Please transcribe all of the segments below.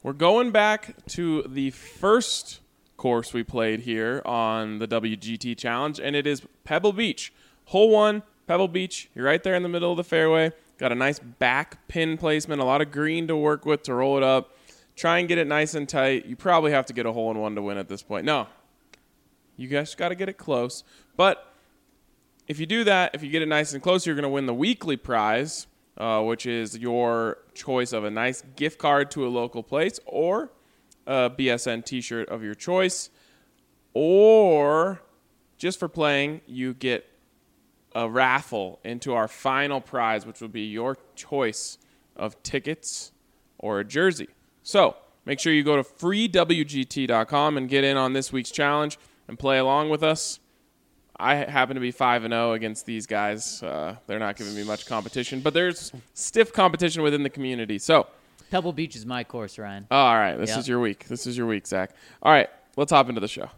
We're going back to the first course we played here on the WGT Challenge, and it is Pebble Beach. Hole 1, Pebble Beach. You're right there in the middle of the fairway. Got a nice back pin placement, a lot of green to work with to roll it up. Try and get it nice and tight. You probably have to get a hole-in-one to win at this point. No. You guys got to get it close. But if you do that, if you get it nice and close, you're going to win the weekly prize, which is your choice of a nice gift card to a local place or a BSN t-shirt of your choice. Or just for playing, you get a raffle into our final prize, which will be your choice of tickets or a jersey. So make sure you go to freewgt.com and get in on this week's challenge and play along with us. I happen to be 5-0 against these guys. They're not giving me much competition, but there's stiff competition within the community. So Pebble Beach is my course, Ryan. Oh, all right. This is your week. This is your week, Zach. All right. Let's hop into the show.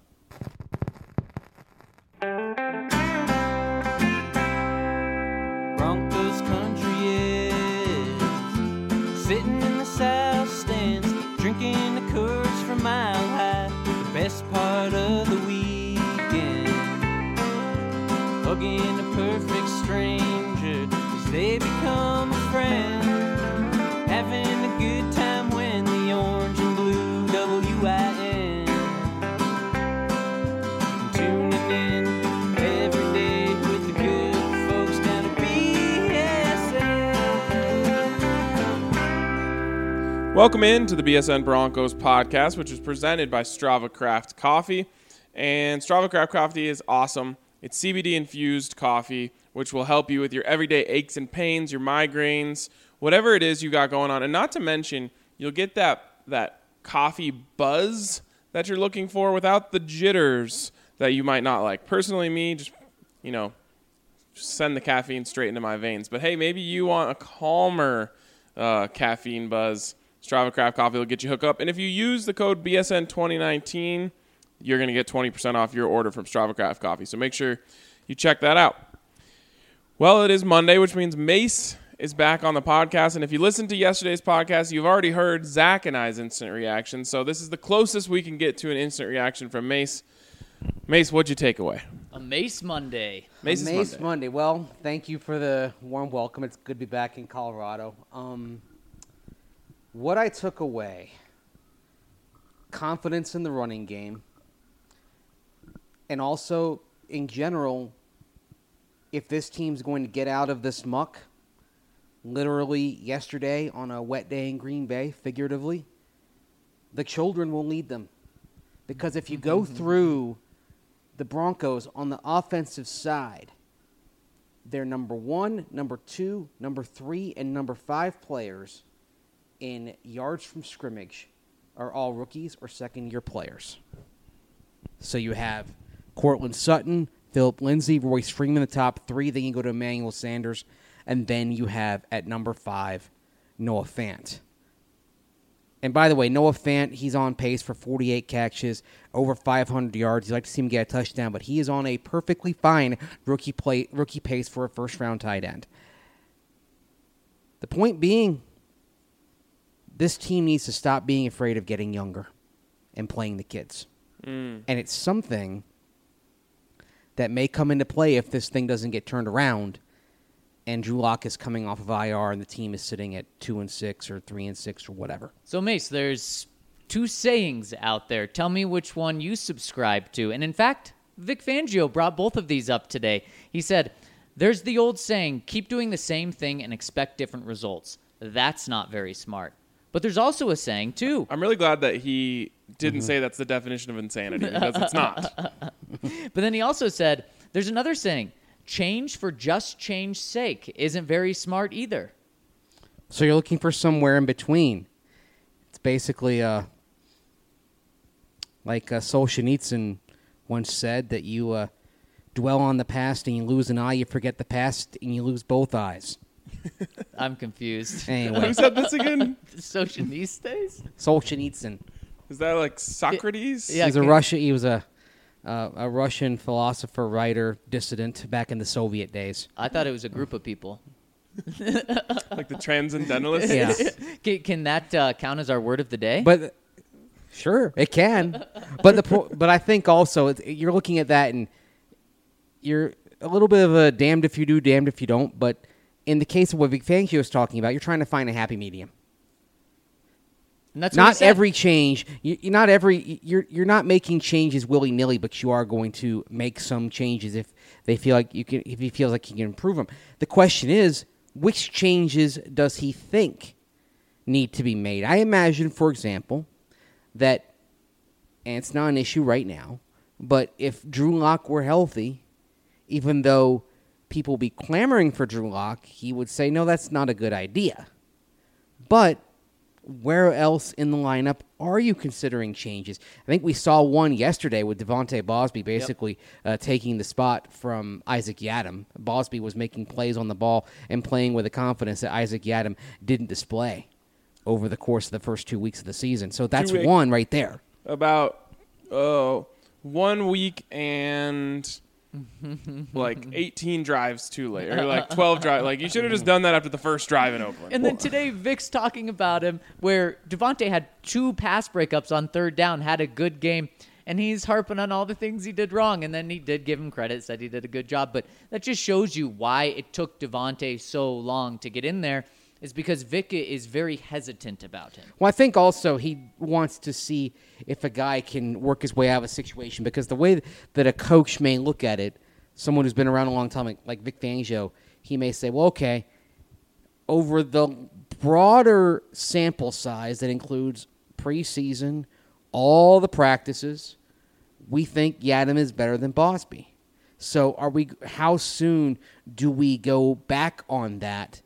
Broncos country is sitting in the south stands, drinking the Coors from Mile High. The best part of the weekend, hugging a perfect stranger as they become a friend, having a good time when the orange and blue WIN, tuning in every day with the good folks down at BSN. Welcome in to the BSN Broncos podcast, which is presented by Strava Craft Coffee. And Strava Craft Coffee is awesome. It's CBD-infused coffee, which will help you with your everyday aches and pains, your migraines, whatever it is you got going on. And not to mention, you'll get that coffee buzz that you're looking for without the jitters that you might not like. Personally, me, just send the caffeine straight into my veins. But, hey, maybe you want a calmer caffeine buzz. Strava Craft Coffee will get you hooked up. And if you use the code BSN2019, you're going to get 20% off your order from Strava Craft Coffee. So make sure you check that out. Well, it is Monday, which means Mace is back on the podcast. And if you listened to yesterday's podcast, you've already heard Zach and I's instant reaction. So this is the closest we can get to an instant reaction from Mace. Mace, what'd you take away? A Mace Monday. Mace Monday. Well, thank you for the warm welcome. It's good to be back in Colorado. What I took away, confidence in the running game, and also, in general, if this team's going to get out of this muck, literally yesterday on a wet day in Green Bay, figuratively, the children will lead them. Because if you go through the Broncos on the offensive side, their number 1, number 2, number 3, and number 5 players in yards from scrimmage are all rookies or second-year players. So you have Cortland Sutton, Phillip Lindsay, Royce Freeman, the top 3. Then you go to Emmanuel Sanders. And then you have, at number 5, Noah Fant. And by the way, Noah Fant, he's on pace for 48 catches, over 500 yards. You'd like to see him get a touchdown, but he is on a perfectly fine rookie pace for a first-round tight end. The point being, this team needs to stop being afraid of getting younger and playing the kids. And it's something that may come into play if this thing doesn't get turned around and Drew Lock is coming off of IR and the team is sitting at 2-6 or 3-6 or whatever. So, Mace, there's 2 sayings out there. Tell me which one you subscribe to. And in fact, Vic Fangio brought both of these up today. He said, there's the old saying, keep doing the same thing and expect different results. That's not very smart. But there's also a saying, too. I'm really glad that he didn't say that's the definition of insanity, because it's not. But then he also said, there's another saying, change for just change's sake isn't very smart either. So you're looking for somewhere in between. It's basically like Solzhenitsyn once said, that you dwell on the past and you lose an eye, you forget the past and you lose both eyes. I'm confused. Anyway. Who said this again? Solzhenitsyn. Is that like Socrates? Yeah. He was a Russian philosopher, writer, dissident back in the Soviet days. I thought it was a group of people. Like the transcendentalist. Yeah. Can that count as our word of the day? But sure, it can. But I think also you're looking at that and you're a little bit of a damned if you do, damned if you don't. But in the case of what Vic Fangio is talking about, you're trying to find a happy medium. And that's what he Not said. every change. You're not making changes willy nilly, but you are going to make some changes if they feel like you can. If he feels like he can improve them. The question is, which changes does he think need to be made? I imagine, for example, that, and it's not an issue right now, but if Drew Lock were healthy, even though people be clamoring for Drew Lock, he would say, no, that's not a good idea. But where else in the lineup are you considering changes? I think we saw one yesterday with Devontae Bosby basically taking the spot from Isaac Yiadom. Bosby was making plays on the ball and playing with a confidence that Isaac Yiadom didn't display over the course of the first 2 weeks of the season. So that's one right there. About 1 week and like 18 drives too late, or like 12 drives. Like, you should have just done that after the first drive in Oakland. And then today, Vic's talking about him where Devontae had 2 pass breakups on third down, had a good game, and he's harping on all the things he did wrong. And then he did give him credit, said he did a good job. But that just shows you why it took Devontae so long to get in there, is because Vic is very hesitant about him. Well, I think also he wants to see if a guy can work his way out of a situation, because the way that a coach may look at it, someone who's been around a long time, like Vic Fangio, he may say, well, okay, over the broader sample size that includes preseason, all the practices, we think Yiadom is better than Bosby. So how soon do we go back on that,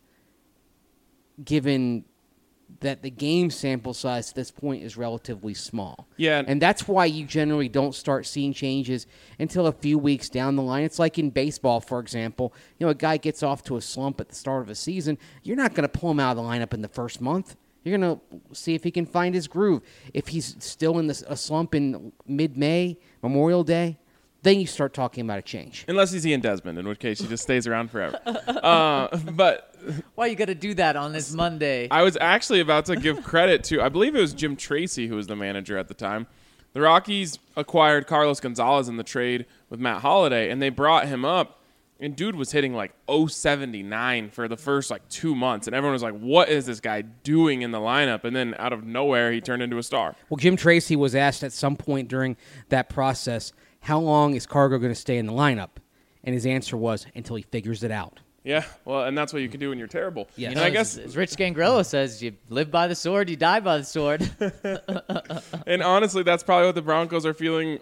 given that the game sample size at this point is relatively small? Yeah. And that's why you generally don't start seeing changes until a few weeks down the line. It's like in baseball, for example. A guy gets off to a slump at the start of a season. You're not going to pull him out of the lineup in the first month. You're going to see if he can find his groove. If he's still in a slump in mid-May, Memorial Day, then you start talking about a change. Unless he's Ian Desmond, in which case he just stays around forever. But Why you got to do that on this Monday? I was actually about to give credit to, I believe it was Jim Tracy who was the manager at the time. The Rockies acquired Carlos Gonzalez in the trade with Matt Holliday, and they brought him up, and dude was hitting like 079 for the first 2 months, and everyone was like, what is this guy doing in the lineup? And then out of nowhere, he turned into a star. Well, Jim Tracy was asked at some point during that process, how long is Cargo going to stay in the lineup? And his answer was, until he figures it out. Yeah, well, and that's what you can do when you're terrible. Yes. And I guess, as Rich Gangrello says, you live by the sword, you die by the sword. and honestly, that's probably what the Broncos are feeling.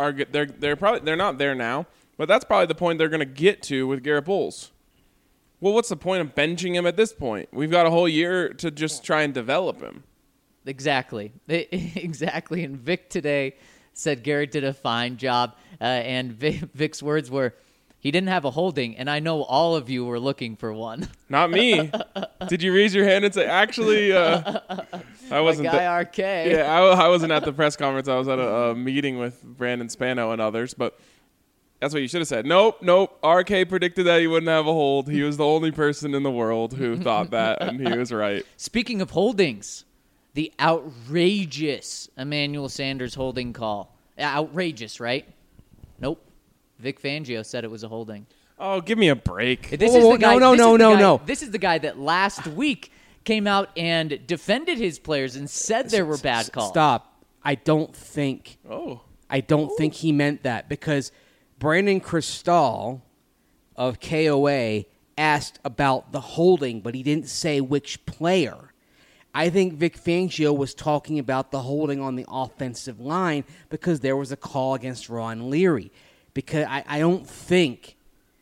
They're not there now, but that's probably the point they're going to get to with Garrett Bowles. Well, what's the point of benching him at this point? We've got a whole year to just try and develop him. Exactly. Exactly. And Vic today said Garrett did a fine job, and Vic's words were, he didn't have a holding, and I know all of you were looking for one. Not me. Did you raise your hand and say, actually, I wasn't My guy RK. Yeah, I wasn't at the press conference. I was at a meeting with Brandon Spano and others, but that's what you should have said. Nope. RK predicted that he wouldn't have a hold. He was the only person in the world who thought that, and he was right. Speaking of holdings, the outrageous Emmanuel Sanders holding call. Outrageous, right? Nope. Vic Fangio said it was a holding. Oh, give me a break. This Whoa, is the guy. No. This is the guy that last week came out and defended his players and said there were bad calls. Stop. I don't think Oh. he meant that, because Brandon Cristal of KOA asked about the holding, but he didn't say which player. I think Vic Fangio was talking about the holding on the offensive line because there was a call against Ron Leary. Because I don't think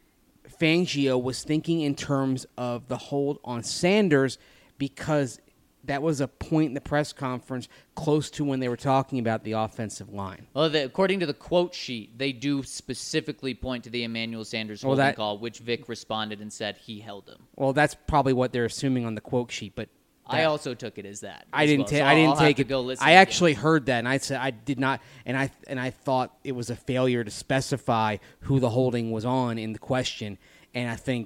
Fangio was thinking in terms of the hold on Sanders, because that was a point in the press conference close to when they were talking about the offensive line. Well, according to the quote sheet, they do specifically point to the Emmanuel Sanders holding call, which Vic responded and said he held him. Well, that's probably what they're assuming on the quote sheet, but I also took it as that. I didn't take it. I actually heard that, and I said I did not, and I thought it was a failure to specify who the holding was on in the question, and I think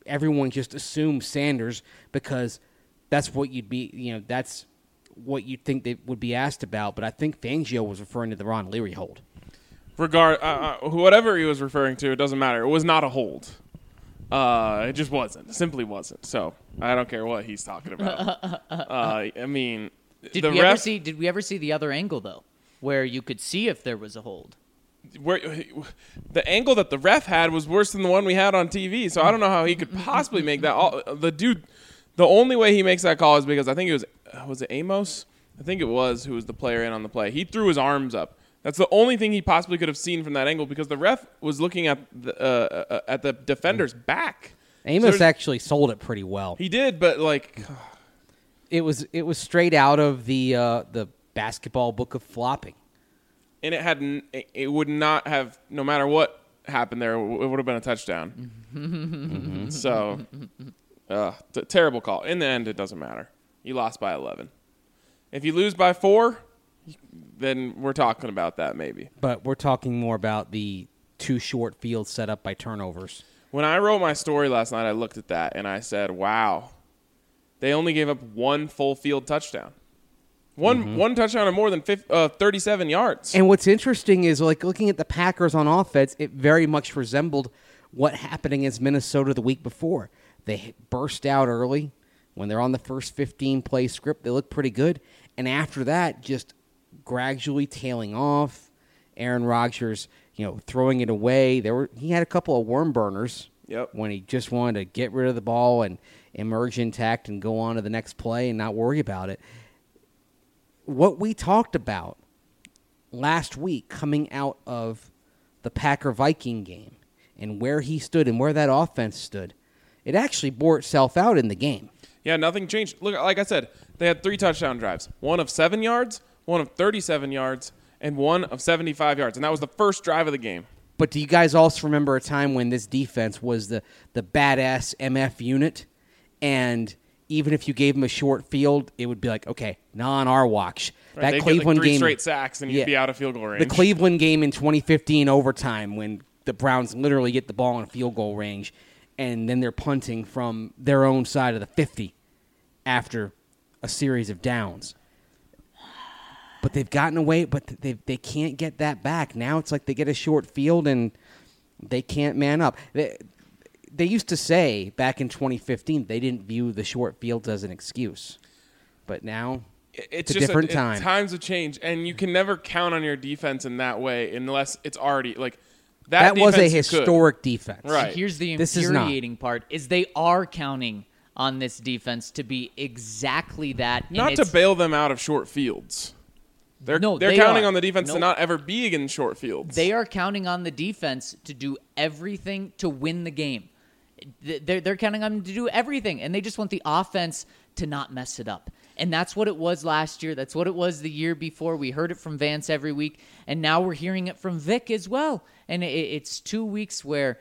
everyone just assumes Sanders because that's what you'd be, that's what you'd think they would be asked about. But I think Fangio was referring to the Ron Leary hold. Whatever he was referring to, it doesn't matter. It was not a hold. It just wasn't. It simply wasn't. So I don't care what he's talking about. I mean, Did we ever see the other angle though, where you could see if there was a hold? where the angle that the ref had was worse than the one we had on TV. So I don't know how he could possibly make that. The only way he makes that call is because I think it was it Amos? I think it was who was the player in on the play. He threw his arms up. That's the only thing he possibly could have seen from that angle because the ref was looking at the defender's back. Amos actually sold it pretty well. He did, but like it was straight out of the basketball book of flopping. And it would not have, no matter what happened there, it would have been a touchdown. Mm-hmm. So, terrible call. In the end, it doesn't matter. You lost by 11. If you lose by 4, then we're talking about that maybe. But we're talking more about the two short fields set up by turnovers. When I wrote my story last night, I looked at that and I said, wow, they only gave up one full field touchdown. One touchdown or more than 37 yards. And what's interesting is, like, looking at the Packers on offense, it very much resembled what happened against Minnesota the week before. They burst out early. When they're on the first 15-play script, they look pretty good. And after that, just gradually tailing off. Aaron Rodgers, throwing it away. He had a couple of worm burners. Yep. When he just wanted to get rid of the ball and emerge intact and go on to the next play and not worry about it. What we talked about last week coming out of the Packer-Viking game and where he stood and where that offense stood, it actually bore itself out in the game. Yeah, nothing changed. Look, like I said, they had 3 touchdown drives. One of 7 yards, one of 37 yards, and one of 75 yards. And that was the first drive of the game. But do you guys also remember a time when this defense was the badass MF unit? And even if you gave them a short field, it would be like, okay, not on our watch. Right, that Cleveland get like 3 game, straight sacks, and you'd be out of field goal range. The Cleveland game in 2015 overtime when the Browns literally get the ball in field goal range, and then they're punting from their own side of the 50 after a series of downs. But they've gotten away, but they can't get that back. Now it's like they get a short field, and they can't man up. They used to say back in 2015 they didn't view the short fields as an excuse. But now it's a different time. Times have changed, and you can never count on your defense in that way unless it's already like that was a historic defense. Right. Here's the infuriating part is they are counting on this defense to be exactly that. Not to bail them out of short fields. They're counting on the defense to not ever be in short fields. They are counting on the defense to do everything to win the game. They're counting on them to do everything, and they just want the offense to not mess it up. And that's what it was last year. That's what it was the year before. We heard it from Vance every week, and now we're hearing it from Vic as well. And it's 2 weeks where,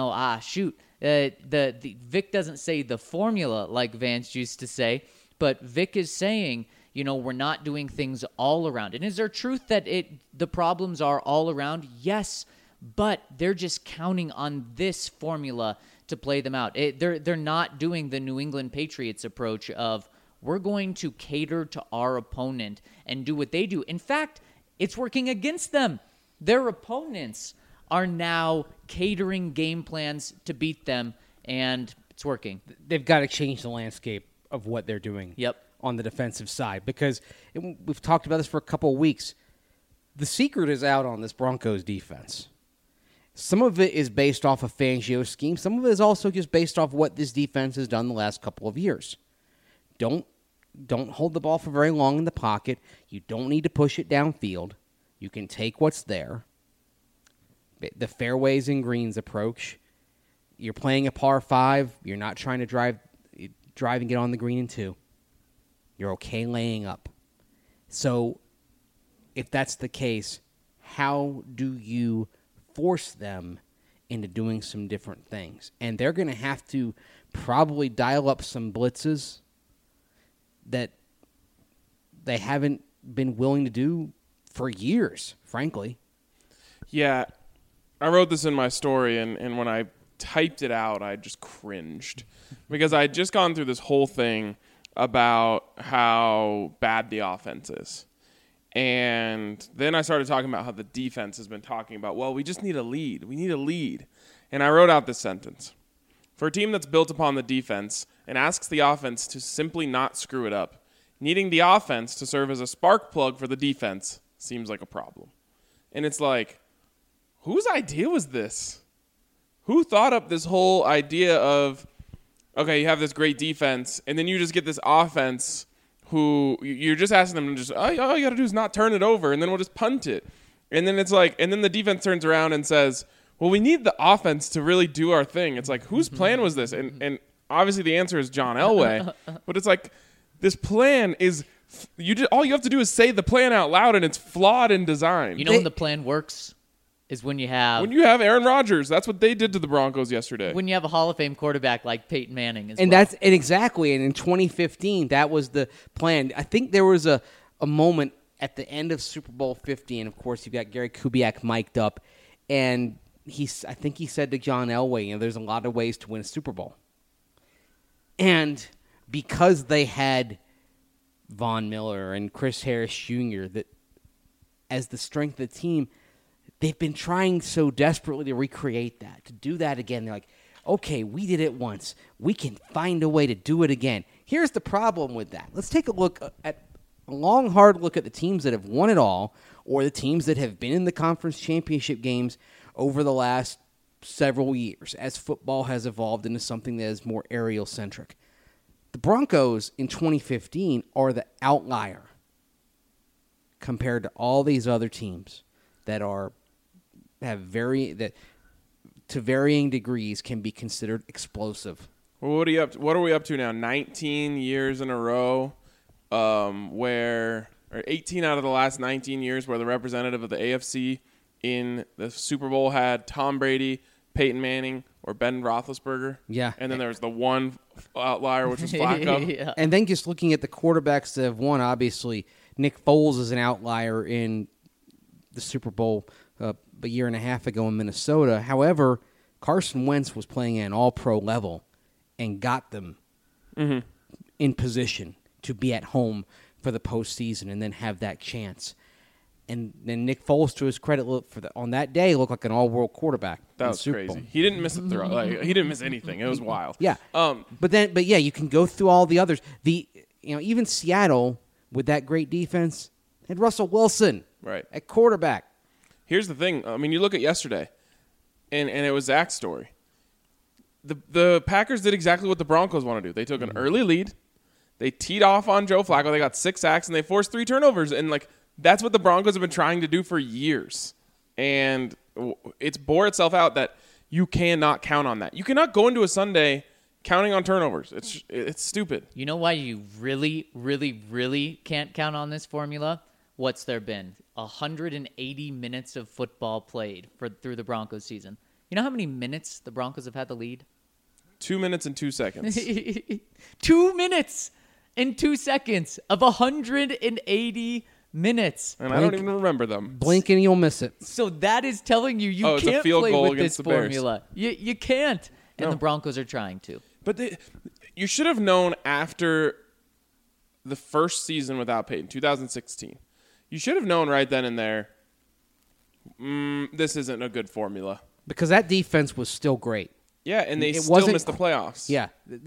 the Vic doesn't say the formula like Vance used to say, but Vic is saying, we're not doing things all around. And is there truth that the problems are all around? Yes, but they're just counting on this formula to play them out. They're not doing the New England Patriots approach of we're going to cater to our opponent and do what they do. In fact, it's working against them. Their opponents are now catering game plans to beat them, and it's working. They've got to change the landscape of what they're doing on the defensive side because we've talked about this for a couple of weeks. The secret is out on this Broncos defense. Some of it is based off of Fangio's scheme. Some of it is also just based off what this defense has done the last couple of years. Don't hold the ball for very long in the pocket. You don't need to push it downfield. You can take what's there. The fairways and greens approach. You're playing a par 5. You're not trying to drive and get on the green in 2. You're okay laying up. So if that's the case, how do you force them into doing some different things? And they're going to have to probably dial up some blitzes that they haven't been willing to do for years, frankly. Yeah. I wrote this in my story, and when I typed it out, I just cringed because I had just gone through this whole thing about how bad the offense is. And then I started talking about how the defense has been talking about, well, we just need a lead. We need a lead. And I wrote out this sentence. For a team that's built upon the defense and asks the offense to simply not screw it up, needing the offense to serve as a spark plug for the defense seems like a problem. And it's like, whose idea was this? Who thought up this whole idea of, okay, you have this great defense, and then you just get this offense who you're just asking them to just, all you got to do is not turn it over, and then we'll just punt it. And then it's like, and then the defense turns around and says, well, we need the offense to really do our thing. It's like, whose plan was this? And obviously the answer is John Elway. But it's like, this plan is, all you have to do is say the plan out loud, and it's flawed in design. You know when the plan works is when you have Aaron Rodgers. That's what they did to the Broncos yesterday. when you have a Hall of Fame quarterback like Peyton Manning as well. And exactly. And in 2015, that was the plan. I think there was a moment at the end of Super Bowl 50, and of course you've got Gary Kubiak mic'd up, and I think he said to John Elway, there's a lot of ways to win a Super Bowl. And because they had Von Miller and Chris Harris Jr. that as the strength of the team, they've been trying so desperately to recreate that, to do that again. They're like, okay, we did it once. We can find a way to do it again. Here's the problem with that. Let's take a long, hard look at the teams that have won it all, or the teams that have been in the conference championship games over the last several years as football has evolved into something that is more aerial-centric. The Broncos in 2015 are the outlier compared to all these other teams that to varying degrees can be considered explosive. Well, what are we up to now? 19 years in a row, or 18 out of the last 19 years where the representative of the AFC in the Super Bowl had Tom Brady, Peyton Manning, or Ben Roethlisberger. Yeah. And then there was the one outlier, which was Flacco. Yeah. And then just looking at the quarterbacks that have won, obviously, Nick Foles is an outlier in the Super Bowl a year and a half ago in Minnesota. However, Carson Wentz was playing at an all-pro level and got them in position to be at home for the postseason and then have that chance. And then Nick Foles, to his credit, on that day, looked like an all-world quarterback. That was crazy. He didn't miss a throw. He didn't miss anything. It was wild. Yeah. But yeah, you can go through all the others. Even Seattle with that great defense had Russell Wilson at quarterback. Here's the thing. I mean, you look at yesterday, and it was Zach's story. The Packers did exactly what the Broncos want to do. They took an early lead. They teed off on Joe Flacco. They got 6 sacks, and they forced 3 turnovers. And, that's what the Broncos have been trying to do for years. And it's bore itself out that you cannot count on that. You cannot go into a Sunday counting on turnovers. It's stupid. You know why you really, really, really can't count on this formula? What's there been? 180 minutes of football played through the Broncos season. You know how many minutes the Broncos have had the lead? 2 minutes and 2 seconds. 2 minutes and 2 seconds of 180 minutes. And I don't even remember them. Blink and you'll miss it. So that is telling you it's a can't field play goal with against this the Bears. formula. You can't. And No. the Broncos are trying to. But you should have known after the first season without Peyton, 2016. You should have known right then and there, this isn't a good formula. Because that defense was still great. Yeah, and they It still wasn't missed the playoffs. Yeah,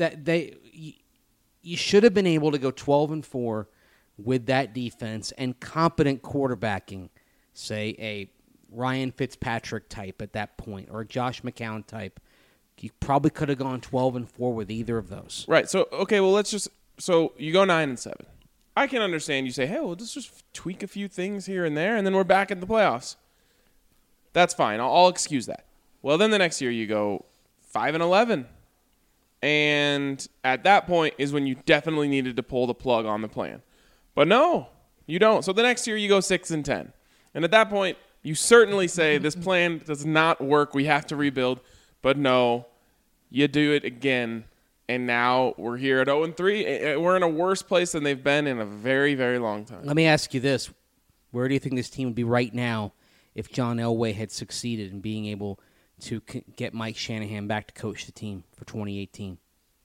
you should have been able to go 12-4 with that defense and competent quarterbacking, say a Ryan Fitzpatrick type at that point or a Josh McCown type. You probably could have gone 12-4 with either of those. Right. So okay, well so you go 9-7. I can understand you say, hey, well, let's just tweak a few things here and there, and then we're back in the playoffs. That's fine. I'll excuse that. Well, then the next year you go 5-11. And at that point is when you definitely needed to pull the plug on the plan. But no, you don't. So the next year you go 6-10. And at that point, you certainly say this plan does not work. We have to rebuild. But no, you do it again. And now we're here at 0-3. We're in a worse place than they've been in a very, very long time. Let me ask you this. Where do you think this team would be right now if John Elway had succeeded in being able to get Mike Shanahan back to coach the team for 2018?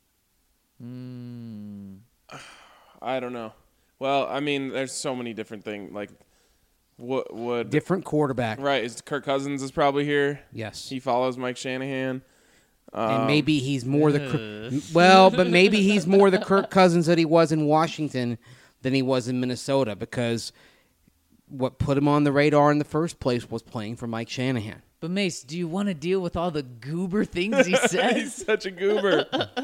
I don't know. Well, I mean, there's so many different things. Like, what would Different quarterback. right? Is Kirk Cousins is probably here? Yes. He follows Mike Shanahan. And maybe he's more but maybe he's more the Kirk Cousins that he was in Washington than he was in Minnesota, because what put him on the radar in the first place was playing for Mike Shanahan. But Mace, do you want to deal with all the goober things he He's says? such a goober.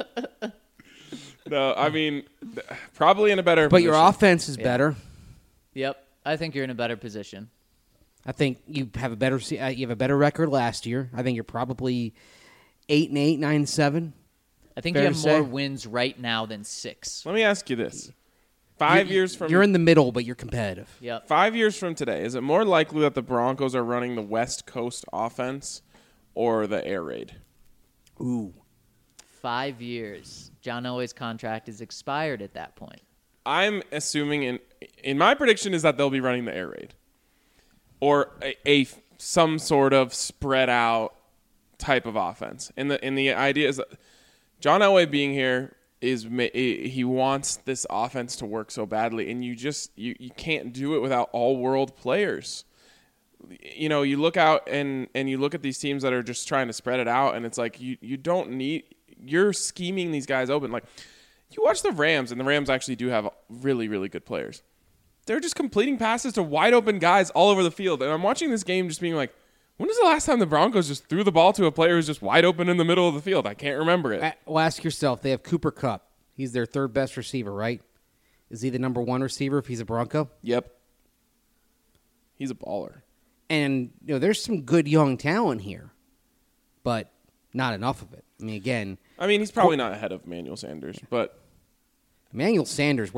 No, I mean, probably in a better. But your position. offense is better. Yep, I think you're in a better position. I think you have a better record last year. I think you're probably 8-8, 9-7. I think Fair you to have say. more wins right now than 6. Let me ask you this: 5 years from You're in the middle, but you're competitive. Yep. 5 years from today, is it more likely that the Broncos are running the West Coast offense or the air raid? Ooh. 5 years. John Elway's contract is expired at that point. I'm assuming in my prediction is that they'll be running the air raid or a some sort of spread out type of offense. And the idea is that John Elway being here he wants this offense to work so badly, and you can't do it without all world players. You know, you look out and you look at these teams that are just trying to spread it out, and it's like you don't need. You're scheming these guys open. Like, you watch the Rams, and the Rams actually do have really, really good players. They're just completing passes to wide open guys all over the field. And I'm watching this game just being like, when was the last time the Broncos just threw the ball to a player who's just wide open in the middle of the field? I can't remember it. Well, ask yourself. They have Cooper Kupp. He's their third best receiver, right? Is he the number one receiver if he's a Bronco? Yep. He's a baller. And there's some good young talent here, but not enough of it. I mean, again, he's probably not ahead of Emmanuel Sanders, but Emmanuel Sanders,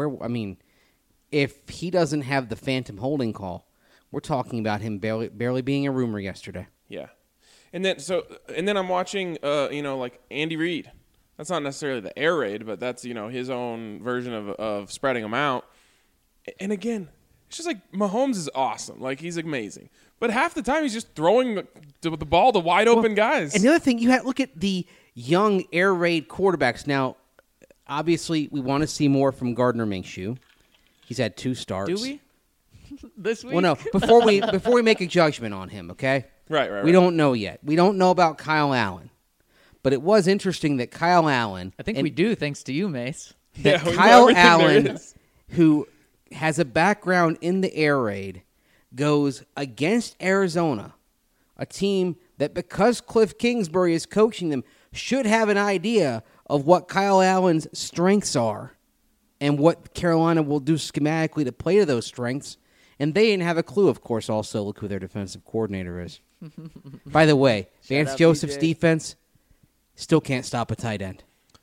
if he doesn't have the phantom holding call, we're talking about him barely being a rumor yesterday. yeah. And then I'm watching, like Andy Reid. That's not necessarily the air raid, but that's, his own version of spreading them out. And again, it's just like Mahomes is awesome. Like, he's amazing. But half the time he's just throwing the ball to wide open guys. And the other thing, look at the young air raid quarterbacks. Now, obviously, we want to see more from Gardner Minshew. He's had 2 starts. Do we? This week? Well, no. Before we make a judgment on him, okay? Right. We don't know yet. We don't know about Kyle Allen. But it was interesting that Kyle Allen... I think we do, thanks to you, Mace. That we know Kyle everything there Allen, is. who has a background in the air raid, goes against Arizona, a team that, because Cliff Kingsbury is coaching them, should have an idea of what Kyle Allen's strengths are and what Carolina will do schematically to play to those strengths. And they didn't have a clue, of course. Also, look who their defensive coordinator is. By the way, Vance out, Joseph's BJ. defense still can't stop a tight end.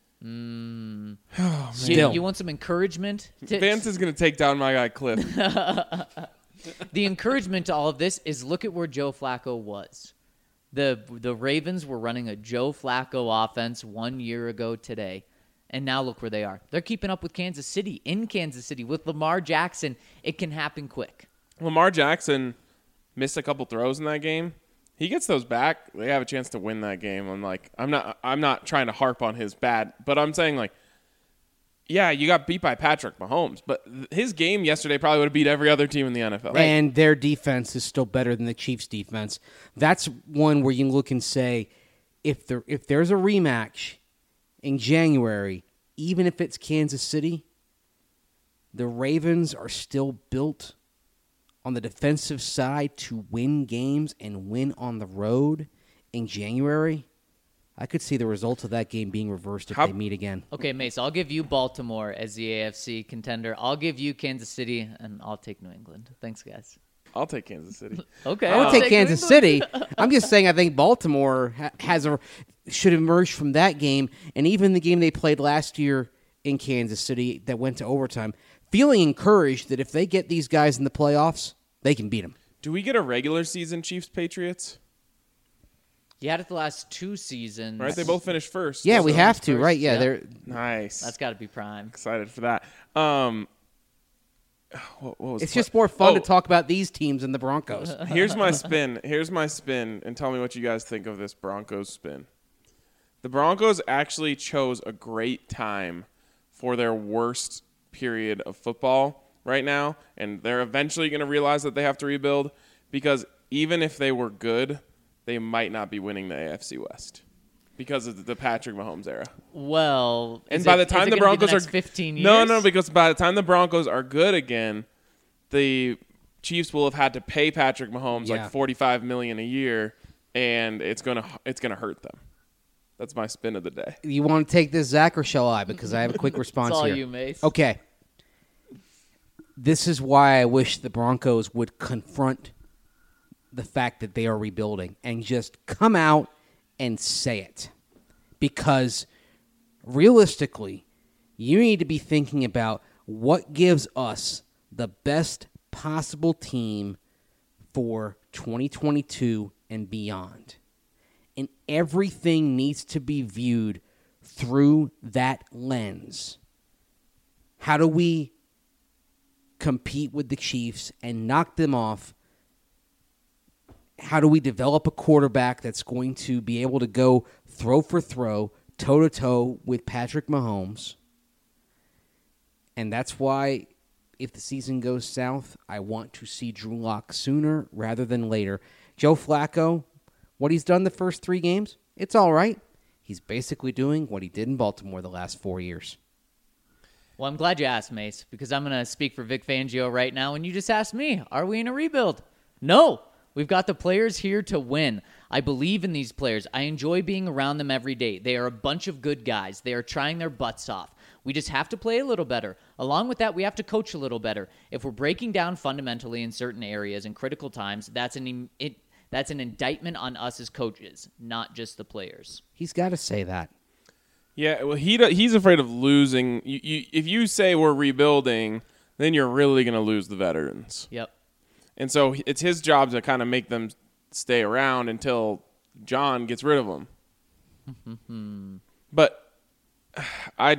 Still. You want some encouragement? Vance is going to take down my guy Cliff. The encouragement to all of this is look at where Joe Flacco was. The Ravens were running a Joe Flacco offense 1 year ago today, and now look where they are. They're keeping up with Kansas City, in Kansas City, with Lamar Jackson. It can happen quick. Lamar Jackson missed a couple throws in that game. He gets those back, they have a chance to win that game. I'm not trying to harp on his bad, but I'm saying, like, yeah, you got beat by Patrick Mahomes, but his game yesterday probably would have beat every other team in the NFL. And their defense is still better than the Chiefs' defense. That's one where you look and say, if there's a rematch in January, even if it's Kansas City, the Ravens are still built on the defensive side to win games and win on the road in January. I could see the results of that game being reversed if they meet again. Okay, Mace, I'll give you Baltimore as the AFC contender. I'll give you Kansas City, and I'll take New England. Thanks, guys. I'll take Kansas City. Okay. I would I'll take New Kansas England. City. I'm just saying I think Baltimore should emerge from that game, and even the game they played last year in Kansas City that went to overtime, feeling encouraged that if they get these guys in the playoffs, they can beat them. Do we get a regular season Chiefs-Patriots? You had it the last 2 seasons. Right? They both finished first. Yeah, we So- have to, first, right? Yeah, yeah. they're Nice. That's got to be prime. Excited for that. what was It's the just more fun to Oh. talk about these teams than the Broncos. Here's my spin. And tell me what you guys think of this Broncos spin. The Broncos actually chose a great time for their worst period of football right now, and they're eventually going to realize that they have to rebuild because even if they were good, they might not be winning the AFC West because of the Patrick Mahomes era. Well, And is by it- the time is it the gonna be Broncos next are 15 years? No, because by the time the Broncos are good again, the Chiefs will have had to pay Patrick Mahomes Yeah. like $45 million a year, and it's gonna hurt them. That's my spin of the day. You want to take this, Zach, or shall I? Because I have a quick response It's all here. you, Mace. Okay. This is why I wish the Broncos would confront the fact that they are rebuilding and just come out and say it. Because realistically, you need to be thinking about what gives us the best possible team for 2022 and beyond. And everything needs to be viewed through that lens. How do we compete with the Chiefs and knock them off? How do we develop a quarterback that's going to be able to go throw for throw, toe-to-toe with Patrick Mahomes? And that's why, if the season goes south, I want to see Drew Lock sooner rather than later. Joe Flacco, what he's done the first 3 games, it's all right. He's basically doing what he did in Baltimore the last 4 years. Well, I'm glad you asked, Mace, because I'm going to speak for Vic Fangio right now, and you just asked me, are we in a rebuild? No. We've got the players here to win. I believe in these players. I enjoy being around them every day. They are a bunch of good guys. They are trying their butts off. We just have to play a little better. Along with that, we have to coach a little better. If we're breaking down fundamentally in certain areas in critical times, that's an indictment on us as coaches, not just the players. He's got to say that. Yeah, well, he's afraid of losing. If you say we're rebuilding, then you're really going to lose the veterans. Yep. And so it's his job to kind of make them stay around until John gets rid of them. But I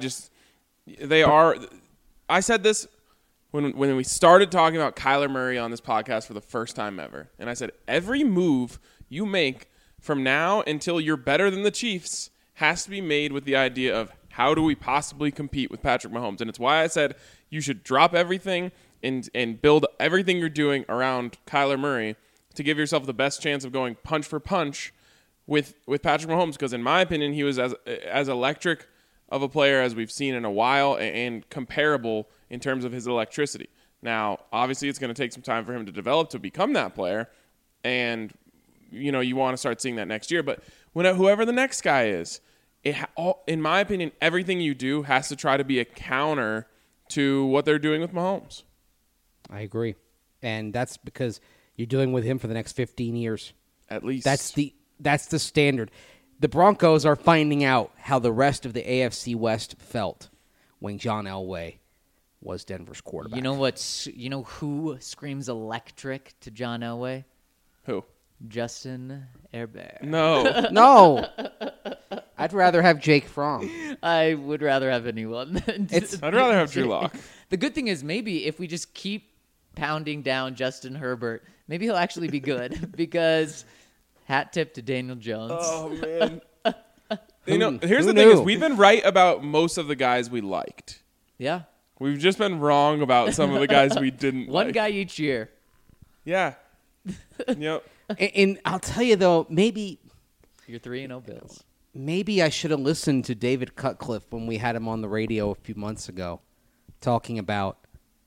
said this when we started talking about Kyler Murray on this podcast for the first time ever. And I said, every move you make from now until you're better than the Chiefs has to be made with the idea of how do we possibly compete with Patrick Mahomes. And it's why I said you should drop everything and build everything you're doing around Kyler Murray to give yourself the best chance of going punch for punch with Patrick Mahomes. Because in my opinion, he was as electric of a player as we've seen in a while and comparable in terms of his electricity. Now, obviously, it's going to take some time for him to develop to become that player. And, you want to start seeing that next year. But whoever the next guy is, in my opinion, everything you do has to try to be a counter to what they're doing with Mahomes. I agree. And that's because you're dealing with him for the next 15 years. At least. That's the standard. The Broncos are finding out how the rest of the AFC West felt when John Elway was Denver's quarterback. You know who screams electric to John Elway? Who? Justin Herbert. No. No. I'd rather have Jake Fromm. I would rather have anyone. I'd rather have Drew Lock. The good thing is maybe if we just keep pounding down Justin Herbert, maybe he'll actually be good because hat tip to Daniel Jones. Oh, man. Here's who the thing is knew? we've been right about most of the guys we liked. Yeah. We've just been wrong about some of the guys we didn't One like. guy each year. Yeah. Yep. And I'll tell you, though, maybe You're 3-0 Bills. I should have listened to David Cutcliffe when we had him on the radio a few months ago talking about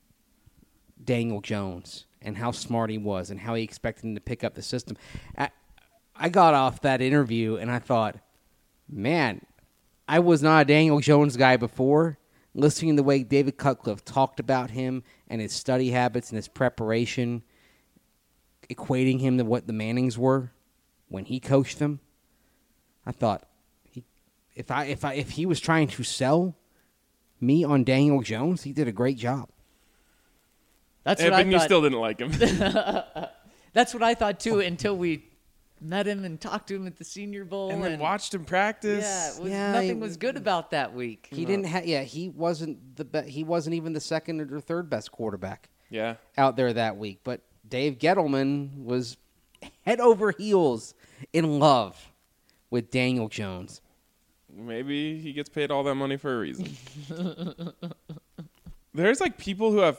Daniel Jones and how smart he was and how he expected him to pick up the system. I got off that interview and I thought, man, I was not a Daniel Jones guy before. Listening to the way David Cutcliffe talked about him and his study habits and his preparation, equating him to what the Mannings were when he coached them, I thought, if he was trying to sell me on Daniel Jones, he did a great job. That's what I But you thought. still didn't like him. That's what I thought too until we met him and talked to him at the Senior Bowl and then watched him practice. nothing was good about that week. He didn't have. Yeah, he wasn't he wasn't even the second or third best quarterback. Yeah. out there that week. But Dave Gettleman was head over heels in love with Daniel Jones. Maybe he gets paid all that money for a reason. There's like people who have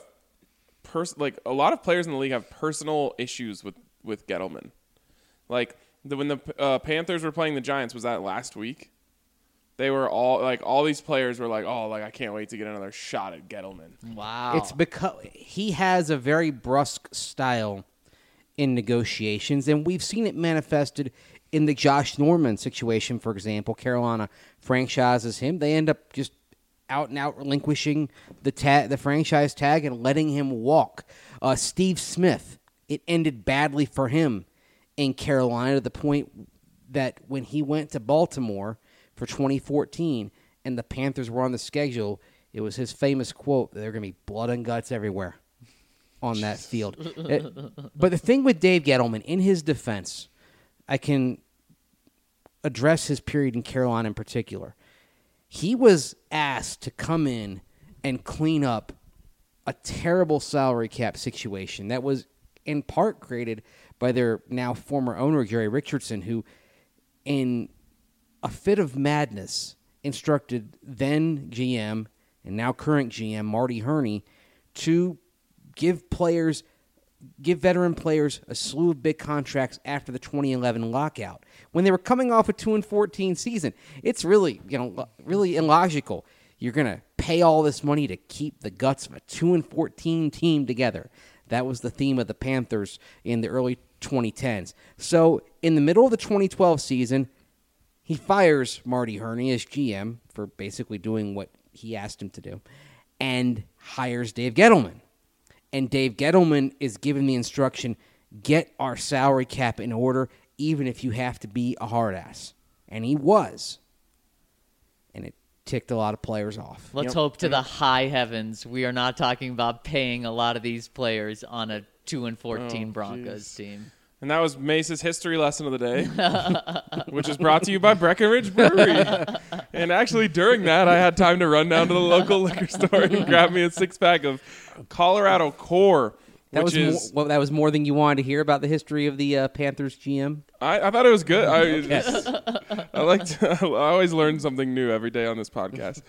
a lot of players in the league have personal issues with Gettleman. Like when the Panthers were playing the Giants, was that last week? They were all these players were like, oh, like I can't wait to get another shot at Gettleman. Wow. It's because he has a very brusque style in negotiations, and we've seen it manifested in the Josh Norman situation, for example. Carolina franchises him. They end up just out and out relinquishing the franchise tag and letting him walk. Steve Smith, it ended badly for him in Carolina to the point that when he went to Baltimore for 2014 and the Panthers were on the schedule, it was his famous quote, "There are going to be blood and guts everywhere on that field." But the thing with Dave Gettleman, in his defense, I can address his period in Carolina in particular. He was asked to come in and clean up a terrible salary cap situation that was in part created by their now former owner, Jerry Richardson, who, in a fit of madness, instructed then GM and now current GM Marty Herney to give veteran players a slew of big contracts after the 2011 lockout when they were coming off a 2-14 season. It's really illogical. You're going to pay all this money to keep the guts of a 2-14 team together. That was the theme of the Panthers in the early 2010s. So in the middle of the 2012 season, he fires Marty Herney as GM for basically doing what he asked him to do and hires Dave Gettleman. And Dave Gettleman is given the instruction, get our salary cap in order, even if you have to be a hard ass. And he was. And it ticked a lot of players off. Let's hope to the high heavens we are not talking about paying a lot of these players on a 2-14 Broncos team. And that was Mace's history lesson of the day, which is brought to you by Breckenridge Brewery. And actually, during that, I had time to run down to the local liquor store and grab me a 6-pack of Colorado Core. That was more than you wanted to hear about the history of the Panthers GM? I thought it was good. I always learn something new every day on this podcast.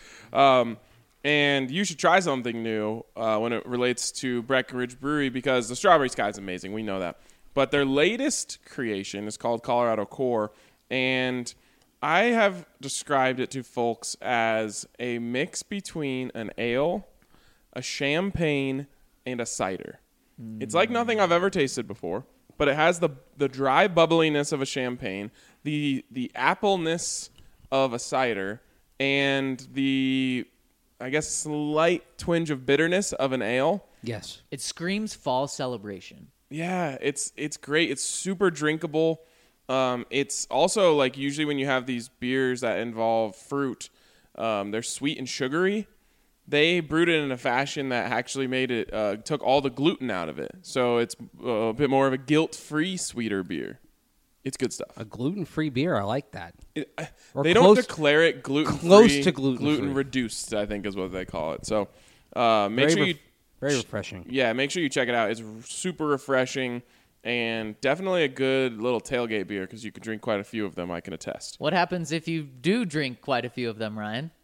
And you should try something new when it relates to Breckenridge Brewery because the Strawberry Sky is amazing. We know that. But their latest creation is called Colorado Core, and I have described it to folks as a mix between an ale, a champagne, and a cider. It's like nothing I've ever tasted before, but it has the dry bubbliness of a champagne, the appleness of a cider, and the, I guess, slight twinge of bitterness of an ale. Yes. It screams fall celebration. Yeah, it's great. It's super drinkable. It's also like usually when you have these beers that involve fruit, they're sweet and sugary. They brewed it in a fashion that actually made it took all the gluten out of it. So it's a bit more of a guilt-free, sweeter beer. It's good stuff. A gluten-free beer, I like that. They don't declare it gluten-free. Close to gluten-free. Gluten-reduced, I think is what they call it. So make sure you... Very refreshing. Yeah, make sure you check it out. It's super refreshing and definitely a good little tailgate beer because you can drink quite a few of them, I can attest. What happens if you do drink quite a few of them, Ryan?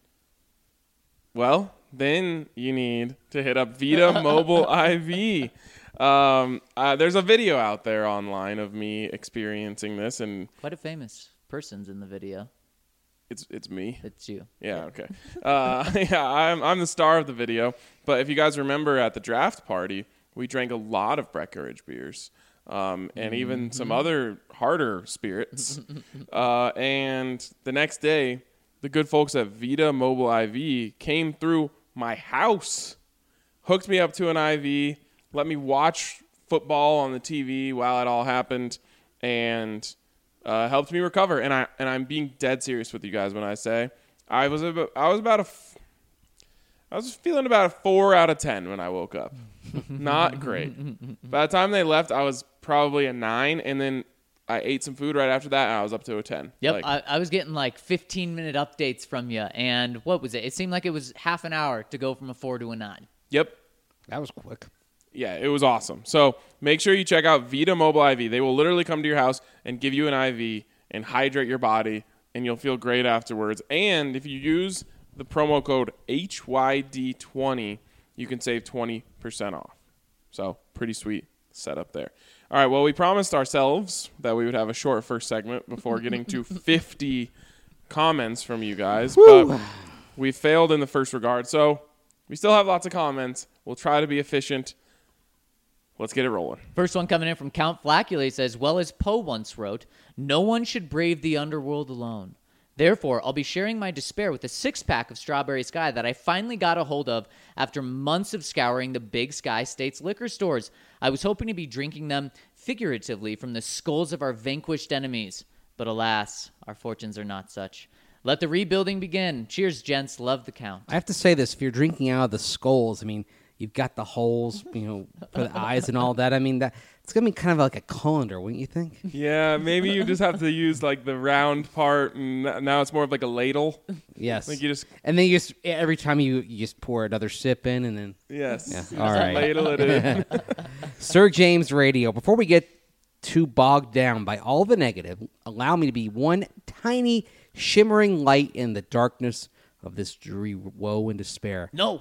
Well, then you need to hit up Vita Mobile IV. There's a video out there online of me experiencing this. And quite a famous person's in the video. It's me. It's you. Yeah, okay. I'm the star of the video. But if you guys remember at the draft party, we drank a lot of Breckenridge beers and even some other harder spirits. And the next day, the good folks at Vita Mobile IV came through my house, hooked me up to an IV, let me watch football on the TV while it all happened, and helped me recover. And I'm being dead serious with you guys when I say I was feeling about a 4 out of 10 when I woke up. Not great. By the time they left, I was probably a 9, and then I ate some food right after that, and I was up to a 10. Yep, I was getting like 15-minute updates from you, and what was it? It seemed like it was half an hour to go from a 4 to a 9. Yep. That was quick. Yeah, it was awesome. So make sure you check out Vita Mobile IV. They will literally come to your house and give you an IV and hydrate your body, and you'll feel great afterwards. And if you use the promo code HYD20, you can save 20% off. So pretty sweet setup there. All right, well, we promised ourselves that we would have a short first segment before getting to 50 comments from you guys, but we failed in the first regard. So we still have lots of comments. We'll try to be efficient. Let's get it rolling. First one coming in from Count Flacula says, well, as Poe once wrote, no one should brave the underworld alone. Therefore, I'll be sharing my despair with a six-pack of Strawberry Sky that I finally got a hold of after months of scouring the Big Sky State's liquor stores. I was hoping to be drinking them figuratively from the skulls of our vanquished enemies. But alas, our fortunes are not such. Let the rebuilding begin. Cheers, gents. Love the Count. I have to say this: if you're drinking out of the skulls, I mean, you've got the holes, for the eyes and all that. I mean, that it's gonna be kind of like a colander, wouldn't you think? Yeah, maybe you just have to use like the round part, and now it's more of like a ladle. Yes. Like you just And then you just every time you just pour another sip in, and then yes, Yeah, all right. ladle it in. Sir James Radio. Before we get too bogged down by all the negative, allow me to be one tiny shimmering light in the darkness of this dreary woe and despair. No.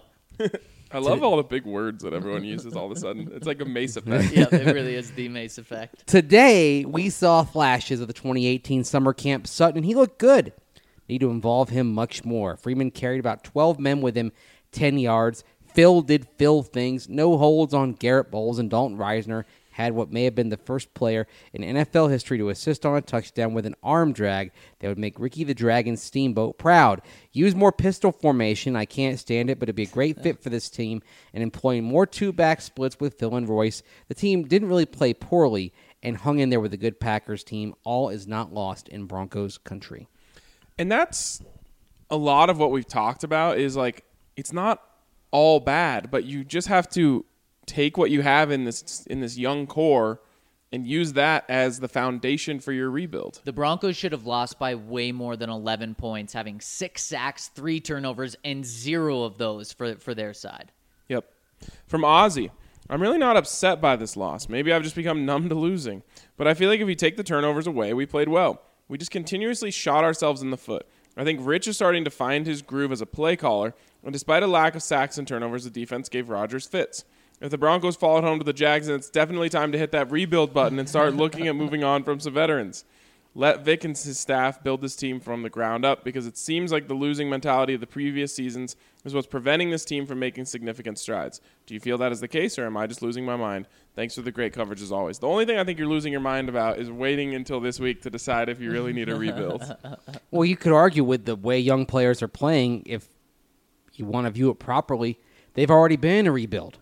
I love all the big words that everyone uses all of a sudden. It's like a Mace effect. Yeah, it really is the Mace effect. Today, we saw flashes of the 2018 summer camp Sutton, and he looked good. Need to involve him much more. Freeman carried about 12 men with him, 10 yards. Phil did Phil things. No holds on Garrett Bowles, and Dalton Reisner had what may have been the first player in NFL history to assist on a touchdown with an arm drag that would make Ricky the Dragon Steamboat proud. Use more pistol formation. I can't stand it, but it'd be a great fit for this team. And employing more two-back splits with Phil and Royce. The team didn't really play poorly and hung in there with a good Packers team. All is not lost in Broncos country. And that's a lot of what we've talked about is like it's not all bad, but you just have to take what you have in this young core and use that as the foundation for your rebuild. The Broncos should have lost by way more than 11 points, having 6 sacks, 3 turnovers, and 0 of those for their side. Yep. From Ozzy, I'm really not upset by this loss. Maybe I've just become numb to losing. But I feel like if you take the turnovers away, we played well. We just continuously shot ourselves in the foot. I think Rich is starting to find his groove as a play caller, and despite a lack of sacks and turnovers, the defense gave Rodgers fits. If the Broncos fall at home to the Jags, then it's definitely time to hit that rebuild button and start looking at moving on from some veterans. Let Vic and his staff build this team from the ground up because it seems like the losing mentality of the previous seasons is what's preventing this team from making significant strides. Do you feel that is the case, or am I just losing my mind? Thanks for the great coverage as always. The only thing I think you're losing your mind about is waiting until this week to decide if you really need a rebuild. Well, you could argue with the way young players are playing, if you want to view it properly, they've already been in a rebuild.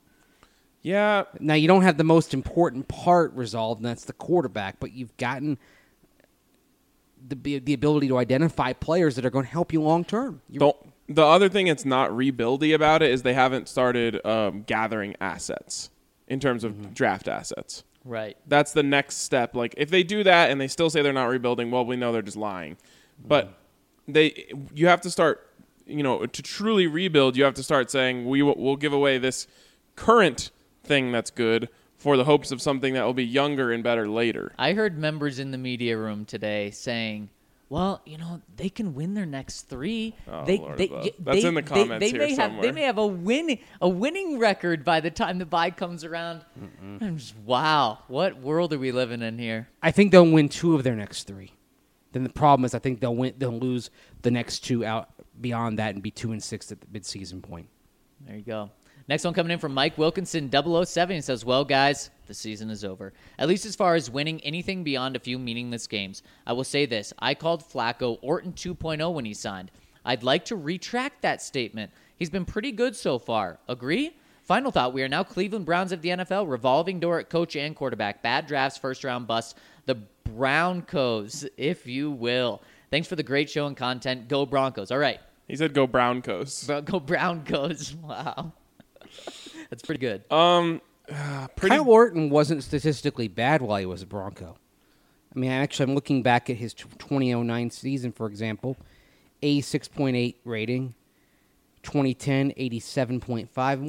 Yeah. Now, you don't have the most important part resolved, and that's the quarterback, but you've gotten the ability to identify players that are going to help you long term. The other thing that's not rebuildy about it is they haven't started gathering assets in terms of draft assets. Right. That's the next step. Like, if they do that and they still say they're not rebuilding, well, we know they're just lying. But you have to start, to truly rebuild, you have to start saying, we'll give away this current thing that's good for the hopes of something that will be younger and better later. I heard members in the media room today saying, well, they can win their next 3. Oh, that's in the comments here somewhere. They may have a winning record by the time the bye comes around. I'm just, wow, what world are we living in here? I think they'll win 2 of their next 3. Then the problem is I think they'll lose the next 2 out beyond that and be 2-6 at the midseason point. There you go. Next one coming in from Mike Wilkinson, 007. He says, well, guys, the season is over. At least as far as winning anything beyond a few meaningless games. I will say this. I called Flacco Orton 2.0 when he signed. I'd like to retract that statement. He's been pretty good so far. Agree? Final thought. We are now Cleveland Browns of the NFL. Revolving door at coach and quarterback. Bad drafts, first-round busts. The Broncos, if you will. Thanks for the great show and content. Go Broncos. All right. He said go Broncos. Go Broncos. Wow. That's pretty good. Kyle Orton wasn't statistically bad while he was a Bronco. I mean, I'm looking back at his 2009 season, for example. 86.8 rating. 2010, 87.5. And what's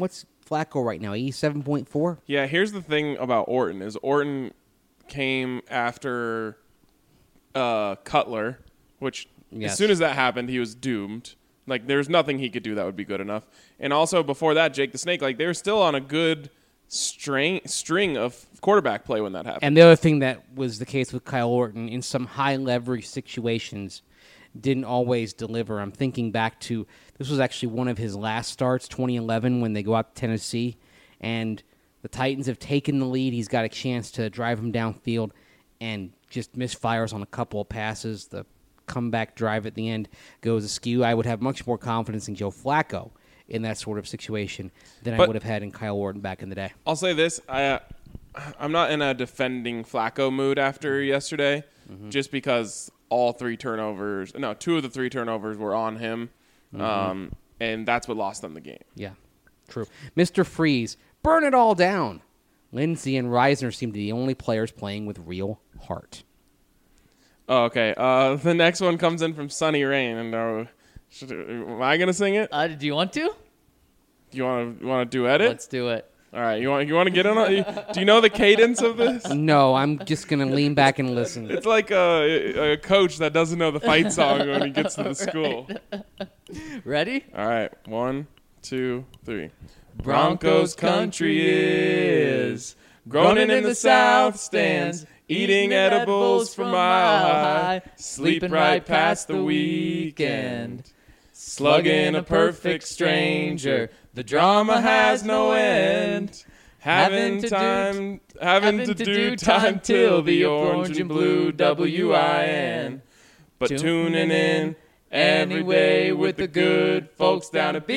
Flacco right now? 87.4? Yeah, here's the thing about Orton is Orton came after Cutler, which Yes. as soon as that happened, he was doomed. Like, there's nothing he could do that would be good enough. And also, before that, Jake the Snake, like, they were still on a good string of quarterback play when that happened. And the other thing that was the case with Kyle Orton in some high leverage situations didn't always deliver. I'm thinking back to this was actually one of his last starts, 2011, when they go out to Tennessee, and the Titans have taken the lead. He's got a chance to drive him downfield and just misfires on a couple of passes. The comeback drive at the end goes askew. I would have much more confidence in Joe Flacco in that sort of situation than I would have had in Kyle Orton back in the day. I'll say this. I'm not in a defending Flacco mood after yesterday, just because two of the three turnovers were on him, and that's what lost them the game. Yeah, true. Mr. Freeze, burn it all down. Lindsey and Reisner seem to be the only players playing with real heart. Oh, okay. The next one comes in from Sunny Rain, and am I gonna sing it? Do you want to? Do you want to duet it? Let's do it. All right. You want to get on? Do you know the cadence of this? No, I'm just going to lean back and listen. It's like a coach that doesn't know the fight song when he gets to the school. Ready? All right. 1, 2, 3. Broncos country is groaning in the south stands, eating edibles from Mile High, sleeping right past the weekend, slugging a perfect stranger. The drama has no end. Having to do time till the orange and blue WIN. But tuning in anyway with the good folks down at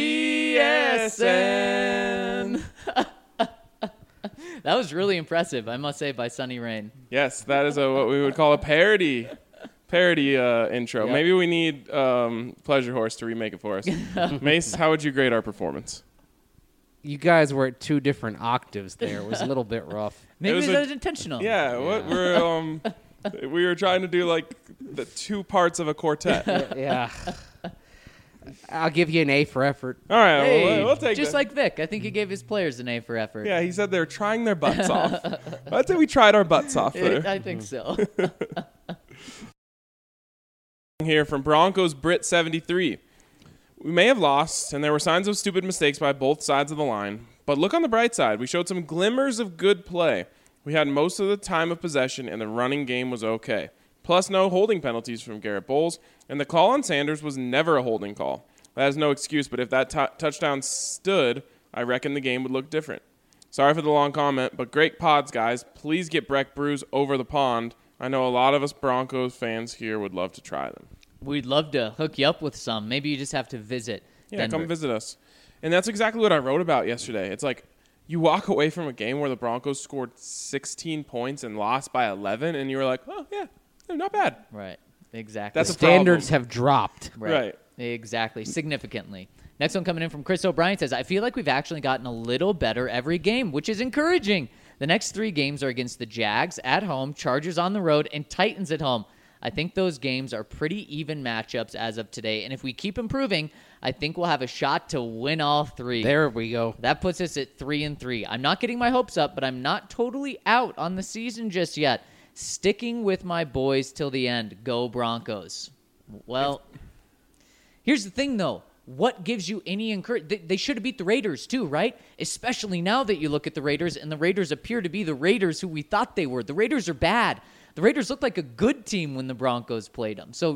BSN. That was really impressive, I must say, by Sunny Rain. Yes, that is what we would call a parody intro. Yep. Maybe we need Pleasure Horse to remake it for us. Mace, how would you grade our performance? You guys were at two different octaves there. It was a little bit rough. Maybe was that was intentional. Yeah, what we were trying to do like the two parts of a quartet. Yeah. I'll give you an A for effort. All right, Hey, we'll take just that. like Vic. I think he gave his players an A for effort. Yeah, he said they're trying their butts off. I'd say we tried our butts off there. I think so. Here from Broncos Brit 73. We may have lost, and there were signs of stupid mistakes by both sides of the line, but look on the bright side. We showed some glimmers of good play. We had most of the time of possession, and the running game was okay. Plus, no holding penalties from Garrett Bowles, and the call on Sanders was never a holding call. That is no excuse, but if that touchdown stood, I reckon the game would look different. Sorry for the long comment, but great pods, guys. Please get Breck Brews over the pond. I know a lot of us Broncos fans here would love to try them. We'd love to hook you up with some. Maybe you just have to visit Denver. Come visit us. And that's exactly what I wrote about yesterday. It's like you walk away from a game where the Broncos scored 16 points and lost by 11, and you were like, oh, yeah, not bad. Right. Exactly. That's The a problem. standards have dropped. Right. Exactly. Significantly. Next one coming in from Chris O'Brien says, I feel like we've actually gotten a little better every game, which is encouraging. The next 3 games are against the Jags at home, Chargers on the road, and Titans at home. I think those games are pretty even matchups as of today, and if we keep improving, I think we'll have a shot to win all 3. There we go. That puts us at 3-3. I'm not getting my hopes up, but I'm not totally out on the season just yet. Sticking with my boys till the end. Go Broncos. Well, here's the thing, though. What gives you any encouragement? They should have beat the Raiders, too, right? Especially now that you look at the Raiders, and the Raiders appear to be the Raiders who we thought they were. The Raiders are bad. The Raiders looked like a good team when the Broncos played them. So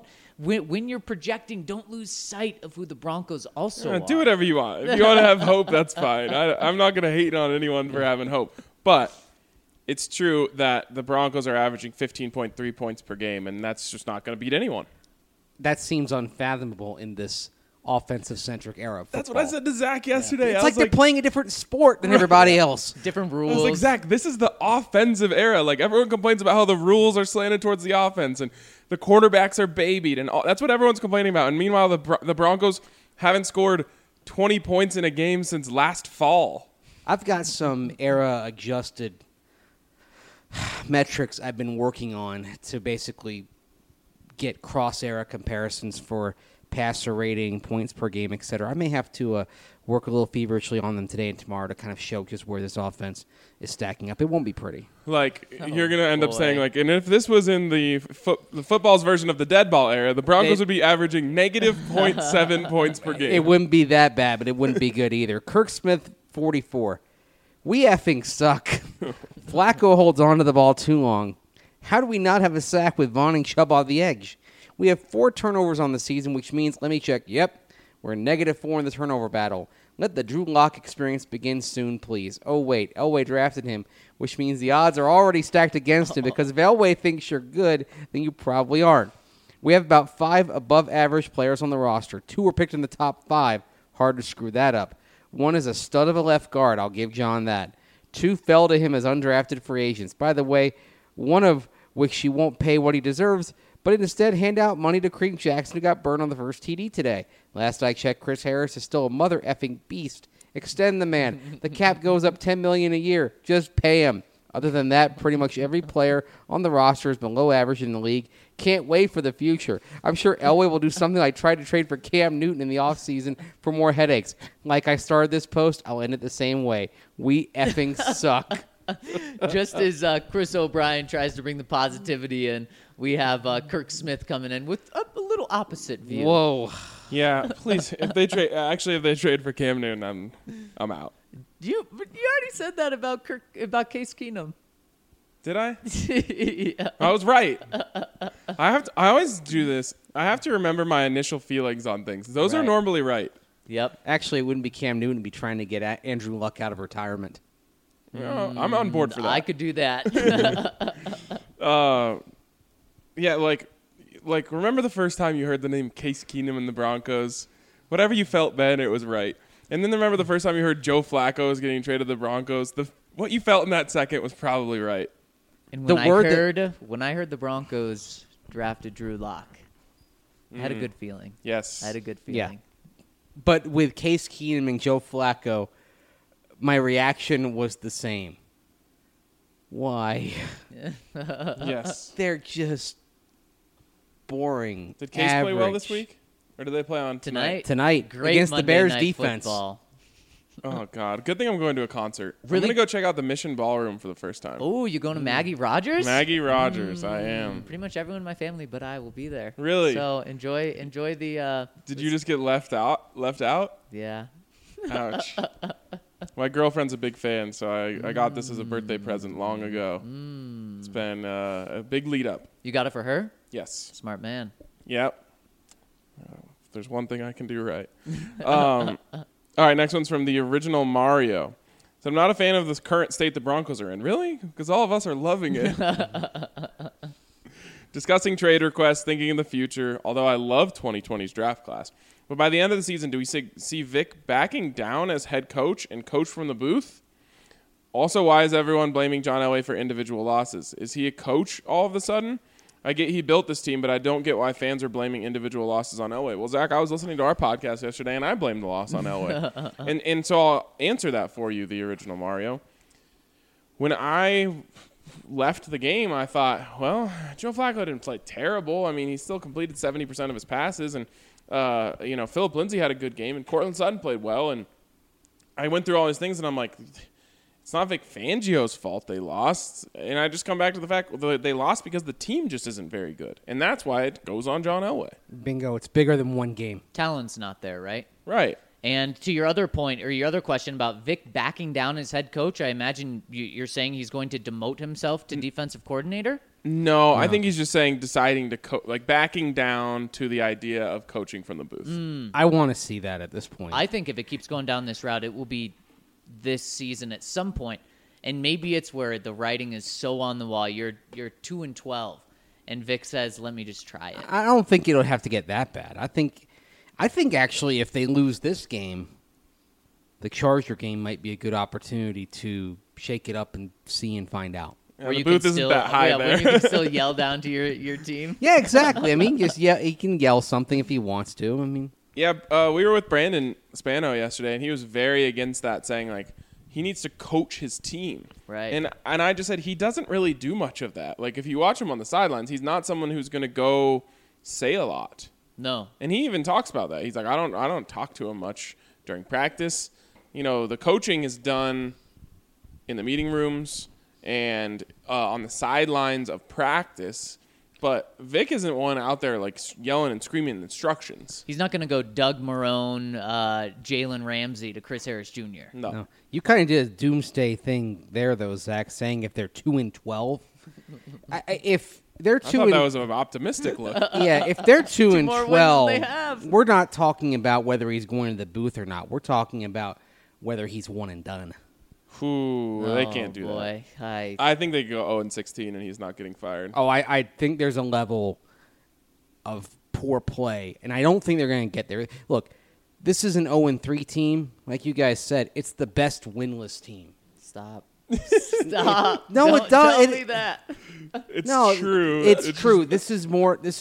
when you're projecting, don't lose sight of who the Broncos also are. Do whatever you want. If you want to have hope, that's fine. I'm not going to hate on anyone for having hope. But it's true that the Broncos are averaging 15.3 points per game, and that's just not going to beat anyone. That seems unfathomable in this offensive-centric era of football. That's what I said to Zach yesterday. It's I like was they're playing a different sport than everybody else. Different I rules. was like, Zach, this is the offensive era. Like, everyone complains about how the rules are slanted towards the offense and the quarterbacks are babied. And that's what everyone's complaining about. And meanwhile, the Broncos haven't scored 20 points in a game since last fall. I've got some era-adjusted metrics I've been working on to basically get cross-era comparisons for passer rating, points per game, etc. I may have to work a little feverishly on them today and tomorrow to kind of show just where this offense is stacking up. It won't be pretty. Like, you're going to end up boy. saying, like, and if this was in the football's version of the dead ball era, the Broncos would be averaging negative 0.7 points per game. It wouldn't be that bad, but it wouldn't be good either. Kirk Smith, 44. We effing suck. Flacco holds on to the ball too long. How do we not have a sack with Vaughn and Chubb on the edge? We have 4 turnovers on the season, which means, let me check, yep, we're -4 in the turnover battle. Let the Drew Lock experience begin soon, please. Oh, wait, Elway drafted him, which means the odds are already stacked against him because if Elway thinks you're good, then you probably aren't. We have about 5 above-average players on the roster. 2 were picked in the top 5. Hard to screw that up. 1 is a stud of a left guard. I'll give John that. 2 fell to him as undrafted free agents. By the way, one of which she won't pay what he deserves, but instead hand out money to Creek Jackson, who got burned on the first TD today. Last I checked, Chris Harris is still a mother effing beast. Extend the man. The cap goes up $10 million a year. Just pay him. Other than that, pretty much every player on the roster is below average in the league. Can't wait for the future. I'm sure Elway will do something like try to trade for Cam Newton in the offseason for more headaches. Like I started this post, I'll end it the same way. We effing suck. Just as Chris O'Brien tries to bring the positivity in, we have Kirk Smith coming in with a little opposite view. Whoa. Yeah, please. If they trade for Cam Newton, I'm out. You already said that about Case Keenum. Did I? Yeah. I was right. I always do this. I have to remember my initial feelings on things. Those are Right. normally right. Yep. Actually, it wouldn't be Cam Newton. It'd be trying to get Andrew Luck out of retirement. I'm on board for that. I could do that. Yeah, like remember the first time you heard the name Case Keenum in the Broncos? Whatever you felt then, it was right. And then remember the first time you heard Joe Flacco was getting traded to the Broncos? What you felt in that second was probably right. And The when word when I heard the Broncos drafted Drew Lock, I had a good feeling. Yes. I had a good Yeah. feeling. But with Case Keenum and Joe Flacco, my reaction was the same. Why? Yes. They're just boring. Did Case play well average. this week? Or did they play on tonight? Tonight Great against the Monday Bears night defense. Football. Oh, God. Good thing I'm going to a concert. I'm Really? going to go check out the Mission Ballroom for the first time. Oh, you going to Maggie Rogers? Maggie Rogers, I am. Pretty much everyone in my family, but I will be there. Really? So enjoy the. Did you just get left out? Yeah. Ouch. My girlfriend's a big fan, so I got this as a birthday present long ago. It's been a big lead up. You got it for her? Yes. Smart man. Yep. If there's one thing I can do right. All right, next one's from the original Mario. So I'm not a fan of the current state the Broncos are in. Really? Because all of us are loving it. Discussing trade requests, thinking in the future, although I love 2020's draft class. But by the end of the season, do we see Vic backing down as head coach and coach from the booth? Also, why is everyone blaming John Elway for individual losses? Is he a coach all of a sudden? I get he built this team, but I don't get why fans are blaming individual losses on Elway. Well, Zach, I was listening to our podcast yesterday, and I blamed the loss on Elway. and so I'll answer that for you, the original Mario. When I left the game, I thought, well, Joe Flacco didn't play terrible. I mean, he still completed 70% of his passes, and Philip Lindsay had a good game, and Cortland Sutton played well. And I went through all these things, and I'm like, it's not Vic Fangio's fault they lost. And I just come back to the fact that they lost because the team just isn't very good. And that's why it goes on John Elway. Bingo. It's bigger than one game. Talent's not there, right? Right. And to your other point, or your other question about Vic backing down as head coach, I imagine you're saying he's going to demote himself to defensive coordinator? No, I think he's just saying deciding to backing down to the idea of coaching from the booth. I want to see that at this point. I think if it keeps going down this route, it will be this season at some point. And maybe it's where the writing is so on the wall. You're 2-12, and Vic says, "Let me just try it." I don't think it'll have to get that bad. I think actually if they lose this game, the Charger game might be a good opportunity to shake it up and see and find out. Yeah, Where the you booth can isn't still, that high yeah, there. where you can still yell down to your team. Yeah, exactly. I mean, he can yell something if he wants to. I mean, Yeah, we were with Brandon Spano yesterday, and he was very against that, saying like he needs to coach his team. Right. And I just said he doesn't really do much of that. Like if you watch him on the sidelines, he's not someone who's going to go say a lot. No. And he even talks about that. He's like, I don't talk to him much during practice. You know, the coaching is done in the meeting rooms and on the sidelines of practice. But Vic isn't one out there like yelling and screaming instructions. He's not going to go Doug Marrone, Jalen Ramsey to Chris Harris Jr. No. You kind of did a doomsday thing there, though, Zach, saying if they're 2-12, if they're I 2 thought and that was an optimistic look. yeah, if they're 2 more and wins than 12, they have. we're not talking about whether he's going to the booth or not. We're talking about whether he's one and done. Ooh, they can't do boy. that. I think they go 0-16 and he's not getting fired. Oh, I think there's a level of poor play, and I don't think they're going to get there. Look, this is an 0-3 team. Like you guys said, it's the best winless team. Stop. Stop. No, Don't it does- Tell it- me that. It's No, true. It's true. This is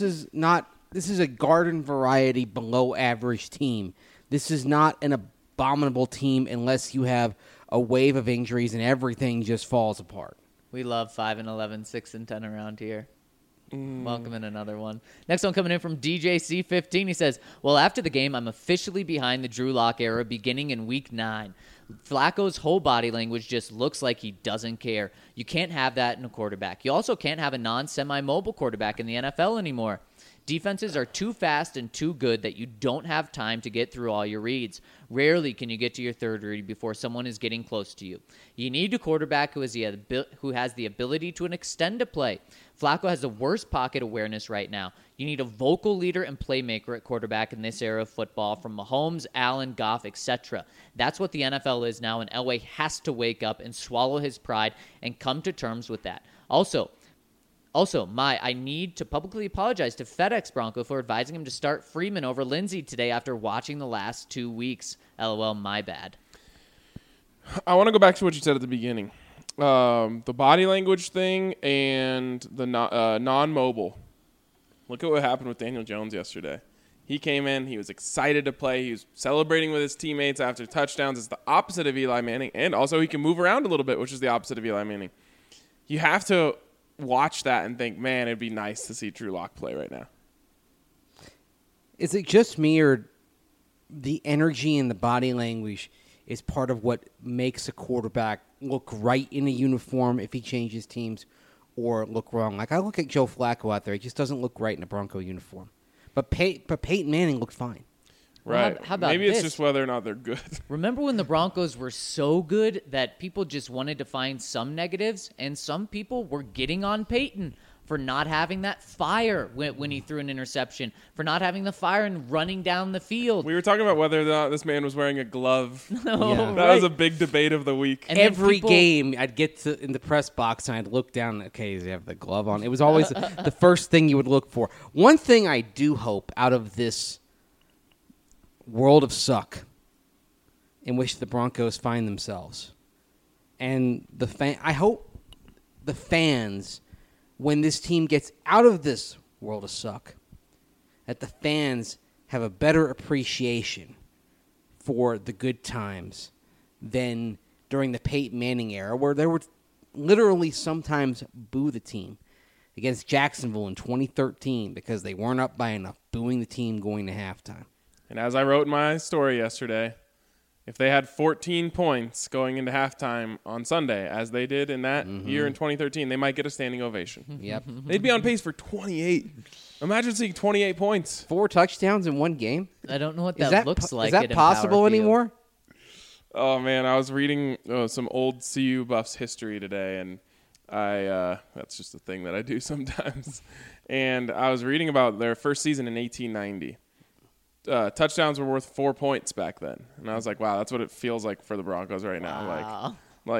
a garden variety below average team. This is not an abominable team unless you have a wave of injuries and everything just falls apart. We love 5-11, 6-10 around here. Welcome in another one. Next one coming in from DJC15. He says, well, after the game, I'm officially behind the Drew Lock era beginning in week 9. Flacco's whole body language just looks like he doesn't care. You can't have that in a quarterback. You also can't have a non-semi-mobile quarterback in the NFL anymore. Defenses are too fast and too good that you don't have time to get through all your reads. Rarely can you get to your third read before someone is getting close to you. You need a quarterback who has the ability to extend a play. Flacco has the worst pocket awareness right now. You need a vocal leader and playmaker at quarterback in this era of football, from Mahomes, Allen, Goff, etc. That's what the NFL is now, and Elway has to wake up and swallow his pride and come to terms with that. Also, I need to publicly apologize to FedEx Bronco for advising him to start Freeman over Lindsey today after watching the last 2 weeks. LOL, my bad. I want to go back to what you said at the beginning. The body language thing and the non-mobile. Look at what happened with Daniel Jones yesterday. He came in. He was excited to play. He was celebrating with his teammates after touchdowns. It's the opposite of Eli Manning. And also he can move around a little bit, which is the opposite of Eli Manning. You have to watch that and think, man, it'd be nice to see Drew Lock play right now. Is it just me, or the energy and the body language is part of what makes a quarterback look right in a uniform if he changes teams, or look wrong? Like, I look at Joe Flacco out there. He just doesn't look right in a Bronco uniform. But Peyton Manning looked fine. Right. Well, how about Maybe it's this? just whether or not they're good. Remember when the Broncos were so good that people just wanted to find some negatives, and some people were getting on Peyton for not having that fire when he threw an interception, for not having the fire and running down the field. We were talking about whether or not this man was wearing a glove. Yeah. That was a big debate of the week. And then Every people- game, I'd get in the press box and I'd look down. Okay, does he have the glove on? It was always the first thing you would look for. One thing I do hope out of this world of suck in which the Broncos find themselves, and I hope the fans, when this team gets out of this world of suck, that the fans have a better appreciation for the good times than during the Peyton Manning era, where there would literally sometimes boo the team. Against Jacksonville in 2013 because they weren't up by enough, booing the team going to halftime. And as I wrote in my story yesterday, if they had 14 points going into halftime on Sunday, as they did in that year in 2013, they might get a standing ovation. Yep. They'd be on pace for 28. Imagine seeing 28 points. 4 touchdowns in one game? I don't know what Is that looks like. Is that at possible Empower Field. anymore? Oh, man, I was reading some old CU Buffs history today, and that's just a thing that I do sometimes. And I was reading about their first season in 1890. Touchdowns were worth 4 points back then. And I was like, wow, that's what it feels like for the Broncos right now. Wow.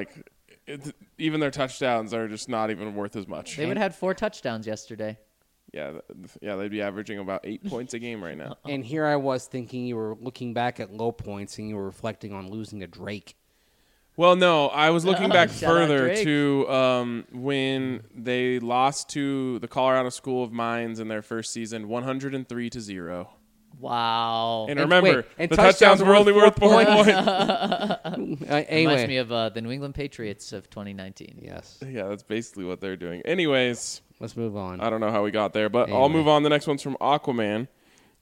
Even their touchdowns are just not even worth as much. They would have had 4 touchdowns yesterday. Yeah, they'd be averaging about 8 points a game right now. And here I was thinking you were looking back at low points and you were reflecting on losing to Drake. Well, no, I was looking back Shout out further Drake. to when they lost to the Colorado School of Mines in their first season, 103-0. Wow. And And remember, wait, and the touchdowns were only worth 4 points. Reminds Anyway. me of the New England Patriots of 2019. Yes. Yeah, that's basically what they're doing. Anyways, Let's move on. I don't know how we got there, but I'll Anyway. move on. The next one's from Aquaman.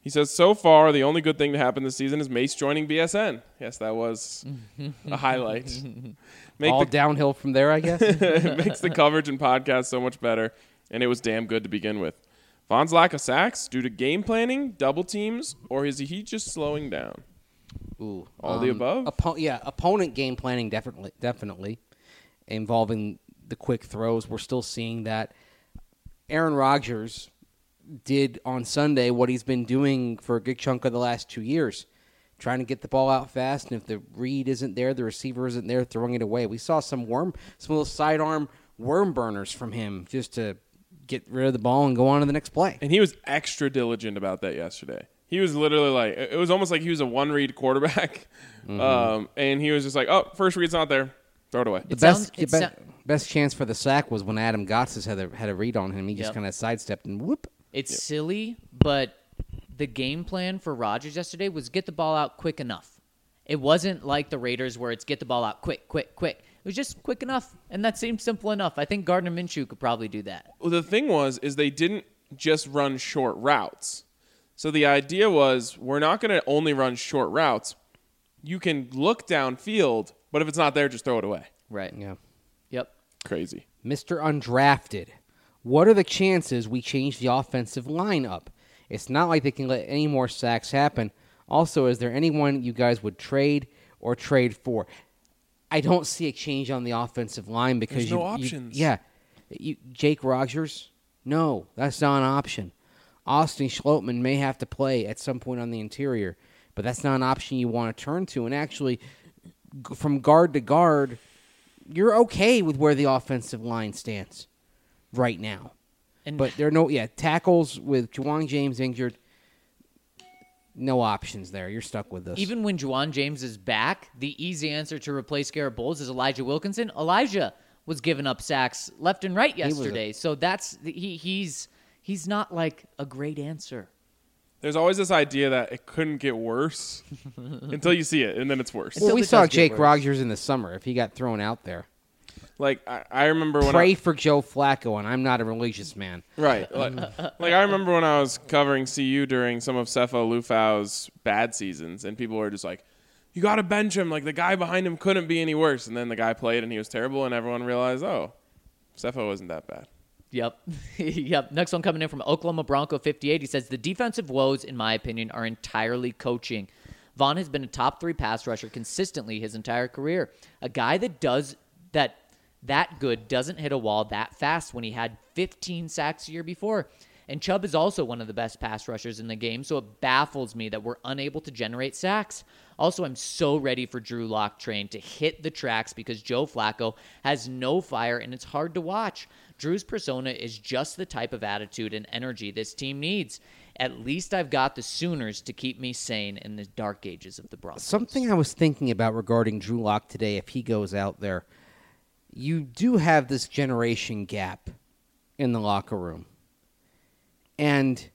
He says, so far, the only good thing to happen this season is Mace joining BSN. Yes, that was a highlight. All downhill from there, I guess. It makes the coverage and podcast so much better, and it was damn good to begin with. Von's lack of sacks due to game planning, double teams, or is he just slowing down? Ooh, All the above? Opponent game planning definitely involving the quick throws. We're still seeing that. Aaron Rodgers did on Sunday what he's been doing for a good chunk of the last 2 years, trying to get the ball out fast, and if the read isn't there, the receiver isn't there, throwing it away. We saw some little sidearm worm burners from him just to get rid of the ball and go on to the next play. And he was extra diligent about that yesterday. He was literally like, it was almost like he was a one-read quarterback, and he was just like, oh, first read's not there, throw it away. The best chance for the sack was when Adam Gotsis had a read on him. He just kind of sidestepped and whoop. It's silly, but the game plan for Rodgers yesterday was get the ball out quick enough. It wasn't like the Raiders where it's get the ball out quick, quick, quick. It was just quick enough, and that seemed simple enough. I think Gardner Minshew could probably do that. Well, the thing is they didn't just run short routes. So the idea was we're not going to only run short routes. You can look downfield, but if it's not there, just throw it away. Right. Yeah. Yep. Crazy. Mr. Undrafted. What are the chances we change the offensive line up? It's not like they can let any more sacks happen. Also, is there anyone you guys would trade or trade for? I don't see a change on the offensive line because there's no options. Jake Rodgers? No, that's not an option. Austin Schlottman may have to play at some point on the interior, but that's not an option you want to turn to. And actually, from guard to guard, you're okay with where the offensive line stands right now. But there are no tackles with Juwan James injured. No options there. You're stuck with this. Even when Juwan James is back, the easy answer to replace Garrett Bowles is Elijah Wilkinson. Elijah was giving up sacks left and right yesterday, so that's he's not like a great answer. There's always this idea that it couldn't get worse until you see it, and then it's worse. Well, we saw Jake Rodgers in the summer if he got thrown out there. Like, I remember when Pray for Joe Flacco, and I'm not a religious man. Right. Like I remember when I was covering CU during some of Sefo Lufau's bad seasons, and people were just like, you got to bench him. Like, the guy behind him couldn't be any worse. And then the guy played, and he was terrible, and everyone realized, oh, Sefo wasn't that bad. Yep. Yep. Next one coming in from Oklahoma Bronco 58. He says, the defensive woes, in my opinion, are entirely coaching. Von has been a top 3 pass rusher consistently his entire career. A guy that does that good doesn't hit a wall that fast when he had 15 sacks a year before. And Chubb is also one of the best pass rushers in the game, so it baffles me that we're unable to generate sacks. Also, I'm so ready for Drew Lock train to hit the tracks because Joe Flacco has no fire and it's hard to watch. Drew's persona is just the type of attitude and energy this team needs. At least I've got the Sooners to keep me sane in the dark ages of the Broncos. Something I was thinking about regarding Drew Lock today, if he goes out there, you do have this generation gap in the locker room. And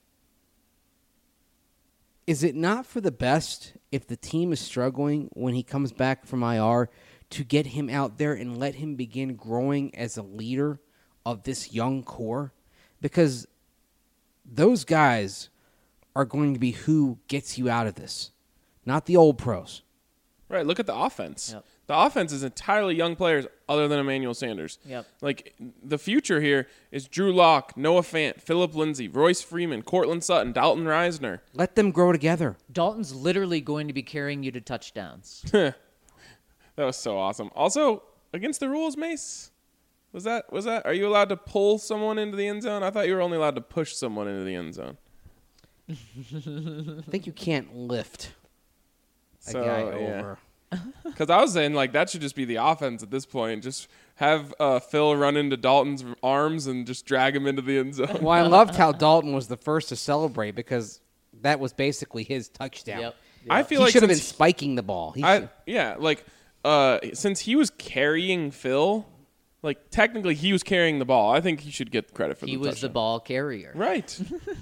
is it not for the best if the team is struggling when he comes back from IR to get him out there and let him begin growing as a leader of this young core? Because those guys are going to be who gets you out of this, not the old pros. Right, look at the offense. Yep. The offense is entirely young players other than Emmanuel Sanders. Yep. Like, the future here is Drew Lock, Noah Fant, Phillip Lindsay, Royce Freeman, Cortland Sutton, Dalton Reisner. Let them grow together. Dalton's literally going to be carrying you to touchdowns. That was so awesome. Also, against the rules, Mace, was that? Are you allowed to pull someone into the end zone? I thought you were only allowed to push someone into the end zone. I think you can't lift a So, guy yeah. over. Because I was saying, like, that should just be the offense at this point. Just have Phil run into Dalton's arms and just drag him into the end zone. Well, I loved how Dalton was the first to celebrate because that was basically his touchdown. Yep. I feel He like should have been since spiking the ball. since he was carrying Phil, like, technically he was carrying the ball. I think he should get credit for He the was touchdown. the ball carrier. Right.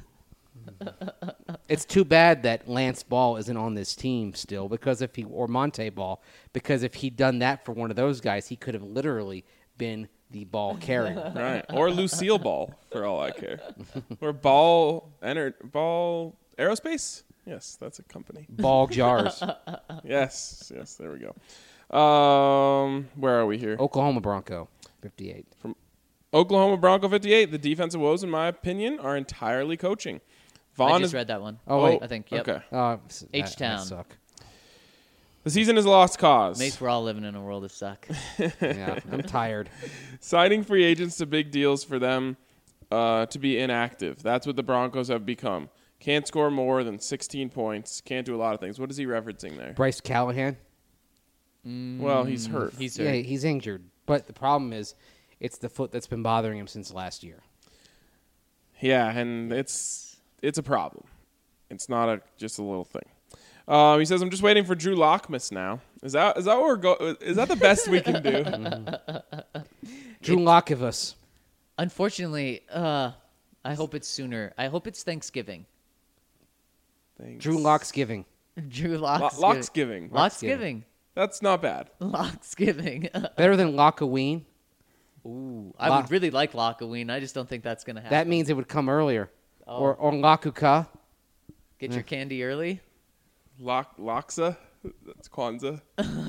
It's too bad that Lance Ball isn't on this team still or Monte Ball, because if he'd done that for one of those guys, he could have literally been the ball carrier. Right. Or Lucille Ball, for all I care. Or ball Aerospace? Yes, that's a company. Ball jars. Yes, there we go. Where are we here? Oklahoma Bronco, 58. Oklahoma Bronco 58. The defensive woes, in my opinion, are entirely coaching. I Vaughn just is read that one. Oh, wait. I think. Yep. okay. H-Town. I suck. The season is a lost cause. Mates, we're all living in a world of suck. Yeah, I'm tired. Signing free agents to big deals for them to be inactive. That's what the Broncos have become. Can't score more than 16 points. Can't do a lot of things. What is he referencing there? Bryce Callahan. Well, he's hurt. He's Yeah, he's injured. But the problem is, it's the foot that's been bothering him since last year. Yeah, and it's a problem. It's not just a little thing. He says, "I'm just waiting for Drew Lockmas now." Is that what we're go? Is that the best we can do? Drew Lockovus. Unfortunately, I hope it's sooner. I hope it's Thanksgiving. Thanks. Drew Locksgiving. Drew Locks. Locksgiving. Locksgiving. That's not bad. Locksgiving. Better than Lockaween. Ooh, I would really like Lockaween. I just don't think that's going to happen. That means it would come earlier. Oh. Or Lakuka. Get your candy early. Loxa. That's Kwanzaa.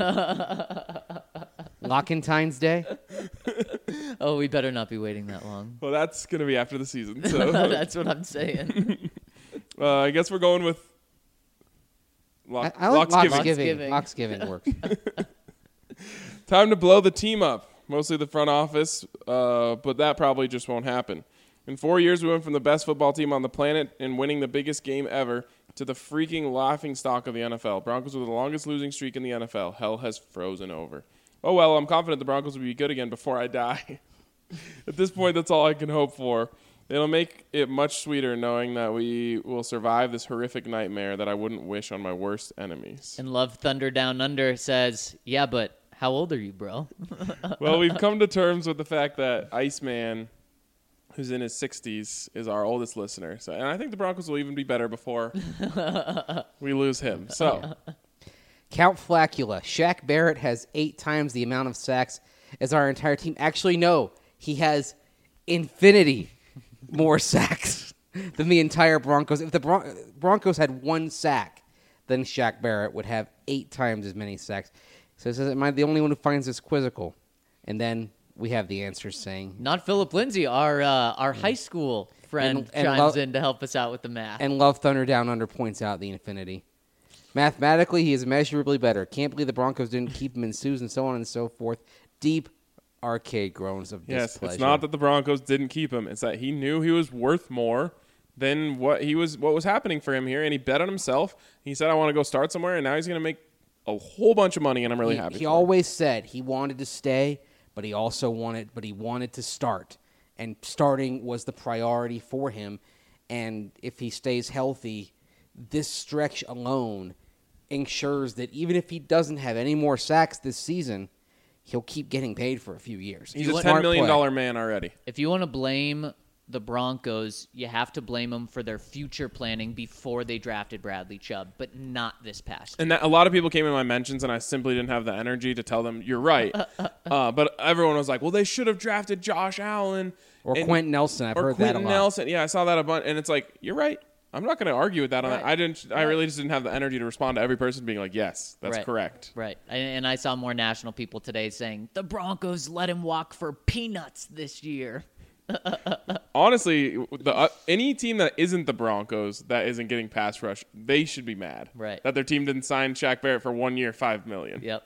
Lockentine's Day. Oh, we better not be waiting that long. Well, that's gonna be after the season. So That's what I'm saying. I guess we're going with I like Locksgiving. Locksgiving works. Time to blow the team up. Mostly the front office, but that probably just won't happen. In 4 years, we went from the best football team on the planet and winning the biggest game ever to the freaking laughing stock of the NFL. Broncos with the longest losing streak in the NFL. Hell has frozen over. Oh, well, I'm confident the Broncos will be good again before I die. At this point, that's all I can hope for. It'll make it much sweeter knowing that we will survive this horrific nightmare that I wouldn't wish on my worst enemies. And Love Thunder Down Under says, yeah, but how old are you, bro? Well, we've come to terms with the fact that Iceman, who's in his 60s, is our oldest listener. So, and I think the Broncos will even be better before we lose him. So, Count Flacula. Shaq Barrett has 8 times the amount of sacks as our entire team. Actually, no. He has infinity more sacks than the entire Broncos. If the Broncos had 1 sack, then Shaq Barrett would have 8 times as many sacks. So it says, am I the only one who finds this quizzical? And then we have the answers saying... Not Philip Lindsay, our high school friend And chimes in to help us out with the math. And Love Thunder Down Under points out the infinity. Mathematically, he is immeasurably better. Can't believe the Broncos didn't keep him in Sues and so on and so forth. Deep arcade groans of yes, displeasure. it's not that the Broncos didn't keep him. It's that he knew he was worth more than what was happening for him here, and he bet on himself. He said, I want to go start somewhere, and now he's going to make a whole bunch of money, and I'm really happy. He always said he wanted to stay, but he wanted to start, and starting was the priority for him. And if he stays healthy, this stretch alone ensures that even if he doesn't have any more sacks this season, he'll keep getting paid for a few years. He's a $10 million man already. If you want to blame the Broncos, you have to blame them for their future planning before they drafted Bradley Chubb, but not this past year. And a lot of people came in my mentions, and I simply didn't have the energy to tell them, you're right. But everyone was like, well, they should have drafted Josh Allen. Or Quentin Nelson. I've heard that a Quentin lot. Nelson. Yeah, I saw that a bunch. And it's like, you're right. I'm not going to argue with that. Right. I really just didn't have the energy to respond to every person being like, yes, that's Right. correct. Right. And I saw more national people today saying, the Broncos let him walk for peanuts this year. Honestly, any team that isn't the Broncos that isn't getting pass rush, they should be mad. Right. That their team didn't sign Shaq Barrett for 1 year, $5 million. Yep.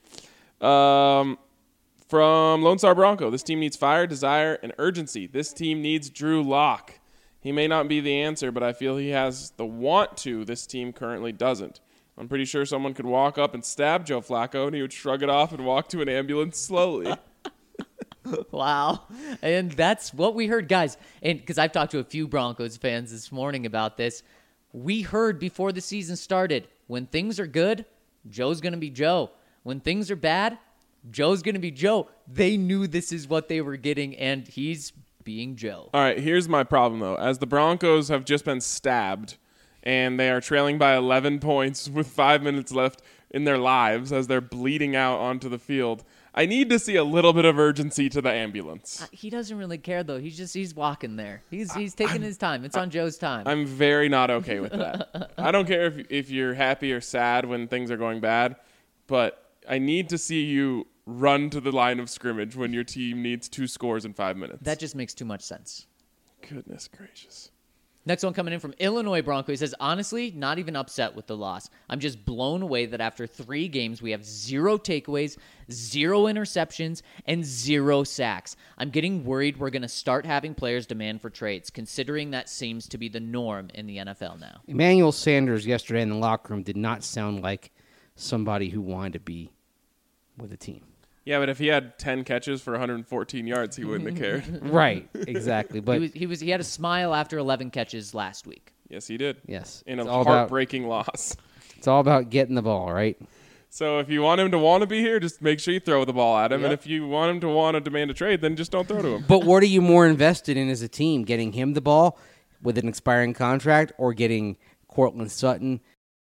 From Lone Star Bronco, this team needs fire, desire, and urgency. This team needs Drew Lock. He may not be the answer, but I feel he has the want to. This team currently doesn't. I'm pretty sure someone could walk up and stab Joe Flacco, and he would shrug it off and walk to an ambulance slowly. Wow. And that's what we heard, guys. And because I've talked to a few Broncos fans this morning about this, we heard before the season started, when things are good, Joe's going to be Joe. When things are bad, Joe's going to be Joe. They knew this is what they were getting, and he's being Joe. All right, here's my problem, though. As the Broncos have just been stabbed, and they are trailing by 11 points with 5 minutes left in their lives as they're bleeding out onto the field, I need to see a little bit of urgency to the ambulance. He doesn't really care though. He's walking there. He's taking his time. It's on Joe's time. I'm very not okay with that. I don't care if you're happy or sad when things are going bad, but I need to see you run to the line of scrimmage when your team needs 2 scores in 5 minutes. That just makes too much sense. Goodness gracious. Next one coming in from Illinois Bronco. He says, honestly, not even upset with the loss. I'm just blown away that after 3 games, we have 0 takeaways, 0 interceptions, and 0 sacks. I'm getting worried we're going to start having players demand for trades, considering that seems to be the norm in the NFL now. Emmanuel Sanders yesterday in the locker room did not sound like somebody who wanted to be with a team. Yeah, but if he had 10 catches for 114 yards, he wouldn't have cared. Right, exactly. But He had a smile after 11 catches last week. Yes, he did. yes, In a it's all about heartbreaking loss. it's all about getting the ball, right? So if you want him to want to be here, just make sure you throw the ball at him. And Yep. if you want him to want to demand a trade, then just don't throw to him. But what are you more invested in as a team? Getting him the ball with an expiring contract, or getting Cortland Sutton,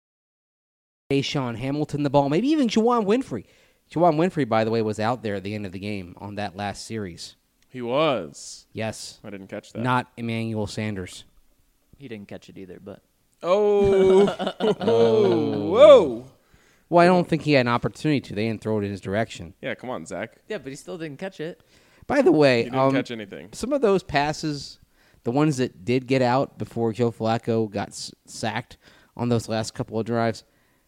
Tayshaun Hamilton the ball, maybe even Juwan Winfrey? Juwan Winfrey, by the way, was out there at the end of the game on that last series. He was. Yes, I didn't catch that. not Emmanuel Sanders. He didn't catch it either, but Oh. Whoa. Well, I don't think he had an opportunity to. They didn't throw it in his direction. Yeah, come on, Zach. yeah, but he still didn't catch it. By the way, He didn't catch anything. some of those passes, the ones that did get out before Joe Flacco got sacked on those last couple of drives,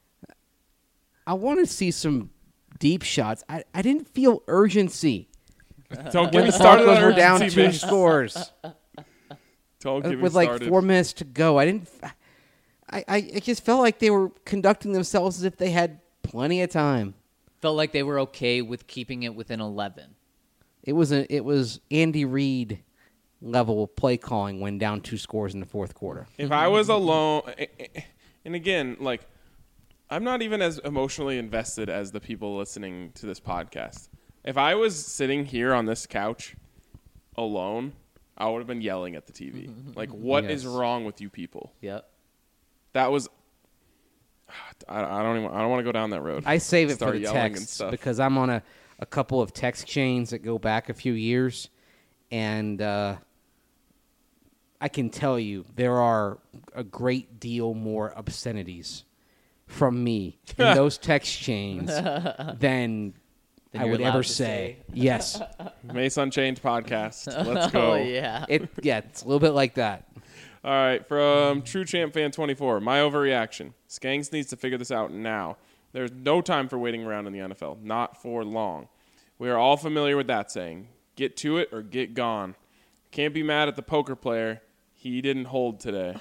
I want to see some deep shots. I didn't feel urgency Don't get when me the started on Broncos were down urgency, 2 man. scores Don't get me with like started. 4 minutes to go. I just felt like they were conducting themselves as if they had plenty of time. Felt like they were okay with keeping it within 11. It was Andy Reid level play calling when down 2 scores in the fourth quarter. If I was alone, and again, like, I'm not even as emotionally invested as the people listening to this podcast. If I was sitting here on this couch alone, I would have been yelling at the TV. Like, what is Yes. wrong with you people? Yep. That was. I don't want to go down that road. I save it for Start the yelling and texts stuff. because I'm on a couple of text chains that go back a few years, and I can tell you there are a great deal more obscenities from me in those text chains than I you're would allowed ever to say. Yes, Mace Unchained podcast. Let's go. Oh, yeah. it's a little bit like that. All right, from True Champ Fan 24, my overreaction. Skanks needs to figure this out now. There's no time for waiting around in the NFL, not for long. We are all familiar with that saying. Get to it or get gone. Can't be mad at the poker player. He didn't hold today.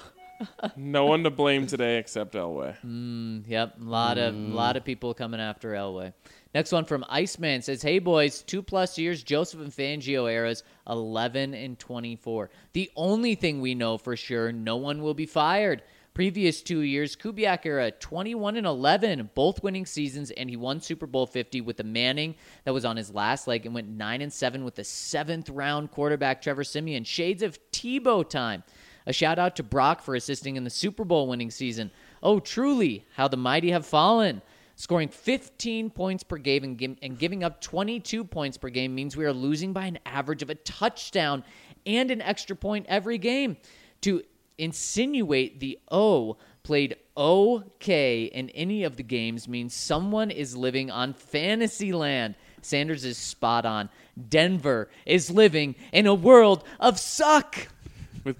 No one to blame today except Elway. Yep, a lot of people coming after Elway. Next one from Iceman says, "Hey boys, 2+ years Joseph and Fangio eras, 11 and 24. The only thing we know for sure, no one will be fired. Previous 2 years, Kubiak era, 21 and 11, both winning seasons, and he won Super Bowl 50 with the Manning that was on his last leg and went 9 and 7 with the 7th round quarterback Trevor Siemian. Shades of Tebow time. A shout out to Brock for assisting in the Super Bowl winning season. Oh, truly, how the mighty have fallen. Scoring 15 points per game and giving up 22 points per game means we are losing by an average of a touchdown and an extra point every game. To insinuate the O played okay in any of the games means someone is living on fantasy land. Sanders is spot on. Denver is living in a world of suck." With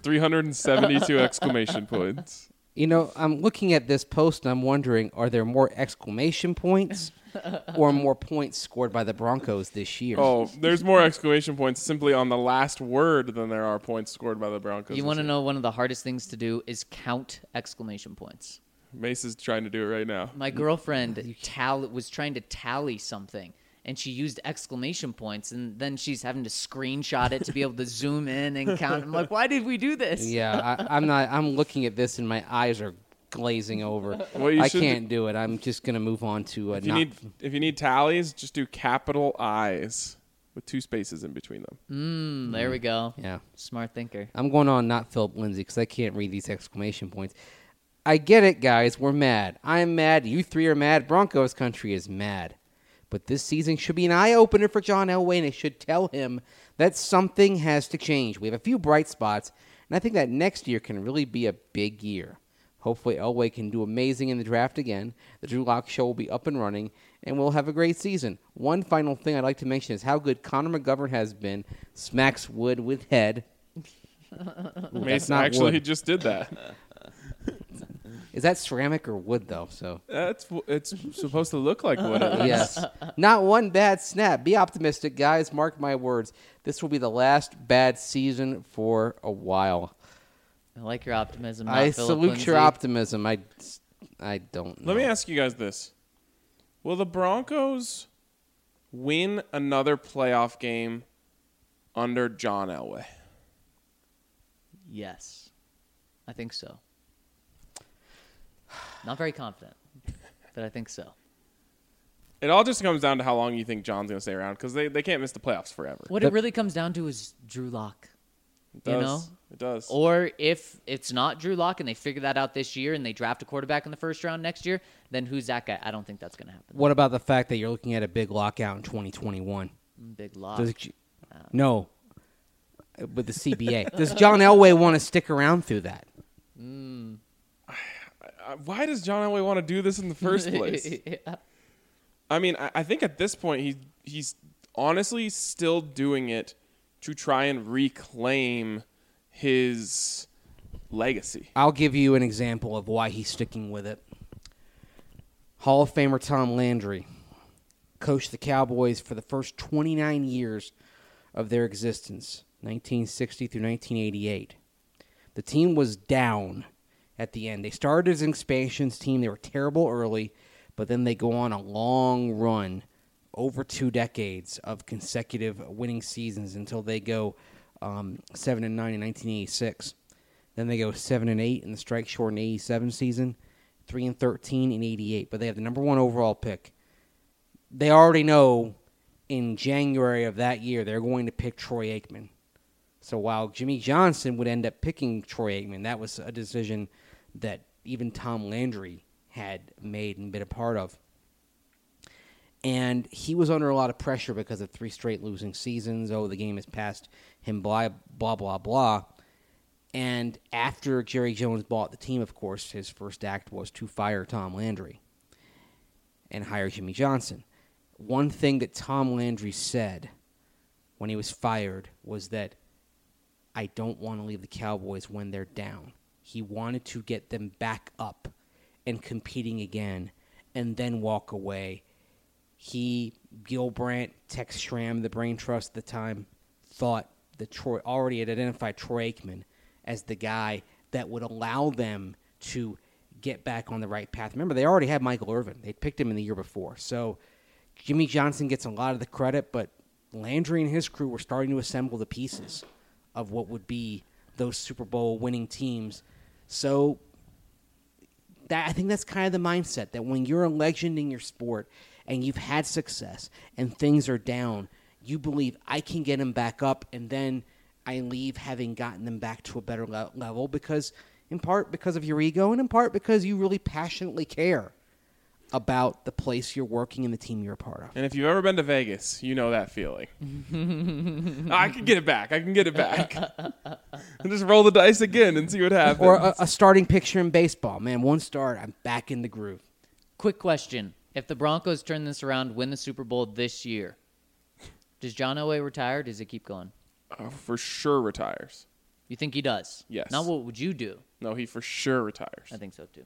372 exclamation points. You know, I'm looking at this post and I'm wondering, are there more exclamation points or more points scored by the Broncos this year? Oh, there's more exclamation points simply on the last word than there are points scored by the Broncos. You this want to year. know one of the hardest things to do is count exclamation points. Mace is trying to do it right now. My girlfriend was trying to tally something, and she used exclamation points, and then she's having to screenshot it to be able to zoom in and count. I'm like, why did we do this? Yeah, I'm not. I'm looking at this and my eyes are glazing over. What you I should can't do it. I'm just gonna move on to If you need tallies, just do capital I's with 2 spaces in between them. There we go. Yeah, Smart thinker. I'm going on not Philip Lindsay because I can't read these exclamation points. I get it, guys. We're mad. I'm mad. You 3 are mad. Broncos country is mad. But this season should be an eye-opener for John Elway, and it should tell him that something has to change. We have a few bright spots, and I think that next year can really be a big year. Hopefully Elway can do amazing in the draft again. The Drew Lock Show will be up and running, and we'll have a great season. One final thing I'd like to mention is how good Connor McGovern has been. Smacks wood with head. Mason not actually wood. just did that. Is that ceramic or wood, though? So It's supposed to look like wood. At least. yes. Not one bad snap. Be optimistic, guys. Mark my words. This will be the last bad season for a while. I like your optimism. I Phillip salute Lindsay. your optimism. I don't know. Let me ask you guys this. Will the Broncos win another playoff game under John Elway? Yes, I think so. Not very confident, but I think so. It all just comes down to how long you think John's going to stay around because they can't miss the playoffs forever. What it really comes down to is Drew Lock. It does. You know? It does. Or if it's not Drew Lock and they figure that out this year and they draft a quarterback in the first round next year, then who's that guy? I don't think that's going to happen. What about the fact that you're looking at a big lockout in 2021? Big Lock. No. With the CBA. Does John Elway want to stick around through that? Why does John Elway want to do this in the first place? Yeah. I mean, I think at this point he's honestly still doing it to try and reclaim his legacy. I'll give you an example of why he's sticking with it. Hall of Famer Tom Landry coached the Cowboys for the first 29 years of their existence, 1960 through 1988. The team was down at the end. They started as an expansions team. They were terrible early, but then they go on a long run over 2 decades of consecutive winning seasons until they go 7-9 in 1986. Then they go 7-8 in the strike-shortened 87 season, 3-13 in 88. But they have the number 1 overall pick. They already know in January of that year they're going to pick Troy Aikman. So while Jimmy Johnson would end up picking Troy Aikman, that was a decision that even Tom Landry had made and been a part of. And he was under a lot of pressure because of 3 straight losing seasons. Oh, the game has passed him, blah, blah, blah, blah. And after Jerry Jones bought the team, of course, his first act was to fire Tom Landry and hire Jimmy Johnson. One thing that Tom Landry said when he was fired was that, I don't want to leave the Cowboys when they're down. He wanted to get them back up and competing again and then walk away. He, Gil Brandt, Tex Schramm, the brain trust at the time, thought that Troy already had identified Troy Aikman as the guy that would allow them to get back on the right path. Remember, they already had Michael Irvin. They'd picked him in the year before. So Jimmy Johnson gets a lot of the credit, but Landry and his crew were starting to assemble the pieces of what would be those Super Bowl winning teams. So I think that's kind of the mindset, that when you're a legend in your sport and you've had success and things are down, you believe I can get them back up, and then I leave having gotten them back to a better level because, in part, because of your ego, and in part because you really passionately care about the place you're working and the team you're a part of. And if you've ever been to Vegas, you know that feeling. I can get it back. I can get it back. And just roll the dice again and see what happens. Or a starting picture in baseball. Man, 1 start, I'm back in the groove. Quick question. If the Broncos turn this around, win the Super Bowl this year, does John Elway retire or does he keep going? For sure retires. You think he does? Yes. Now what would you do? No, he for sure retires. I think so too.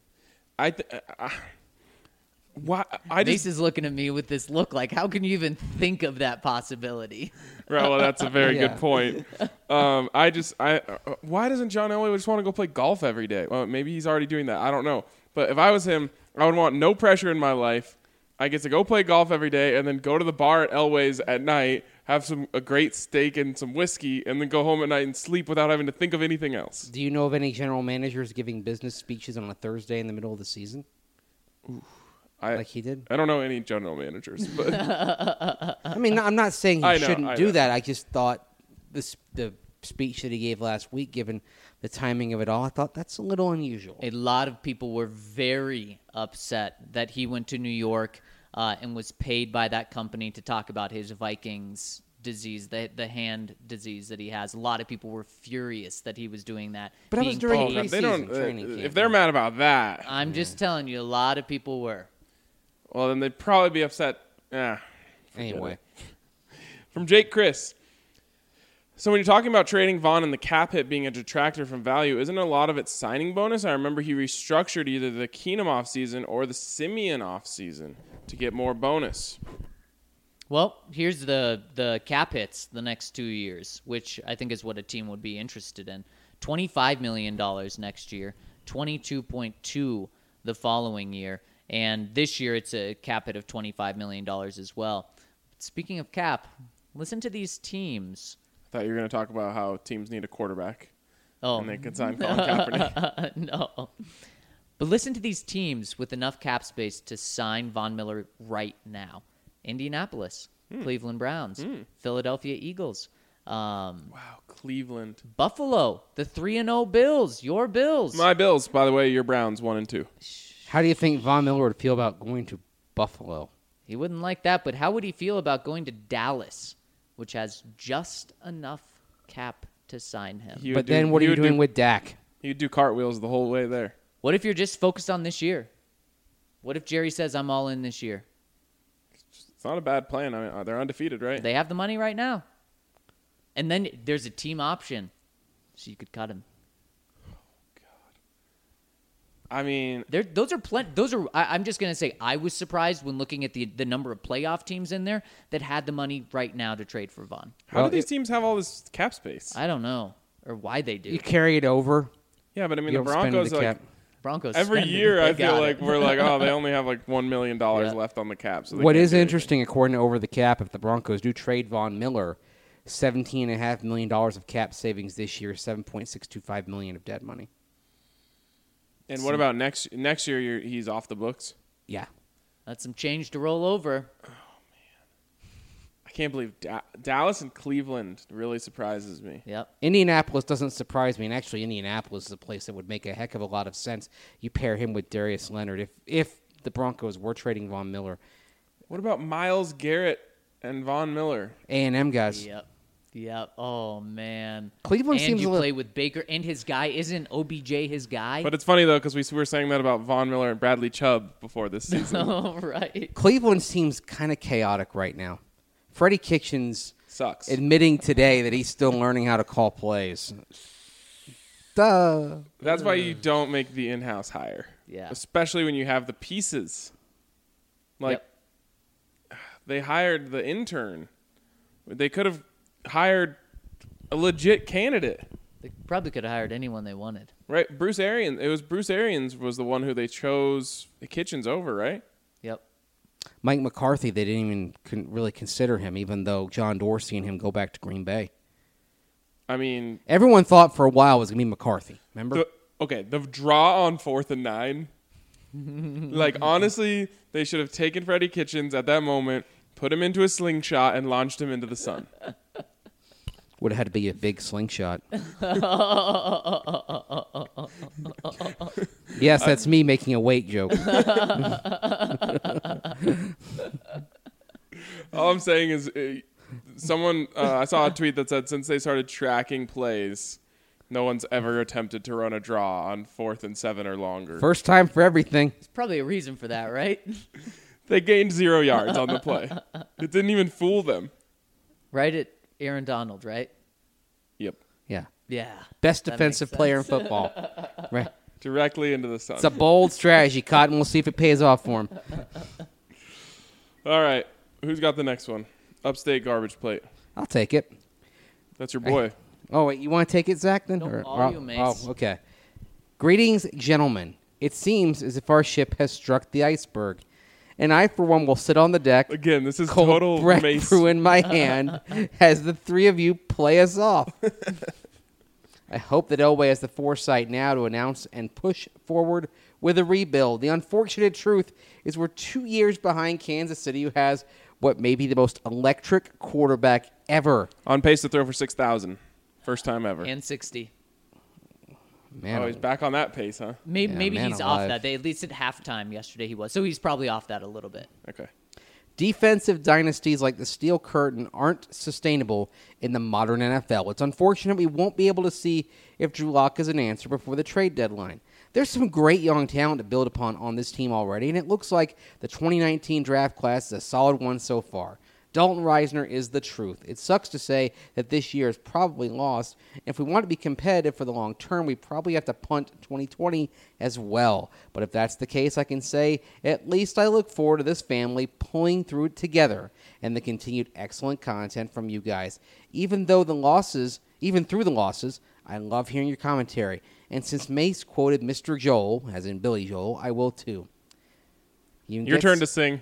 Why? Mace is looking at me with this look like, how can you even think of that possibility? Right, well, that's a very Yeah. good point. Why doesn't John Elway just want to go play golf every day? Well, maybe he's already doing that. I don't know. But if I was him, I would want no pressure in my life. I get to go play golf every day and then go to the bar at Elway's at night, have a great steak and some whiskey, and then go home at night and sleep without having to think of anything else. Do you know of any general managers giving business speeches on a Thursday in the middle of the season? Like he did? I don't know any general managers, but I mean, I'm not saying I he know, shouldn't I do know. that. I just thought the speech that he gave last week, given the timing of it all, I thought that's a little unusual. A lot of people were very upset that he went to New York. and was paid by that company to talk about his Vikings disease, the hand disease that he has. A lot of people were furious that he was doing that. But that was being during paid. They don't. training camp. If they're mad about that, I'm just telling you, a lot of people were. well, then they'd probably be upset. Forget Anyway. it. From Jake Chris. So when you're talking about trading Vaughn and the cap hit being a detractor from value, isn't a lot of it signing bonus? I remember he restructured either the Keenum offseason or the Simeon offseason to get more bonus. Well, here's the cap hits the next 2 years, which I think is what a team would be interested in. $25 million next year, $22.2 the following year, and this year it's a cap hit of $25 million as well. Speaking of cap, listen to these teams. I thought you were going to talk about how teams need a quarterback. Oh, And they could sign Colin Kaepernick. no. But listen to these teams with enough cap space to sign Von Miller right now. Indianapolis, Cleveland Browns, Philadelphia Eagles, Wow, Cleveland. Buffalo, the 3-0 Bills, your Bills. My Bills, by the way, your Browns 1 and 2. How do you think Von Miller would feel about going to Buffalo? He wouldn't like that, but how would he feel about going to Dallas, which has just enough cap to sign him? But then what are you doing with Dak? You'd do cartwheels the whole way there. What if you're just focused on this year? What if Jerry says, I'm all in this year? It's not a bad plan. I mean, they're undefeated, right? They have the money right now. And then there's a team option, so you could cut him. I mean, Those are plenty. I'm just gonna say I was surprised when looking at the number of playoff teams in there that had the money right now to trade for Vaughn. how Well, do these teams have all this cap space? I don't know or why they do. You carry it over. Yeah, but I mean, You the don't spend Broncos, the like, cap. Broncos every spend it. year, They I feel got like it. we're like, oh, they only have like $1 million Yeah. left on the cap. So they What can't is do anything. interesting, according to Over the Cap, if the Broncos do trade Von Miller, $17.5 million of cap savings this year, $7.625 million of dead money. And what about next year? He's off the books. Yeah. That's some change to roll over. I can't believe Dallas and Cleveland really surprises me. Yep. Indianapolis doesn't surprise me, and actually Indianapolis is a place that would make a heck of a lot of sense. You pair him with Darius Leonard. If the Broncos were trading Von Miller, What about Myles Garrett and Von Miller? A&M guys. Yep. Oh man. Cleveland and seems you a little- play with Baker and his guy. Isn't OBJ his guy? But it's funny though because we were saying that about Von Miller and Bradley Chubb before this season. Oh right. Cleveland seems kind of chaotic right now. Freddie Kitchens Sucks. admitting today that he's still learning how to call plays. Duh. That's why you don't make the in-house hire. Yeah. Especially when you have the pieces. Like they hired the intern. They could have hired a legit candidate. They probably could have hired anyone they wanted. Right? Bruce Arians. It was Bruce Arians was the one who they chose Kitchens over, right? Yep. Mike McCarthy, they didn't even really consider him, even though John Dorsey and him go back to Green Bay. I mean, Everyone thought for a while it was going to be McCarthy. Remember? the draw on 4th and 9. Like, honestly, they should have taken Freddie Kitchens at that moment, put him into a slingshot, and launched him into the sun. Would have had to be a big slingshot. Yes, that's me making a weight joke. All I'm saying is someone I saw a tweet that said since they started tracking plays, no one's ever attempted to run a draw on 4th and 7 or longer. First time for everything. There's probably a reason for that, right? They gained 0 yards on the play. It didn't even fool them. Right at Aaron Donald, right? Yep. Yeah. Yeah. Best That makes defensive player in sense. football. Right. Directly into the sun. It's a bold strategy, Cotton. We'll see if it pays off for him. All right. Who's got the next one? Upstate garbage plate. I'll take it. That's your boy. Oh, wait, you want to take it, Zach, then? No, all you, mates. Oh, okay. Greetings, gentlemen. It seems as if our ship has struck the iceberg, and I, for one, will sit on the deck, Again, this is cold total breath Mace. brew in my hand, as the three of you play us off. I hope that Elway has the foresight now to announce and push forward with a rebuild. The unfortunate truth is we're 2 years behind Kansas City, who has what may be the most electric quarterback ever. On pace to throw for 6,000. First time ever. And 60. Man, Oh, he's back on that pace, huh? Maybe Yeah, man he's alive. off that. They at least at halftime yesterday he was. So he's probably off that a little bit. Okay. Defensive dynasties like the Steel Curtain aren't sustainable in the modern NFL. It's unfortunate we won't be able to see if Drew Lock is an answer before the trade deadline. There's some great young talent to build upon on this team already, and it looks like the 2019 draft class is a solid one so far. Dalton Reisner is the truth. It sucks to say that this year is probably lost. If we want to be competitive for the long term, we probably have to punt 2020 as well. But if that's the case, I can say at least I look forward to this family pulling through it together and the continued excellent content from you guys. Even through the losses, I love hearing your commentary. And since Mace quoted Mr. Joel, as in Billy Joel, I will too. Your turn to sing.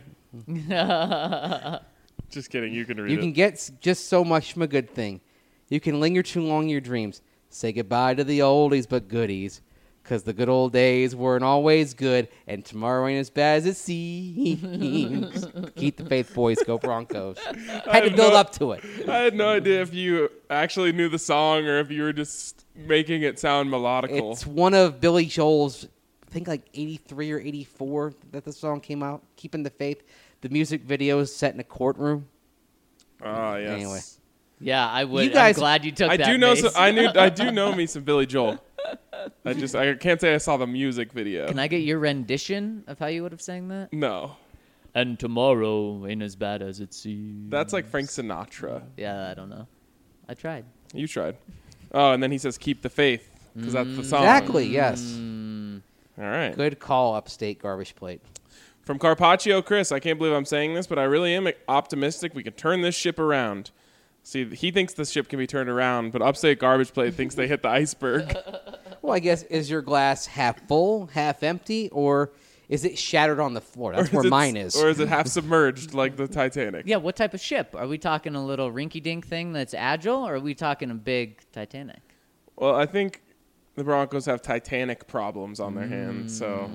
Just kidding. You can read it. You can get just so much from a good thing. You can linger too long in your dreams. Say goodbye to the oldies but goodies. Because the good old days weren't always good, and tomorrow ain't as bad as it seems. Keep the faith, boys. Go Broncos. Had to build up to it. I had no idea if you actually knew the song or if you were just making it sound melodical. It's one of Billy Joel's, I think like 83 or 84 that the song came out, Keeping the Faith. The music video is set in a courtroom. Oh, yes. Anyway. Yeah, I would. You guys- I'm glad you took I that. do know. Mace. I do know me some Billy Joel. I can't say I saw the music video. Can I get your rendition of how you would have sang that? No, And tomorrow ain't as bad as it seems. that's like Frank Sinatra. Yeah, I don't know. I tried. You tried. Oh, and then he says, "Keep the faith," because that's the song. Exactly, yes. All right. Good call, Upstate Garbage Plate. From Carpaccio, Chris, I can't believe I'm saying this, but I really am optimistic we can turn this ship around. See, he thinks the ship can be turned around, but Upstate Garbage Plate thinks they hit the iceberg. Well, I guess, is your glass half full, half empty, or is it shattered on the floor? That's where mine is. Or is it half submerged like the Titanic? Yeah, what type of ship? Are we talking a little rinky-dink thing that's agile, or are we talking a big Titanic? Well, I think the Broncos have Titanic problems on their hands, so...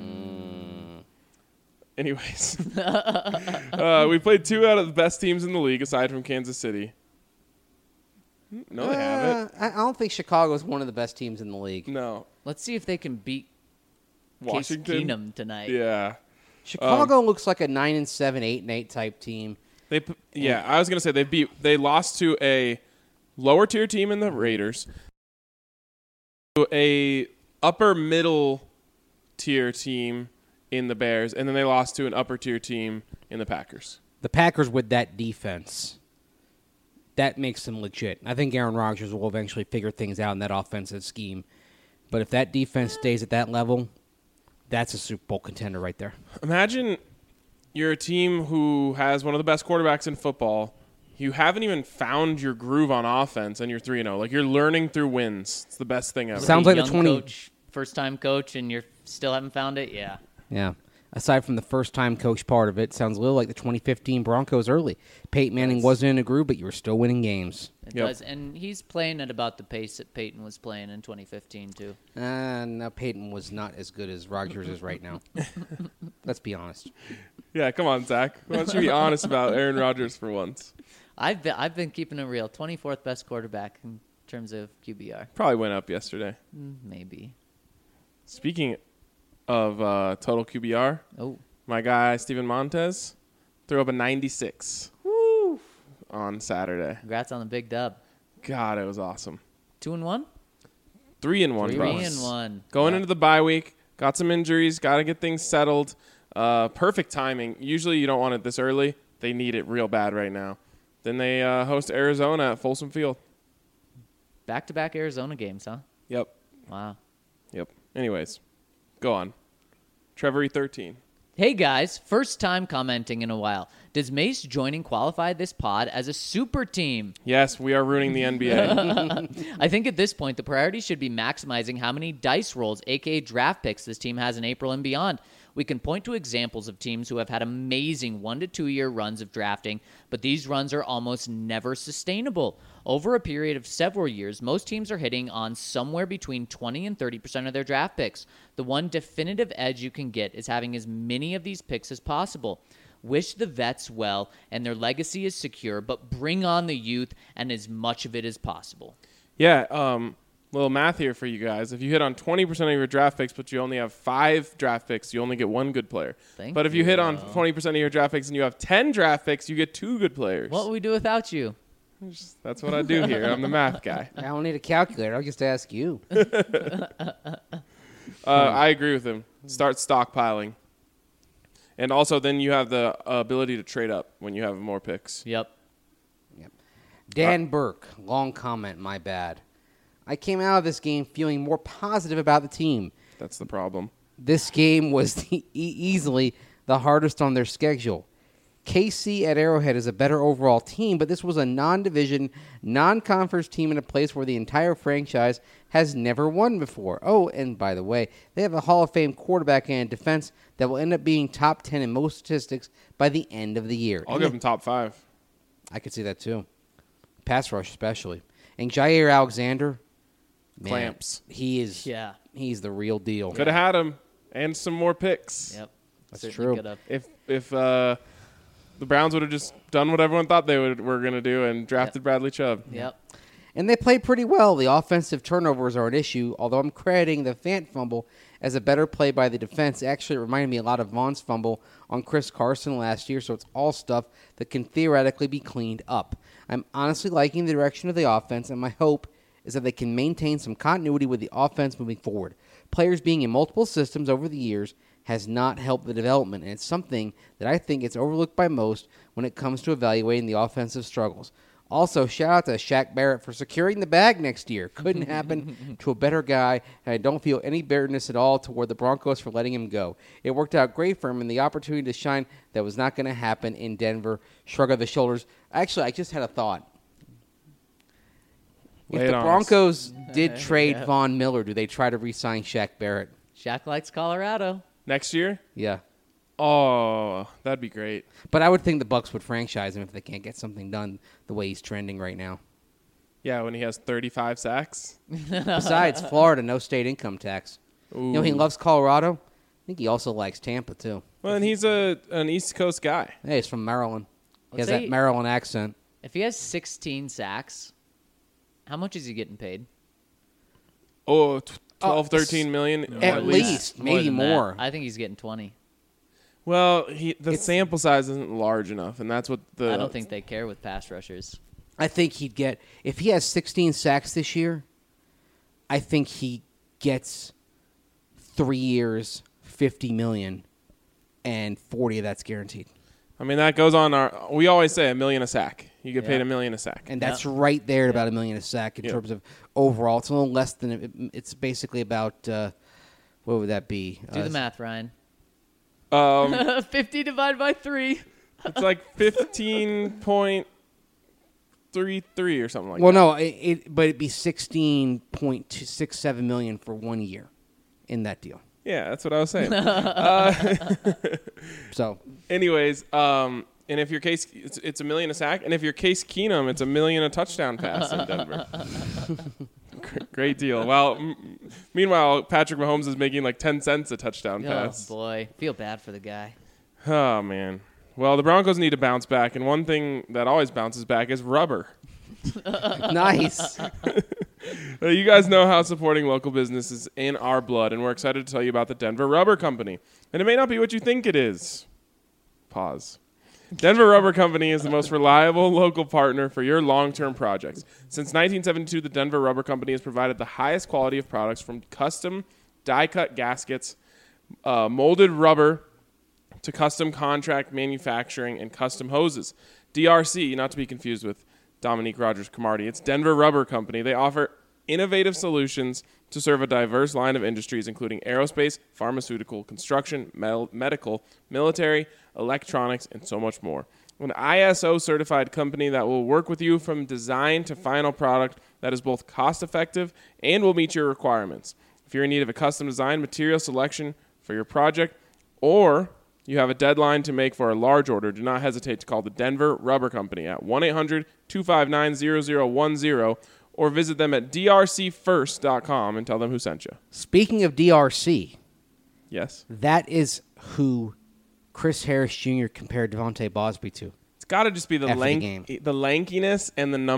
Anyways, we played 2 out of the best teams in the league, aside from Kansas City. No, they haven't. I don't think Chicago is one of the best teams in the league. No. Let's see if they can beat Washington? Case Keenum tonight. Yeah. Chicago looks like a 9-7, 8-8 type team. I was going to say they lost to a lower tier team in the Raiders, to a upper middle tier team in the Bears, and then they lost to an upper tier team in the Packers. The Packers with that defense, that makes them legit. I think Aaron Rodgers will eventually figure things out in that offensive scheme. But if that defense stays at that level, that's a Super Bowl contender right there. Imagine you're a team who has one of the best quarterbacks in football. You haven't even found your groove on offense, and you're 3-0. Like, you're learning through wins. It's the best thing ever. Sounds like the Young 20 coach, first-time coach, and you still haven't found it? Yeah. Yeah. Aside from the first-time coach part of it, sounds a little like the 2015 Broncos early. Peyton Manning wasn't in a groove, but you were still winning games. It Yep. does, and he's playing at about the pace that Peyton was playing in 2015, too. No, Peyton was not as good as Rodgers is right now. Let's be honest. Yeah, come on, Zach. Why don't you be honest about Aaron Rodgers for once? I've been keeping it real. 24th best quarterback in terms of QBR. Probably went up yesterday. Maybe. Speaking of total QBR, Oh, my guy Steven Montez threw up a 96 on Saturday. congrats on the big dub. God, it was awesome. 2-1? 3-1, bro. 3-1. Going into the bye week, got some injuries, got to get things settled. Perfect timing. Usually you don't want it this early. They need it real bad right now. Then they host Arizona at Folsom Field. Back-to-back Arizona games, huh? Yep. Wow. Yep. Anyways, go on. Trevor E13. Hey guys, first time commenting in a while. Does Mace joining qualify this pod as a super team? Yes, we are ruining the NBA. I think at this point the priority should be maximizing how many dice rolls, aka draft picks, this team has in April and beyond. We can point to examples of teams who have had amazing 1 to 2 year runs of drafting, but these runs are almost never sustainable. Over a period of several years, most teams are hitting on somewhere between 20 and 30% of their draft picks. The one definitive edge you can get is having as many of these picks as possible. Wish the vets well and their legacy is secure, but bring on the youth and as much of it as possible. Yeah, Little math here for you guys. If you hit on 20% of your draft picks, but you only have 5 draft picks, you only get 1 good player. But if you hit on 20% of your draft picks and you have 10 draft picks, you get 2 good players. What would we do without you? That's what I do here. I'm the math guy. I don't need a calculator. I'll just ask you. I agree with him. Start stockpiling. And also then you have the ability to trade up when you have more picks. Yep. Dan Burke, long comment, my bad. I came out of this game feeling more positive about the team. That's the problem. This game was easily the hardest on their schedule. KC at Arrowhead is a better overall team, but this was a non-division, non-conference team in a place where the entire franchise has never won before. Oh, and by the way, they have a Hall of Fame quarterback and defense that will end up being top 10 in most statistics by the end of the year. I'll give them top 5. I could see that too. Pass rush especially. And Jair Alexander, man, Clamps. he's the real deal. Could have had him and some more picks. Yep. That's Certainly true. could've. If the Browns would have just done what everyone thought they were going to do and drafted Bradley Chubb. Yep. And they played pretty well. The offensive turnovers are an issue, although I'm crediting the Fant fumble as a better play by the defense. Actually, it reminded me a lot of Vaughn's fumble on Chris Carson last year, so it's all stuff that can theoretically be cleaned up. I'm honestly liking the direction of the offense, and my hope is that they can maintain some continuity with the offense moving forward. Players being in multiple systems over the years has not helped the development, and it's something that I think it's overlooked by most when it comes to evaluating the offensive struggles. Also, shout out to Shaq Barrett for securing the bag next year. Couldn't happen to a better guy, and I don't feel any bitterness at all toward the Broncos for letting him go. It worked out great for him, and the opportunity to shine that was not going to happen in Denver. Shrug of the shoulders. Actually, I just had a thought. If the Broncos did trade Von Miller, do they try to re-sign Shaq Barrett? Shaq likes Colorado. Next year? Yeah. Oh, that'd be great. But I would think the Bucs would franchise him if they can't get something done the way he's trending right now. Yeah, when he has 35 sacks. Besides, Florida, no state income tax. Ooh. You know, he loves Colorado. I think he also likes Tampa, too. Well, and he's an East Coast guy. Hey, he's from Maryland. He Let's has say- that Maryland accent. If he has 16 sacks, how much is he getting paid? Oh, 12, 13 million At least, maybe than that. more. I think he's getting 20. Well, the sample size isn't large enough, and that's what I don't think they care with pass rushers. I think he'd get, if he has 16 sacks this year, I think he gets 3 years, $50 million, and 40 of that's guaranteed. I mean, that goes on we always say $1 million a sack. You get paid $1 million a sack. And that's right there at about $1 million a sack in terms of overall. It's a little less than, it's basically about, what would that be? Do the math, Ryan. 50 divided by 3. It's like 15.33 or something like Well, that. no, but it'd be 16.267 million for 1 year in that deal. Yeah, that's what I was saying. So, Anyways, and if your case, it's $1 million a sack, and if you're Case Keenum, it's $1 million a touchdown pass in Denver. Great deal. Well, meanwhile, Patrick Mahomes is making like 10 cents a touchdown pass. Oh, boy. Feel bad for the guy. Oh, man. Well, the Broncos need to bounce back, and one thing that always bounces back is rubber. nice. You guys know how supporting local business is in our blood, and we're excited to tell you about the Denver Rubber Company. And it may not be what you think it is. Pause. Denver Rubber Company is the most reliable local partner for your long-term projects. Since 1972, the Denver Rubber Company has provided the highest quality of products from custom die-cut gaskets, molded rubber, to custom contract manufacturing and custom hoses. DRC, not to be confused with Dominique Rogers-Cromartie, it's Denver Rubber Company. They offer innovative solutions to serve a diverse line of industries, including aerospace, pharmaceutical, construction, medical, military, electronics, and so much more. An ISO-certified company that will work with you from design to final product that is both cost-effective and will meet your requirements. If you're in need of a custom design material selection for your project, or you have a deadline to make for a large order, do not hesitate to call the Denver Rubber Company at 1-800-259-0010 or visit them at drcfirst.com and tell them who sent you. Speaking of DRC, Yes? that is who Chris Harris Jr. compared Devontae Bosby to. It's got to just be the After the game. lankiness and the number.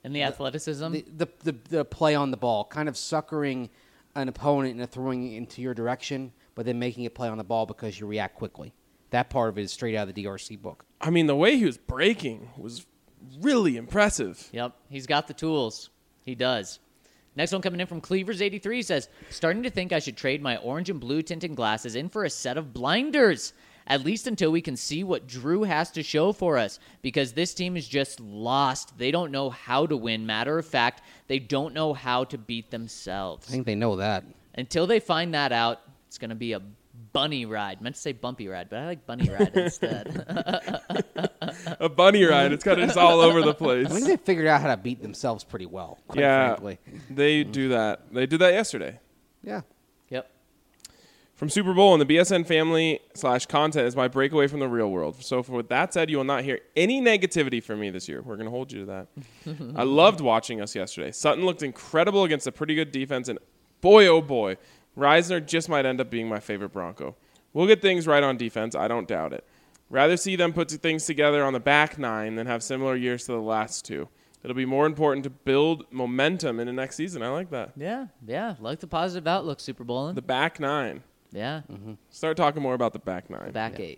And the athleticism. the play on the ball, kind of suckering an opponent and throwing it into your direction, but then making it play on the ball because you react quickly. That part of it is straight out of the DRC book. I mean, the way he was breaking was really impressive. Yep, he's got the tools. He does. Next one coming in from Cleavers83 says, starting to think I should trade my orange and blue tinted glasses in for a set of blinders, at least until we can see what Drew has to show for us, because this team is just lost. They don't know how to win. Matter of fact, they don't know how to beat themselves. I think they know that. Until they find that out, it's going to be a bunny ride. I meant to say bumpy ride, but I like bunny ride instead. A bunny ride. It's kind of just all over the place. I think they figured out how to beat themselves pretty well, quite frankly. They do that. They did that yesterday. Yeah. Yep. From Super Bowl and the BSN family / content is my breakaway from the real world. So with that said, you will not hear any negativity from me this year. We're going to hold you to that. I loved watching us yesterday. Sutton looked incredible against a pretty good defense, and boy, oh boy, Reisner just might end up being my favorite Bronco. We'll get things right on defense. I don't doubt it. Rather see them put things together on the back nine than have similar years to the last two. It'll be more important to build momentum in the next season. I like that. Yeah. Like the positive outlook, Super Bowling. The back nine. Yeah. Start talking more about the back nine. Back eight.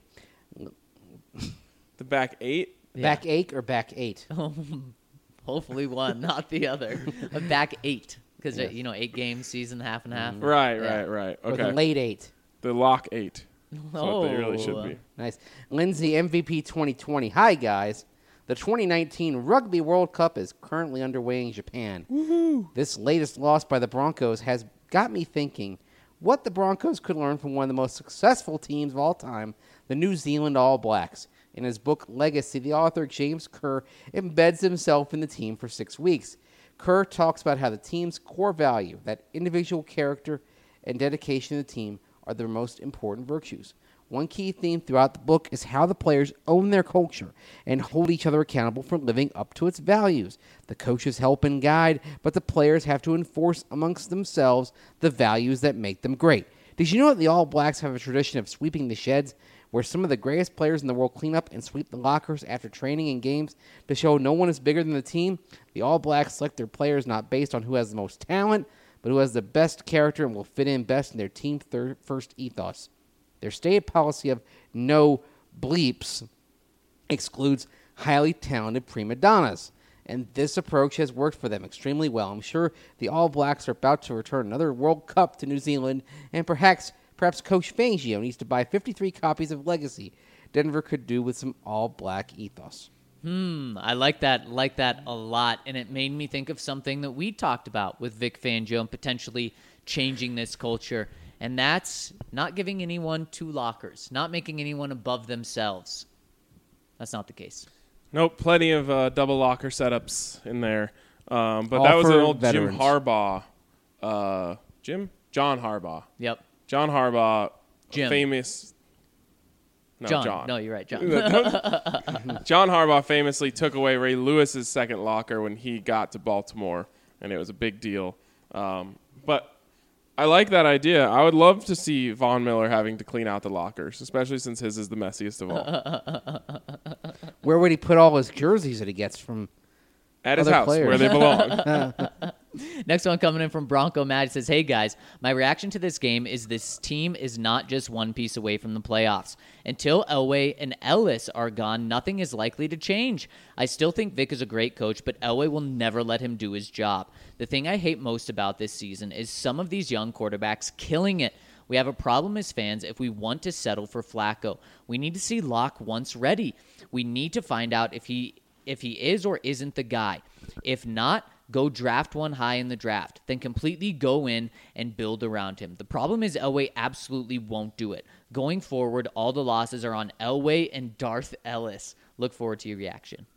The back eight? Yeah. Back 8 or back 8? Hopefully one, not the other. A back eight. Because, 8 games, season, half and half. Right. Yeah. Or Okay. the late 8? The lock eight. That's what they really should be. Nice. Lindsay, MVP 2020. Hi, guys. The 2019 Rugby World Cup is currently underway in Japan. Woohoo! This latest loss by the Broncos has got me thinking what the Broncos could learn from one of the most successful teams of all time, the New Zealand All Blacks. In his book Legacy, the author James Kerr embeds himself in the team for 6 weeks. Kerr talks about how the team's core value, that individual character and dedication to the team, are their most important virtues. One key theme throughout the book is how the players own their culture and hold each other accountable for living up to its values. The coaches help and guide, but the players have to enforce amongst themselves the values that make them great. Did you know that the All Blacks have a tradition of sweeping the sheds, where some of the greatest players in the world clean up and sweep the lockers after training and games to show no one is bigger than the team? The All Blacks select their players not based on who has the most talent, but who has the best character and will fit in best in their team first ethos. Their stated policy of no bleeps excludes highly talented prima donnas, and this approach has worked for them extremely well. I'm sure the All Blacks are about to return another World Cup to New Zealand, and perhaps Coach Fangio needs to buy 53 copies of Legacy. Denver could do with some All Black ethos. I like that a lot, and it made me think of something that we talked about with Vic Fangio and potentially changing this culture, and that's not giving anyone 2 lockers, not making anyone above themselves. That's not the case. Nope, plenty of double locker setups in there. But All that was an for old veterans. Jim Harbaugh. John Harbaugh. Yep. John Harbaugh, Jim. famous. No, John. No, you're right, John. John Harbaugh famously took away Ray Lewis's second locker when he got to Baltimore, and it was a big deal. But I like that idea. I would love to see Von Miller having to clean out the lockers, especially since his is the messiest of all. Where would he put all his jerseys that he gets from At his other house, players? where they belong. Next one coming in from Bronco Matt. He says, hey guys, my reaction to this game is this team is not just one piece away from the playoffs. Until Elway and Ellis are gone, nothing is likely to change. I still think Vic is a great coach, but Elway will never let him do his job. The thing I hate most about this season is some of these young quarterbacks killing it. We have a problem as fans if we want to settle for Flacco. We need to see Locke once ready. We need to find out if he is or isn't the guy. If not, go draft one high in the draft. Then completely go in and build around him. The problem is Elway absolutely won't do it. Going forward, all the losses are on Elway and Darth Ellis. Look forward to your reaction.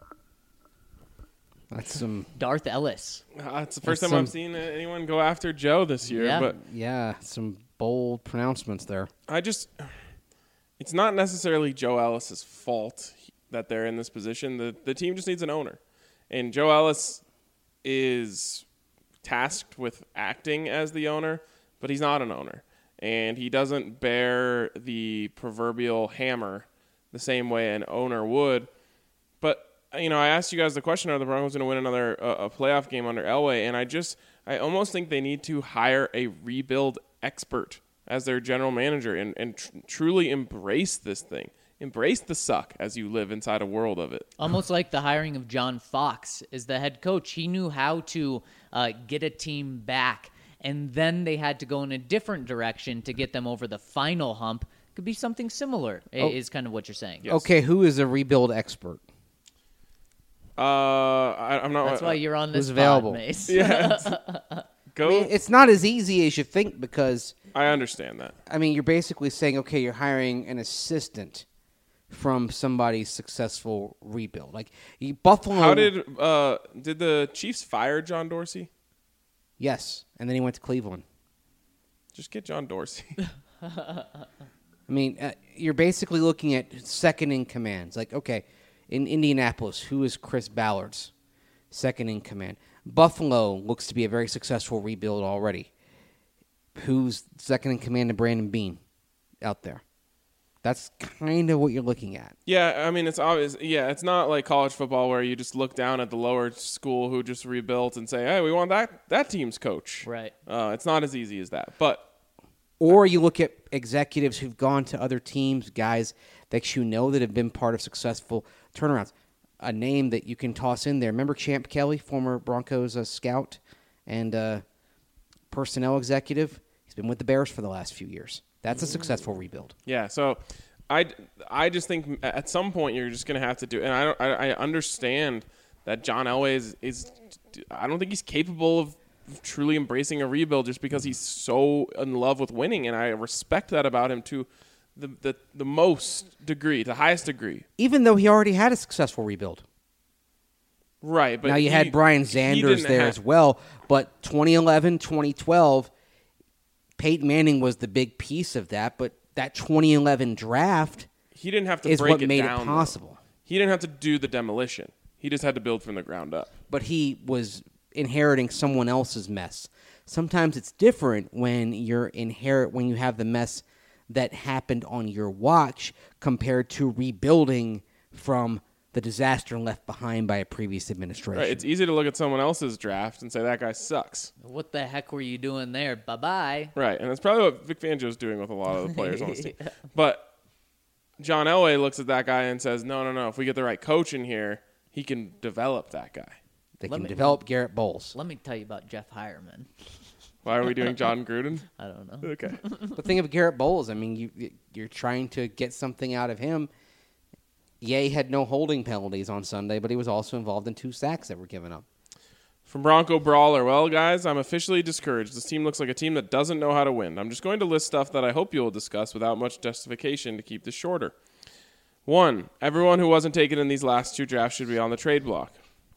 That's some Darth Ellis. It's the first time I've seen anyone go after Joe this year. Yeah. But some bold pronouncements there. it's not necessarily Joe Ellis's fault that they're in this position. The team just needs an owner. And Joe Ellis is tasked with acting as the owner, but he's not an owner. And he doesn't bear the proverbial hammer the same way an owner would. But I asked you guys the question: are the Broncos going to win another a playoff game under Elway? And I almost think they need to hire a rebuild expert as their general manager and truly embrace this thing. Embrace the suck as you live inside a world of it. Almost like the hiring of John Fox as the head coach. He knew how to get a team back, and then they had to go in a different direction to get them over the final hump. Could be something similar, is kind of what you're saying. Yes. Okay, who is a rebuild expert? I'm not. That's why you're on this who's available? pod, Mace. Yeah. Go. I mean, it's not as easy as you think because, I understand that. I mean, you're basically saying, okay, you're hiring an assistant from somebody's successful rebuild. Like Buffalo. How did the Chiefs fire John Dorsey? Yes, and then he went to Cleveland. Just get John Dorsey. I mean, you're basically looking at second in commands. Like, okay, in Indianapolis, who is Chris Ballard's second in command? Buffalo looks to be a very successful rebuild already. Who's second in command to Brandon Beane out there? That's kind of what you're looking at. Yeah, I mean, it's obvious. Yeah, it's not like college football where you just look down at the lower school who just rebuilt and say, hey, we want that team's coach. Right. It's not as easy as that. But Or you look at executives who've gone to other teams, guys that you know that have been part of successful turnarounds. A name that you can toss in there. Remember Champ Kelly, former Broncos scout and personnel executive? He's been with the Bears for the last few years. That's a successful rebuild. yeah, so I just think at some point you're just going to have to do. And I understand that John Elway is I don't think he's capable of truly embracing a rebuild just because he's so in love with winning, and I respect that about him to the most degree, the highest degree. Even though he already had a successful rebuild. Right, but Now you had Brian Sanders there as well, but 2011, 2012, Peyton Manning was the big piece of that, but that 2011 draft he didn't have to is break what it made down, it possible. though. He didn't have to do the demolition. He just had to build from the ground up. But he was inheriting someone else's mess. Sometimes it's different when you have the mess that happened on your watch compared to rebuilding from the disaster left behind by a previous administration. Right, it's easy to look at someone else's draft and say that guy sucks. What the heck were you doing there? Bye-bye. Right, and that's probably what Vic Fangio's doing with a lot of the players on his team. But John Elway looks at that guy and says, no, if we get the right coach in here, he can develop that guy. They can develop Garrett Bowles. Let me tell you about Jeff Hireman. Why are we doing John Gruden? I don't know. Okay. But think of Garrett Bowles. I mean, you're trying to get something out of him. Yeah, he had no holding penalties on Sunday, but he was also involved in 2 sacks that were given up. From Bronco Brawler, well, guys, I'm officially discouraged. This team looks like a team that doesn't know how to win. I'm just going to list stuff that I hope you'll discuss without much justification to keep this shorter. 1, everyone who wasn't taken in these last 2 drafts should be on the trade block.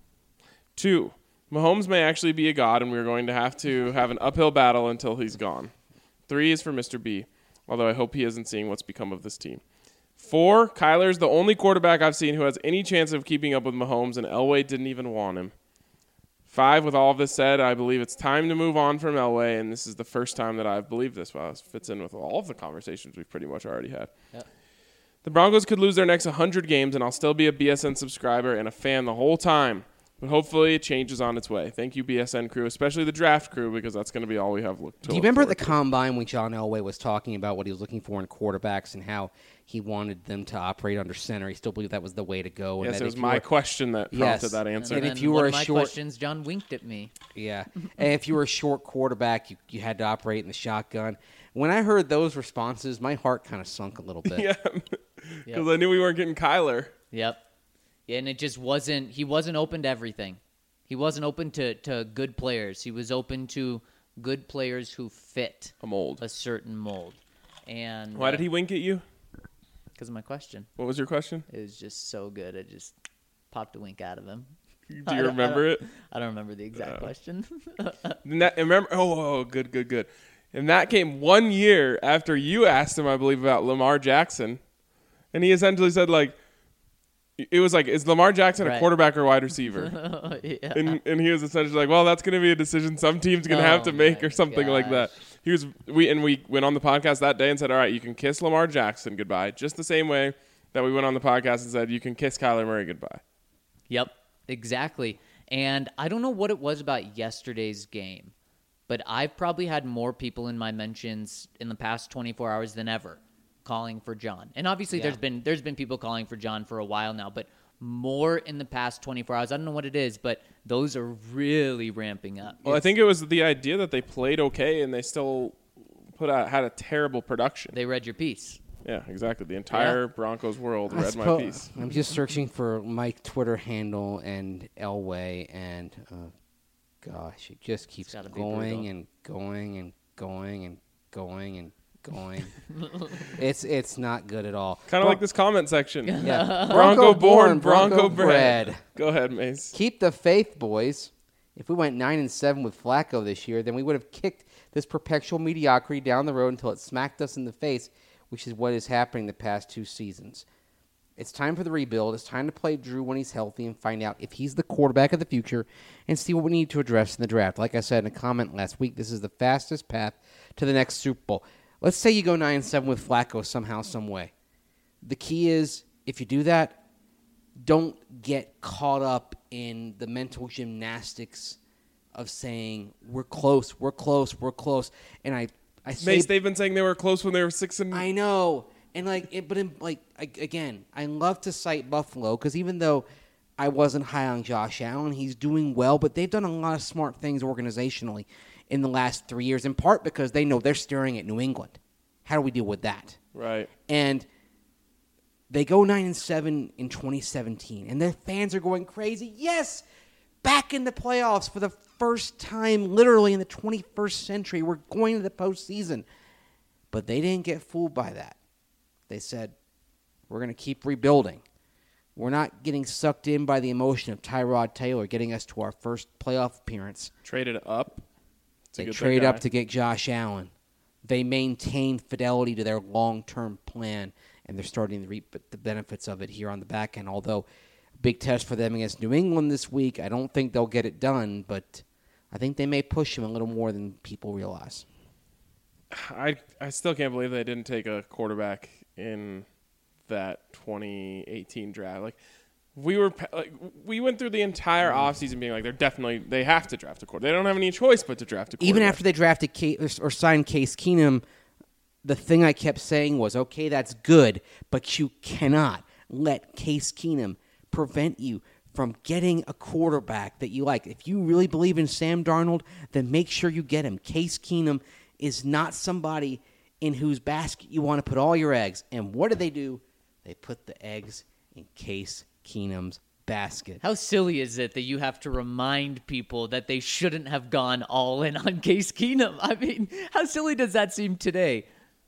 2, Mahomes may actually be a god, and we're going to have an uphill battle until he's gone. 3 is for Mr. B, although I hope he isn't seeing what's become of this team. 4, Kyler's the only quarterback I've seen who has any chance of keeping up with Mahomes, and Elway didn't even want him. 5, with all of this said, I believe it's time to move on from Elway, and this is the first time that I've believed this. Well, this fits in with all of the conversations we've pretty much already had. Yep. The Broncos could lose their next 100 games, and I'll still be a BSN subscriber and a fan the whole time. But hopefully it changes on its way. Thank you, BSN crew, especially the draft crew, because that's going to be all we have to look Do you remember the combine when John Elway was talking about what he was looking for in quarterbacks and how he wanted them to operate under center? He still believed that was the way to go. And Yes, that it was my question that prompted that answer. And And if you were one a of my short- questions, John winked at me. Yeah. And if you were a short quarterback, you had to operate in the shotgun. When I heard those responses, my heart kind of sunk a little bit. Yeah, because I knew we weren't getting Kyler. Yep. Yeah, and it just wasn't – he wasn't open to everything. He wasn't open to good players. He was open to good players who fit A mold. a certain mold. And Why did he wink at you? Because of my question. What was your question? It was just so good. It just popped a wink out of him. Do you remember it? I don't remember the exact question. Remember? Oh, good. And that came 1 year after you asked him, I believe, about Lamar Jackson. And he essentially said, like, it was like, is Lamar Jackson a Right. quarterback or wide receiver? Yeah. And he was essentially like, well, that's going to be a decision some team's going to have to make my or something like that. gosh. We went on the podcast that day and said, all right, you can kiss Lamar Jackson goodbye, just the same way that we went on the podcast and said you can kiss Kyler Murray goodbye. Yep, exactly. And I don't know what it was about yesterday's game, but I've probably had more people in my mentions in the past 24 hours than ever calling for John. And obviously Yeah. there's been people calling for John for a while now, but more in the past 24 hours. I don't know what it is, but those are really ramping up. Well, I think it was the idea that they played okay and they still had a terrible production. They read your piece. Yeah, exactly. The entire Broncos world I read my suppose- piece. I'm just searching for my Twitter handle and Elway, and gosh, it just keeps gotta be going brutal. and going and going and going and going. It's not good at all. Kind of like this comment section. Yeah. Bronco born, Bronco Bronco bred. Go ahead, Mace. Keep the faith, boys. If we went 9-7 with Flacco this year, then we would have kicked this perpetual mediocrity down the road until it smacked us in the face, which is what is happening the past 2 seasons. It's time for the rebuild. It's time to play Drew when he's healthy and find out if he's the quarterback of the future and see what we need to address in the draft. Like I said in a comment last week, this is the fastest path to the next Super Bowl. Let's say you go 9-7 with Flacco somehow, some way. The key is, if you do that, don't get caught up in the mental gymnastics of saying, we're close, we're close, we're close. And I say... Mace, they've been saying they were close when they were 6 and... I know. And again, I love to cite Buffalo because even though I wasn't high on Josh Allen, he's doing well, but they've done a lot of smart things organizationally in the last 3 years, in part because they know they're staring at New England. How do we deal with that? Right. And they go 9-7 in 2017, and their fans are going crazy. Yes, back in the playoffs for the first time, literally in the 21st century. We're going to the postseason. But they didn't get fooled by that. They said, we're going to keep rebuilding. We're not getting sucked in by the emotion of Tyrod Taylor getting us to our first playoff appearance. Traded up. They trade up to get Josh Allen. They maintain fidelity to their long-term plan, and they're starting to reap the benefits of it here on the back end. Although, big test for them against New England this week. I don't think they'll get it done, but I think they may push him a little more than people realize. I still can't believe they didn't take a quarterback in that 2018 draft. Like we went through the entire offseason being like they have to draft a quarterback. They don't have any choice but to draft a quarterback. Even after they drafted or signed Case Keenum, the thing I kept saying was, okay, that's good, but you cannot let Case Keenum prevent you from getting a quarterback that you like. If you really believe in Sam Darnold, then make sure you get him. Case Keenum is not somebody in whose basket you want to put all your eggs. And what do? They put the eggs in Case Keenum's basket. How silly is it that you have to remind people that they shouldn't have gone all in on Case Keenum? I mean, how silly does that seem today?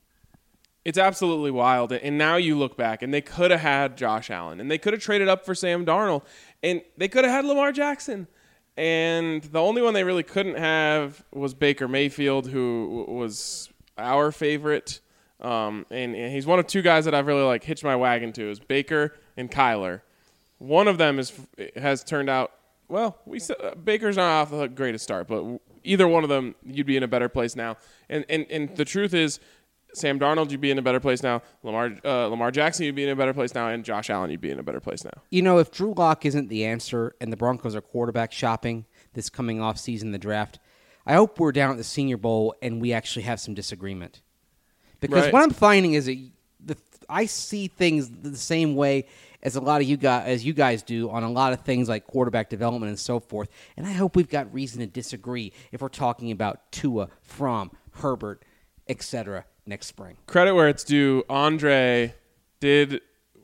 It's absolutely wild. And now you look back, and they could have had Josh Allen, and they could have traded up for Sam Darnold, and they could have had Lamar Jackson. And the only one they really couldn't have was Baker Mayfield, who was our favorite. And he's one of 2 guys that I've really hitched my wagon to, is Baker and Kyler. One of them has turned out, well, Baker's not off the greatest start, but either one of them, you'd be in a better place now. And the truth is, Sam Darnold, you'd be in a better place now. Lamar Jackson, you'd be in a better place now. And Josh Allen, you'd be in a better place now. You know, if Drew Lock isn't the answer and the Broncos are quarterback shopping this coming off season, the draft, I hope we're down at the Senior Bowl and we actually have some disagreement. Because Right. what I'm finding is that I see things the same way as you guys do on a lot of things like quarterback development and so forth. And I hope we've got reason to disagree if we're talking about Tua, Fromm, Herbert, etc. next spring. Credit where it's due. Andre did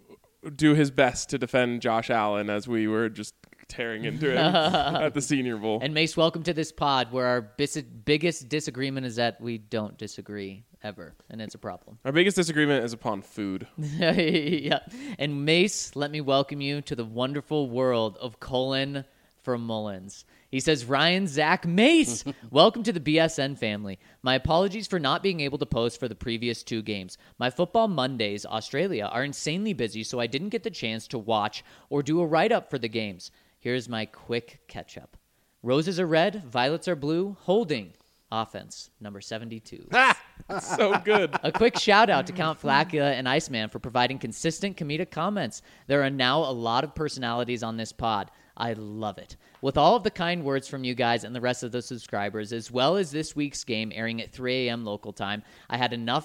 do his best to defend Josh Allen as we were just tearing into him at the Senior Bowl. And Mace, welcome to this pod where our biggest disagreement is that we don't disagree ever, and it's a problem. Our biggest disagreement is upon food. Yeah. And Mace, let me welcome you to the wonderful world of Colin from Mullins. He says, Ryan, Zach, Mace, welcome to the BSN family. My apologies for not being able to post for the previous 2 games. My Football Mondays, Australia, are insanely busy, so I didn't get the chance to watch or do a write-up for the games. Here's my quick catch-up. Roses are red, violets are blue, holding offense, number 72. So good. A quick shout out to Count Flacula and Iceman for providing consistent comedic comments. There are now a lot of personalities on this pod. I love it. With all of the kind words from you guys and the rest of the subscribers, as well as this week's game airing at 3 a.m. local time, I had enough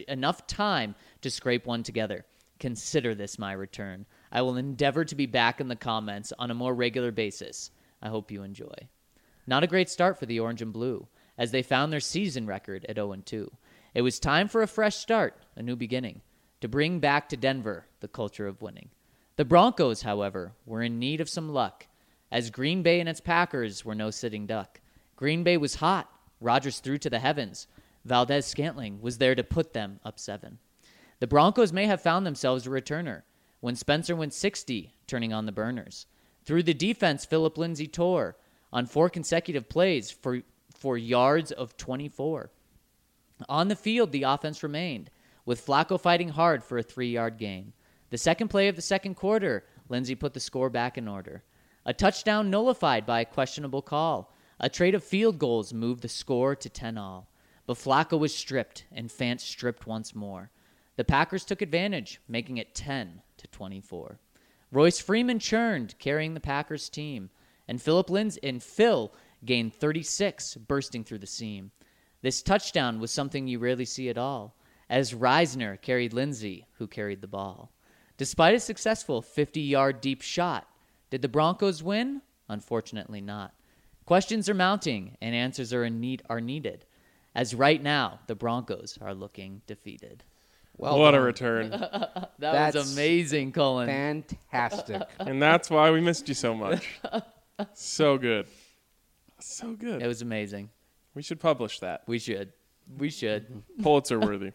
time to scrape one together. Consider this my return. I will endeavor to be back in the comments on a more regular basis. I hope you enjoy. Not a great start for the Orange and Blue, as they found their season record at 0-2. It was time for a fresh start, a new beginning, to bring back to Denver the culture of winning. The Broncos, however, were in need of some luck, as Green Bay and its Packers were no sitting duck. Green Bay was hot. Rodgers threw to the heavens. Valdez-Scantling was there to put them up 7. The Broncos may have found themselves a returner when Spencer went 60, turning on the burners. Through the defense, Philip Lindsay tore on 4 consecutive plays for yards of 24. On the field, the offense remained, with Flacco fighting hard for a 3-yard gain. The second play of the second quarter, Lindsay put the score back in order. A touchdown nullified by a questionable call. A trade of field goals moved the score to 10-all. But Flacco was stripped, and Fant stripped once more. The Packers took advantage, making it 10-24. Royce Freeman churned, carrying the Packers team, and Phil gained 36, bursting through the seam. This touchdown was something you rarely see at all, as Reisner carried Lindsay, who carried the ball. Despite a successful 50-yard deep shot, did the Broncos win? Unfortunately not. Questions are mounting, and answers are needed, as right now the Broncos are looking defeated. Well What done. a return. That was amazing, Colin. Fantastic. And that's why we missed you so much. So good. So good. It was amazing. We should publish that. We should. Pulitzer worthy.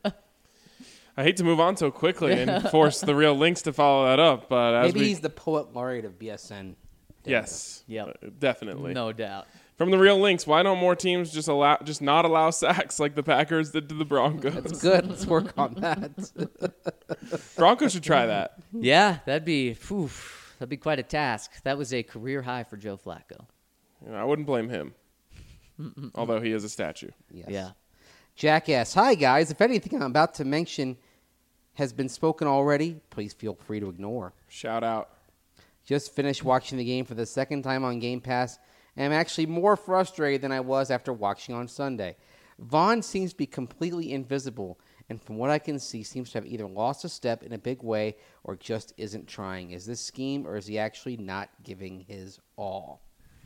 I hate to move on so quickly and force the real links to follow that up, but as Maybe he's the poet laureate of BSN. yes, Yep. definitely. No doubt. From the real links, why don't more teams just not allow sacks like the Packers did to the Broncos? That's good. Let's work on that. Broncos should try that. Yeah, that'd be quite a task. That was a career high for Joe Flacco. You know, I wouldn't blame him, although he is a statue. Yes. Yeah. Jackass. Hi, guys. If anything I'm about to mention has been spoken already, please feel free to ignore. Shout out. Just finished watching the game for the second time on Game Pass, and I'm actually more frustrated than I was after watching on Sunday. Vaughn seems to be completely invisible, and from what I can see, seems to have either lost a step in a big way or just isn't trying. Is this scheme, or is he actually not giving his all?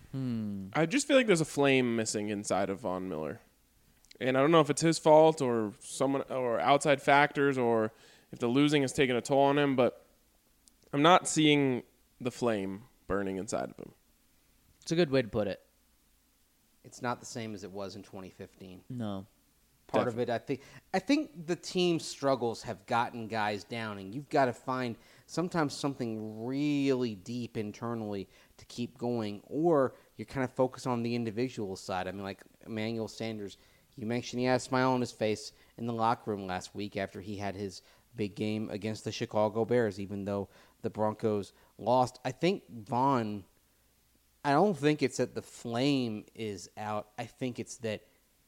I just feel like there's a flame missing inside of Von Miller. And I don't know if it's his fault or someone or outside factors or if the losing has taken a toll on him, but I'm not seeing the flame burning inside of him. It's a good way to put it. It's not the same as it was in 2015. No. Part of it, I think the team's struggles have gotten guys down, and you've got to find sometimes something really deep internally to keep going, or you're kind of focused on the individual side. I mean, like Emmanuel Sanders, you mentioned he had a smile on his face in the locker room last week after he had his big game against the Chicago Bears, even though the Broncos lost. I think Vaughn, I don't think it's that the flame is out. I think it's that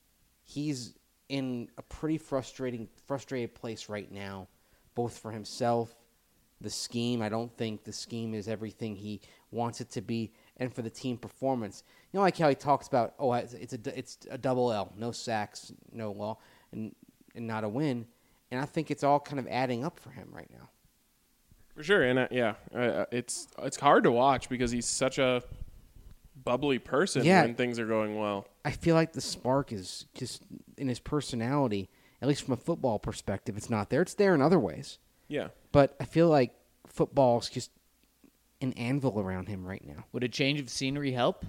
he's in a pretty frustrated place right now, both for himself, the scheme. I don't think the scheme is everything he wants it to be, and for the team performance. You know, like how he talks about, it's a double L, no sacks, no law, and not a win. And I think it's all kind of adding up for him right now. For sure, and it's hard to watch because he's such a bubbly person when things are going well. I feel like the spark is just in his personality, at least from a football perspective. It's not there. It's there in other ways. Yeah. But I feel like football's just an anvil around him right now. Would a change of scenery help?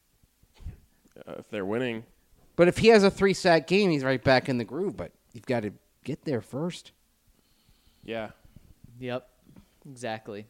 If they're winning. But if he has a 3-sack game, he's right back in the groove. But you've got to get there first. Yeah. Yep. Exactly.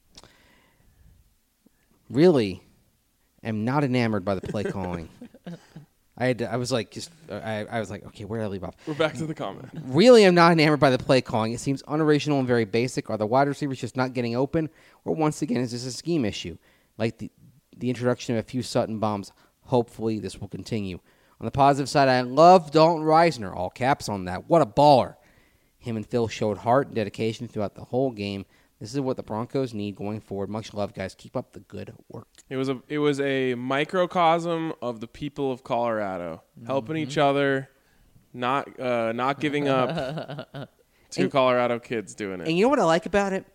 Really am not enamored by the play calling. I was like, okay, where did I leave off? We're back to the comment. Really am not enamored by the play calling. It seems unoriginal and very basic. Are the wide receivers just not getting open? Or once again, is this a scheme issue? Like the introduction of a few Sutton bombs. Hopefully this will continue. On the positive side, I love Dalton Reisner. All caps on that. What a baller. Him and Phil showed heart and dedication throughout the whole game. This is what the Broncos need going forward. Much love, guys. Keep up the good work. It was a microcosm of the people of Colorado, helping each other, not giving up to Colorado kids doing it. And you know what I like about it?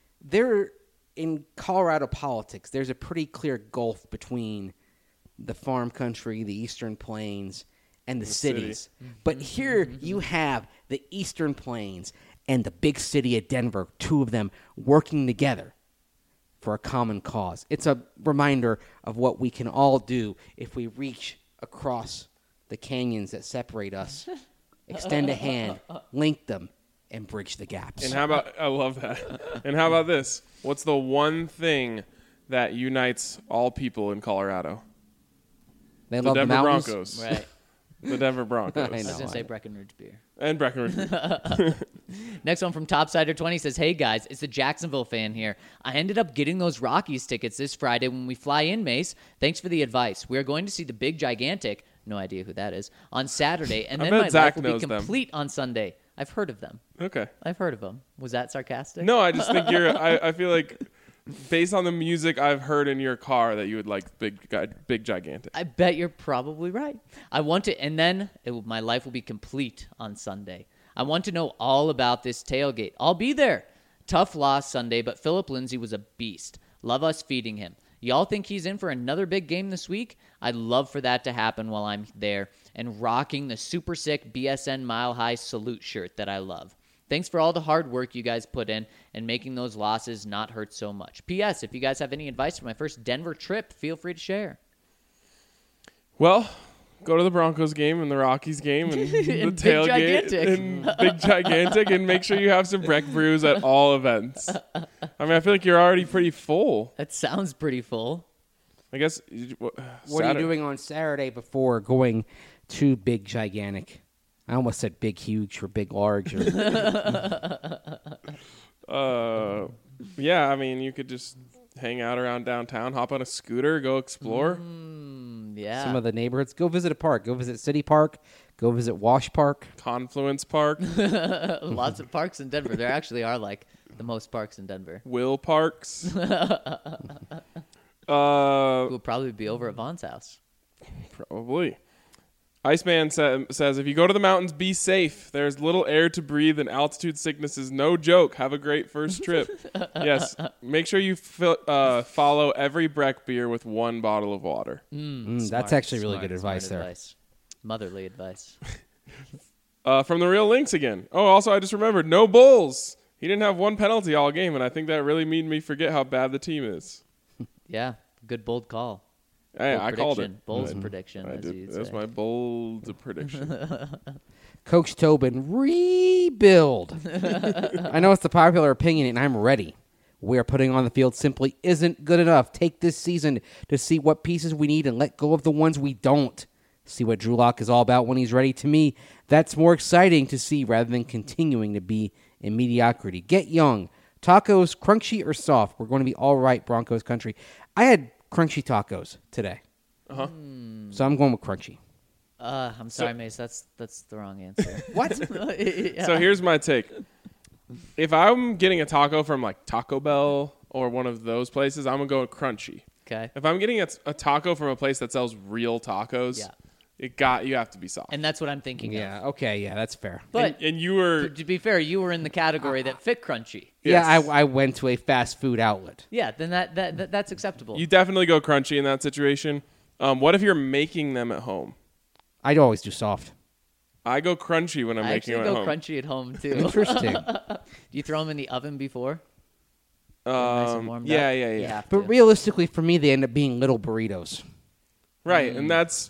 In Colorado politics, there's a pretty clear gulf between the farm country, the Eastern Plains, and the cities. But here you have the Eastern Plains and the big city of Denver, two of them working together for a common cause. It's a reminder of what we can all do if we reach across the canyons that separate us, extend a hand, link them, and bridge the gaps. And how about, I love that. And how about this? What's the one thing that unites all people in Colorado? They The love Denver the mountains. Broncos. Right. The Denver Broncos. I I was know. going to say Breckenridge beer. And Breckenridge. Next one from Topsider20 says, "Hey guys, it's a Jacksonville fan here. I ended up getting those Rockies tickets this Friday when we fly in, Mace. Thanks for the advice. We are going to see the Big Gigantic, no idea who that is, on Saturday, and I then bet my Zach life will be knows them. complete on Sunday." I've heard of them. Okay. I've heard of them. Was that sarcastic? No, I just think I feel like based on the music I've heard in your car that you would like Big Gigantic. I bet you're probably right. I want to, and then my life will be complete on Sunday. I want to know all about this tailgate. I'll be there. Tough loss Sunday, but Philip Lindsay was a beast. Love us feeding him. Y'all think he's in for another big game this week? I'd love for that to happen while I'm there and rocking the super sick BSN Mile High salute shirt that I love. Thanks for all the hard work you guys put in and making those losses not hurt so much. P.S. If you guys have any advice for my first Denver trip, feel free to share. Well, go to the Broncos game and the Rockies game and the And Big tailgate Gigantic. and Big Gigantic and make sure you have some Breck brews at all events. I mean, I feel like you're already pretty full. That sounds pretty full. I guess. What are you doing on Saturday before going to Big Gigantic? I almost said big huge or big large. Or Yeah, I mean, you could just hang out around downtown, hop on a scooter, go explore. Yeah. some of the neighborhoods. Go visit a park. Go visit City Park. Go visit Wash Park. Confluence Park, Lots of parks in Denver. There actually are like the most parks in Denver. Will Parks. We'll probably be over at Vaughn's house. Probably. Iceman says, if you go to the mountains, be safe. There's little air to breathe, and altitude sickness is no joke. Have a great first trip. Yes. Make sure you follow every Breck beer with one bottle of water. That's actually really good Smart advice there. advice. Motherly advice. From the Real Links again. Oh, also, I just remembered, no Bulls. He didn't have one penalty all game, and I think that really made me forget how bad the team is. Yeah. Good bold call. Hey, Bold I called it. prediction. Bold's prediction, I as did. you'd That's say. my bold prediction. Coach Tobin, rebuild. I know it's the popular opinion, and I'm ready. We are putting on the field simply isn't good enough. Take this season to see what pieces we need and let go of the ones we don't. See what Drew Lock is all about when he's ready. To me, that's more exciting to see rather than continuing to be in mediocrity. Get young. Tacos, crunchy or soft? We're going to be all right, Broncos country. I had crunchy tacos today. Uh-huh. So I'm going with crunchy. I'm sorry, Mace. That's the wrong answer. What? Yeah. So here's my take. If I'm getting a taco from like Taco Bell or one of those places, I'm going to go with crunchy. Okay. If I'm getting a taco from a place that sells real tacos, Yeah. you have to be soft. And that's what I'm thinking of. Yeah, okay, yeah, that's fair. But and you were to be fair, you were in the category that fit crunchy. Yes. Yeah, I went to a fast food outlet. Yeah, then that's acceptable. you definitely go crunchy in that situation. What if you're making them at home? I'd always do soft. I go crunchy when I'm I making actually them go at home. crunchy at home too. Interesting. Do you throw them in the oven before? Nice and warmed Yeah, up? yeah, You yeah. have But to. realistically, for me, they end up being little burritos. Right, and that's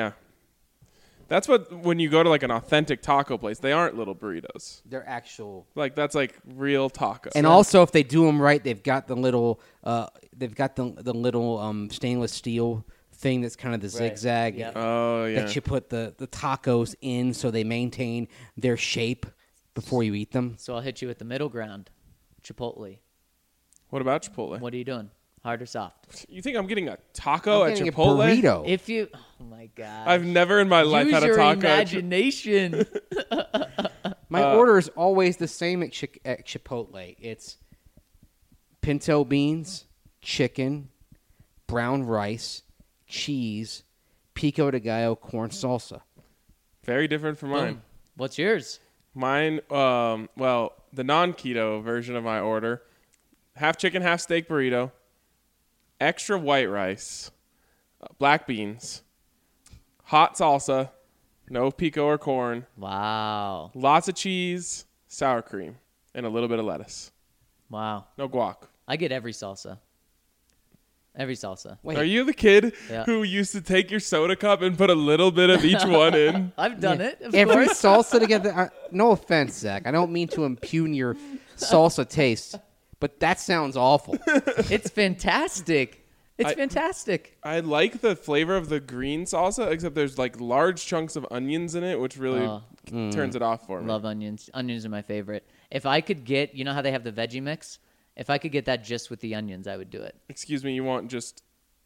That's what when you go to like an authentic taco place, they aren't little burritos. They're actual. Like that's like real tacos. And also, if they do them right, they've got the little, the little stainless steel thing that's kind of the zigzag Yep. oh yeah. that you put the tacos in, so they maintain their shape before you eat them. So I'll hit you with the middle ground. Chipotle. What about Chipotle? What are you doing? Hard or soft? You think I'm getting a taco I'm at getting Chipotle? a burrito. If you, oh my god, I've never in my life use had a your taco. imagination. My order is always the same at Chipotle. It's pinto beans, chicken, brown rice, cheese, pico de gallo, corn salsa. Very different from mine. Boom. What's yours? Mine, well, the non-keto version of my order, half chicken, half steak burrito, extra white rice, black beans, hot salsa, no pico or corn, Wow, lots of cheese, sour cream, and a little bit of lettuce. wow. No guac. I get every salsa. Every salsa. Wait, Are you the kid Yeah. who used to take your soda cup and put a little bit of each one in? I've done it. Of every course. salsa together? No offense, Zach. I don't mean to impugn your salsa taste, but that sounds awful. It's fantastic. It's fantastic. I like the flavor of the green salsa, except there's like large chunks of onions in it, which really turns it off for me. Love onions. Onions are my favorite. If I could get, you know how they have the veggie mix? If I could get that just with the onions, I would do it. Excuse me, you want just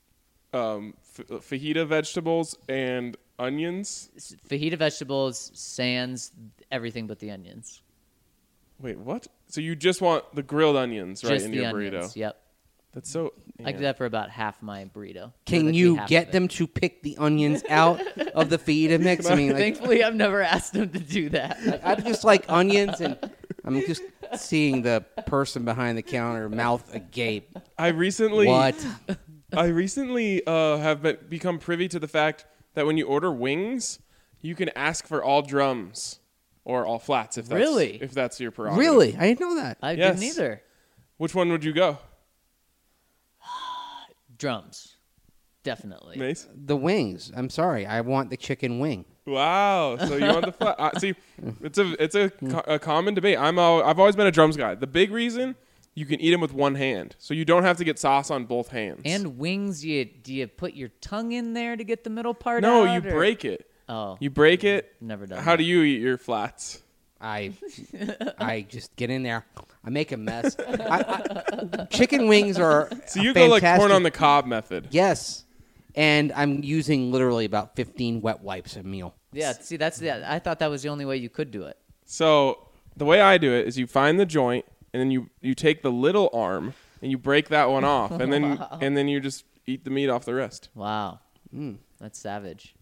fajita vegetables and onions? Fajita vegetables, sans everything but the onions. Wait, what? So you just want the grilled onions right Just in the your onions. burrito? Yep. That's so. I do that for about half my burrito. Can Literally you half of get it. them to pick the onions out of the fajita mix? I mean, like, Thankfully, I've never asked them to do that. I just like onions, and I'm just seeing the person behind the counter mouth agape. I recently What? have become privy to the fact that when you order wings, you can ask for all drums or all flats if that's your prerogative. Really? I didn't know that. I Yes. didn't either. Which one would you go? Drums. Definitely. Mace? The wings. I'm sorry. I want the chicken wing. Wow. So you want the flat? See, it's a common debate. I've always been a drums guy. The big reason you can eat them with one hand, so you don't have to get sauce on both hands. And wings, do you put your tongue in there to get the middle part no, out? you or- break it. Oh, You break it. never done How that. do you eat your flats? I just get in there. I make a mess. Chicken wings are So you go like corn fantastic. on the cob method. Yes. And I'm using literally about 15 wet wipes a meal. Yeah, see, I thought that was the only way you could do it. So the way I do it is you find the joint and then you take the little arm and you break that one off and then you just eat the meat off the wrist. Wow. That's savage.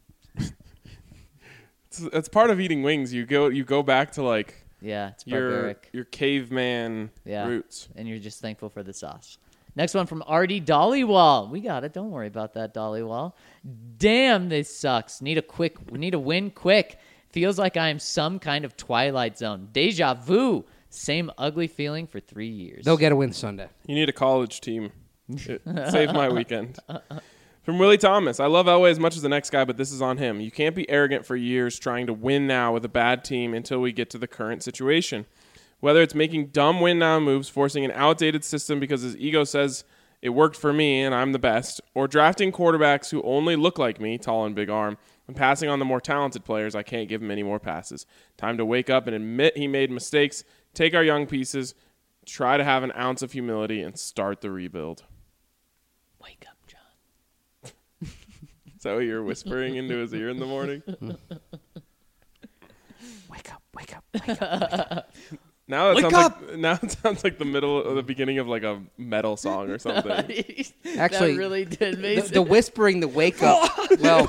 It's part of eating wings. You go back to like Yeah, it's your barbaric. caveman Yeah. roots. And you're just thankful for the sauce. Next one from Artie Dollywall. We got it. Don't worry about that, Dollywall. Damn, this sucks. We need a win quick. Feels like I am some kind of Twilight Zone. Deja vu. Same ugly feeling for 3 years. They'll get a win Sunday. You need a college team. It saved my weekend. From Willie Thomas. I love Elway as much as the next guy, but this is on him. You can't be arrogant for years trying to win now with a bad team until we get to the current situation. Whether it's making dumb win now moves, forcing an outdated system because his ego says it worked for me and I'm the best, or drafting quarterbacks who only look like me, tall and big arm, and passing on the more talented players, I can't give him any more passes. Time to wake up and admit he made mistakes, take our young pieces, try to have an ounce of humility, and start the rebuild. Wake up, John. Is that what you're whispering into his ear in the morning? Wake up, wake up, wake up. Now Wake it sounds like the middle or the beginning of like a metal song or something. Actually, that really did, The, Mason. the whispering, the wake up. Well,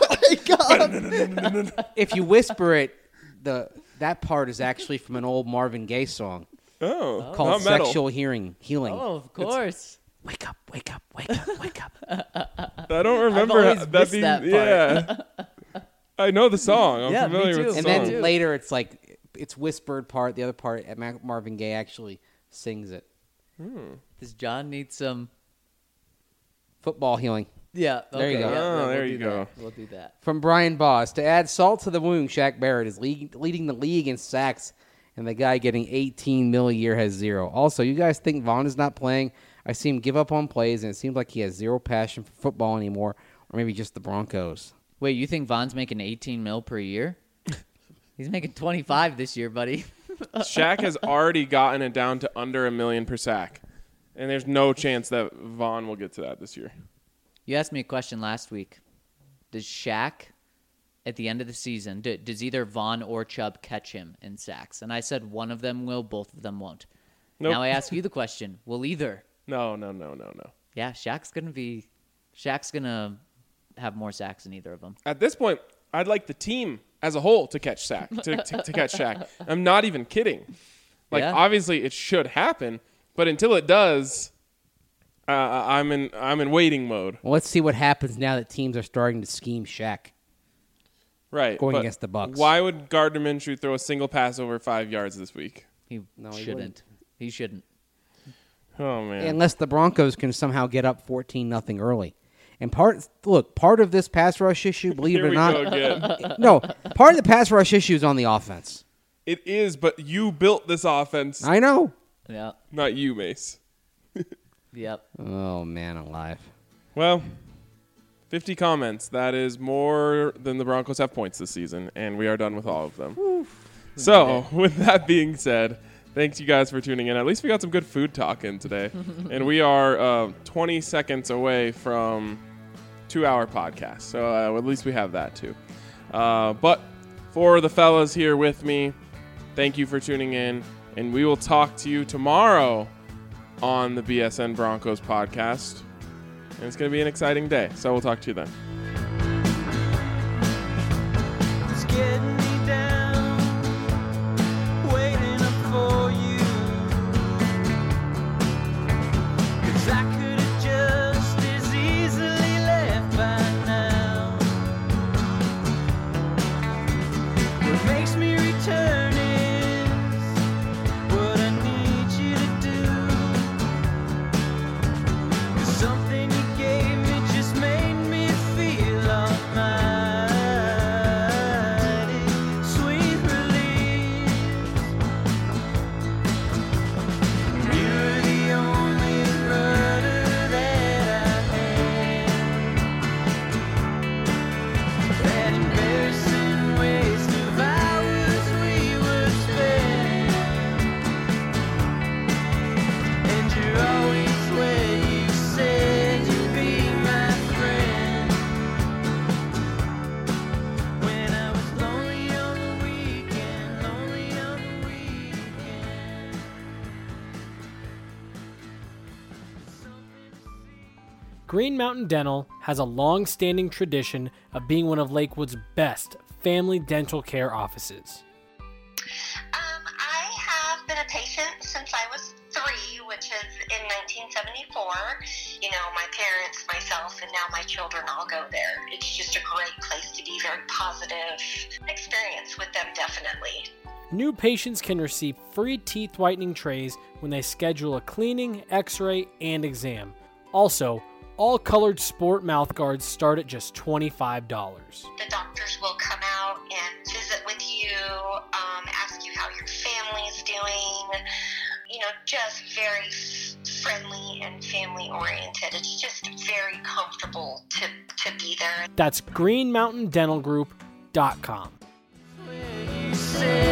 if you whisper it, that part is actually from an old Marvin Gaye song Oh, called not metal. Sexual Healing. Oh, of course. Wake up, wake up, wake up, wake up. I don't remember always missed being, that part. Yeah, I know the song. I'm Yeah, me familiar too. with the And song. then later it's like, it's whispered part. The other part, Marvin Gaye actually sings it. Does John need some? Football healing. Yeah. There you okay, go. yeah, Oh, we'll there do you that. go. We'll do that. From Brian Boss, to add salt to the wound, Shaq Barrett is leading the league in sacks, and the guy getting $18 million a year has 0. Also, you guys think Vaughn is not playing? I see him give up on plays, and it seems like he has zero passion for football anymore, or maybe just the Broncos. Wait, you think Vaughn's making $18 million per year? He's making 25 this year, buddy. Shaq has already gotten it down to under $1 million per sack. And there's no chance that Vaughn will get to that this year. You asked me a question last week. Does Shaq, at the end of the season, does either Vaughn or Chubb catch him in sacks? And I said one of them will, both of them won't. Nope. Now I ask you the question, will either? No. Yeah, Shaq's going to have more sacks than either of them. At this point, I'd like the team as a whole to catch to catch Shaq. I'm not even kidding. Like, Yeah. obviously it should happen, but until it does, I'm in waiting mode. Well, let's see what happens now that teams are starting to scheme Shaq. Right. Going but against the Bucs. Why would Gardner Minshew throw a single pass over 5 yards this week? He No, he shouldn't. wouldn't. He shouldn't. Oh, man. Unless the Broncos can somehow get up 14-0 early. And part of this pass rush issue, believe Here it or we not, go again. no, part of the pass rush issue is on the offense. It is, but you built this offense, I know. Yeah. not you, Mace. Yep. Oh, man alive. Well, 50 comments. That is more than the Broncos have points this season, and we are done with all of them. So, with that being said, thanks you guys for tuning in. At least we got some good food talk in today. And we are 20 seconds away from 2-hour podcast. So at least we have that too. But for the fellas here with me, thank you for tuning in. And we will talk to you tomorrow on the BSN Broncos podcast. And it's going to be an exciting day. So we'll talk to you then. It's getting me down, waiting up for you. 'Cause I could have just as easily left by now. What makes me return is what I need you to do. 'Cause something you gave me just made me feel almighty. Sweet release. You're the only rudder that I had. That embarrassing waste of hours we would spend. And you're always where you said you'd be my friend. When I was lonely on the weekend, lonely on the weekend. Green Mountain Dental has a long-standing tradition of being one of Lakewood's best family dental care offices. I have been a patient since I was 3, which is in 1974. You know, my parents, myself, and now my children all go there. It's just a great place to be, very positive experience with them, definitely. New patients can receive free teeth whitening trays when they schedule a cleaning, x-ray, and exam. Also, all colored sport mouth guards start at just $25. The doctors will come out and visit with you, ask you how your family is doing, you know, just very friendly and family oriented. It's just very comfortable to be there. That's greenmountaindentalgroup.com. Where you said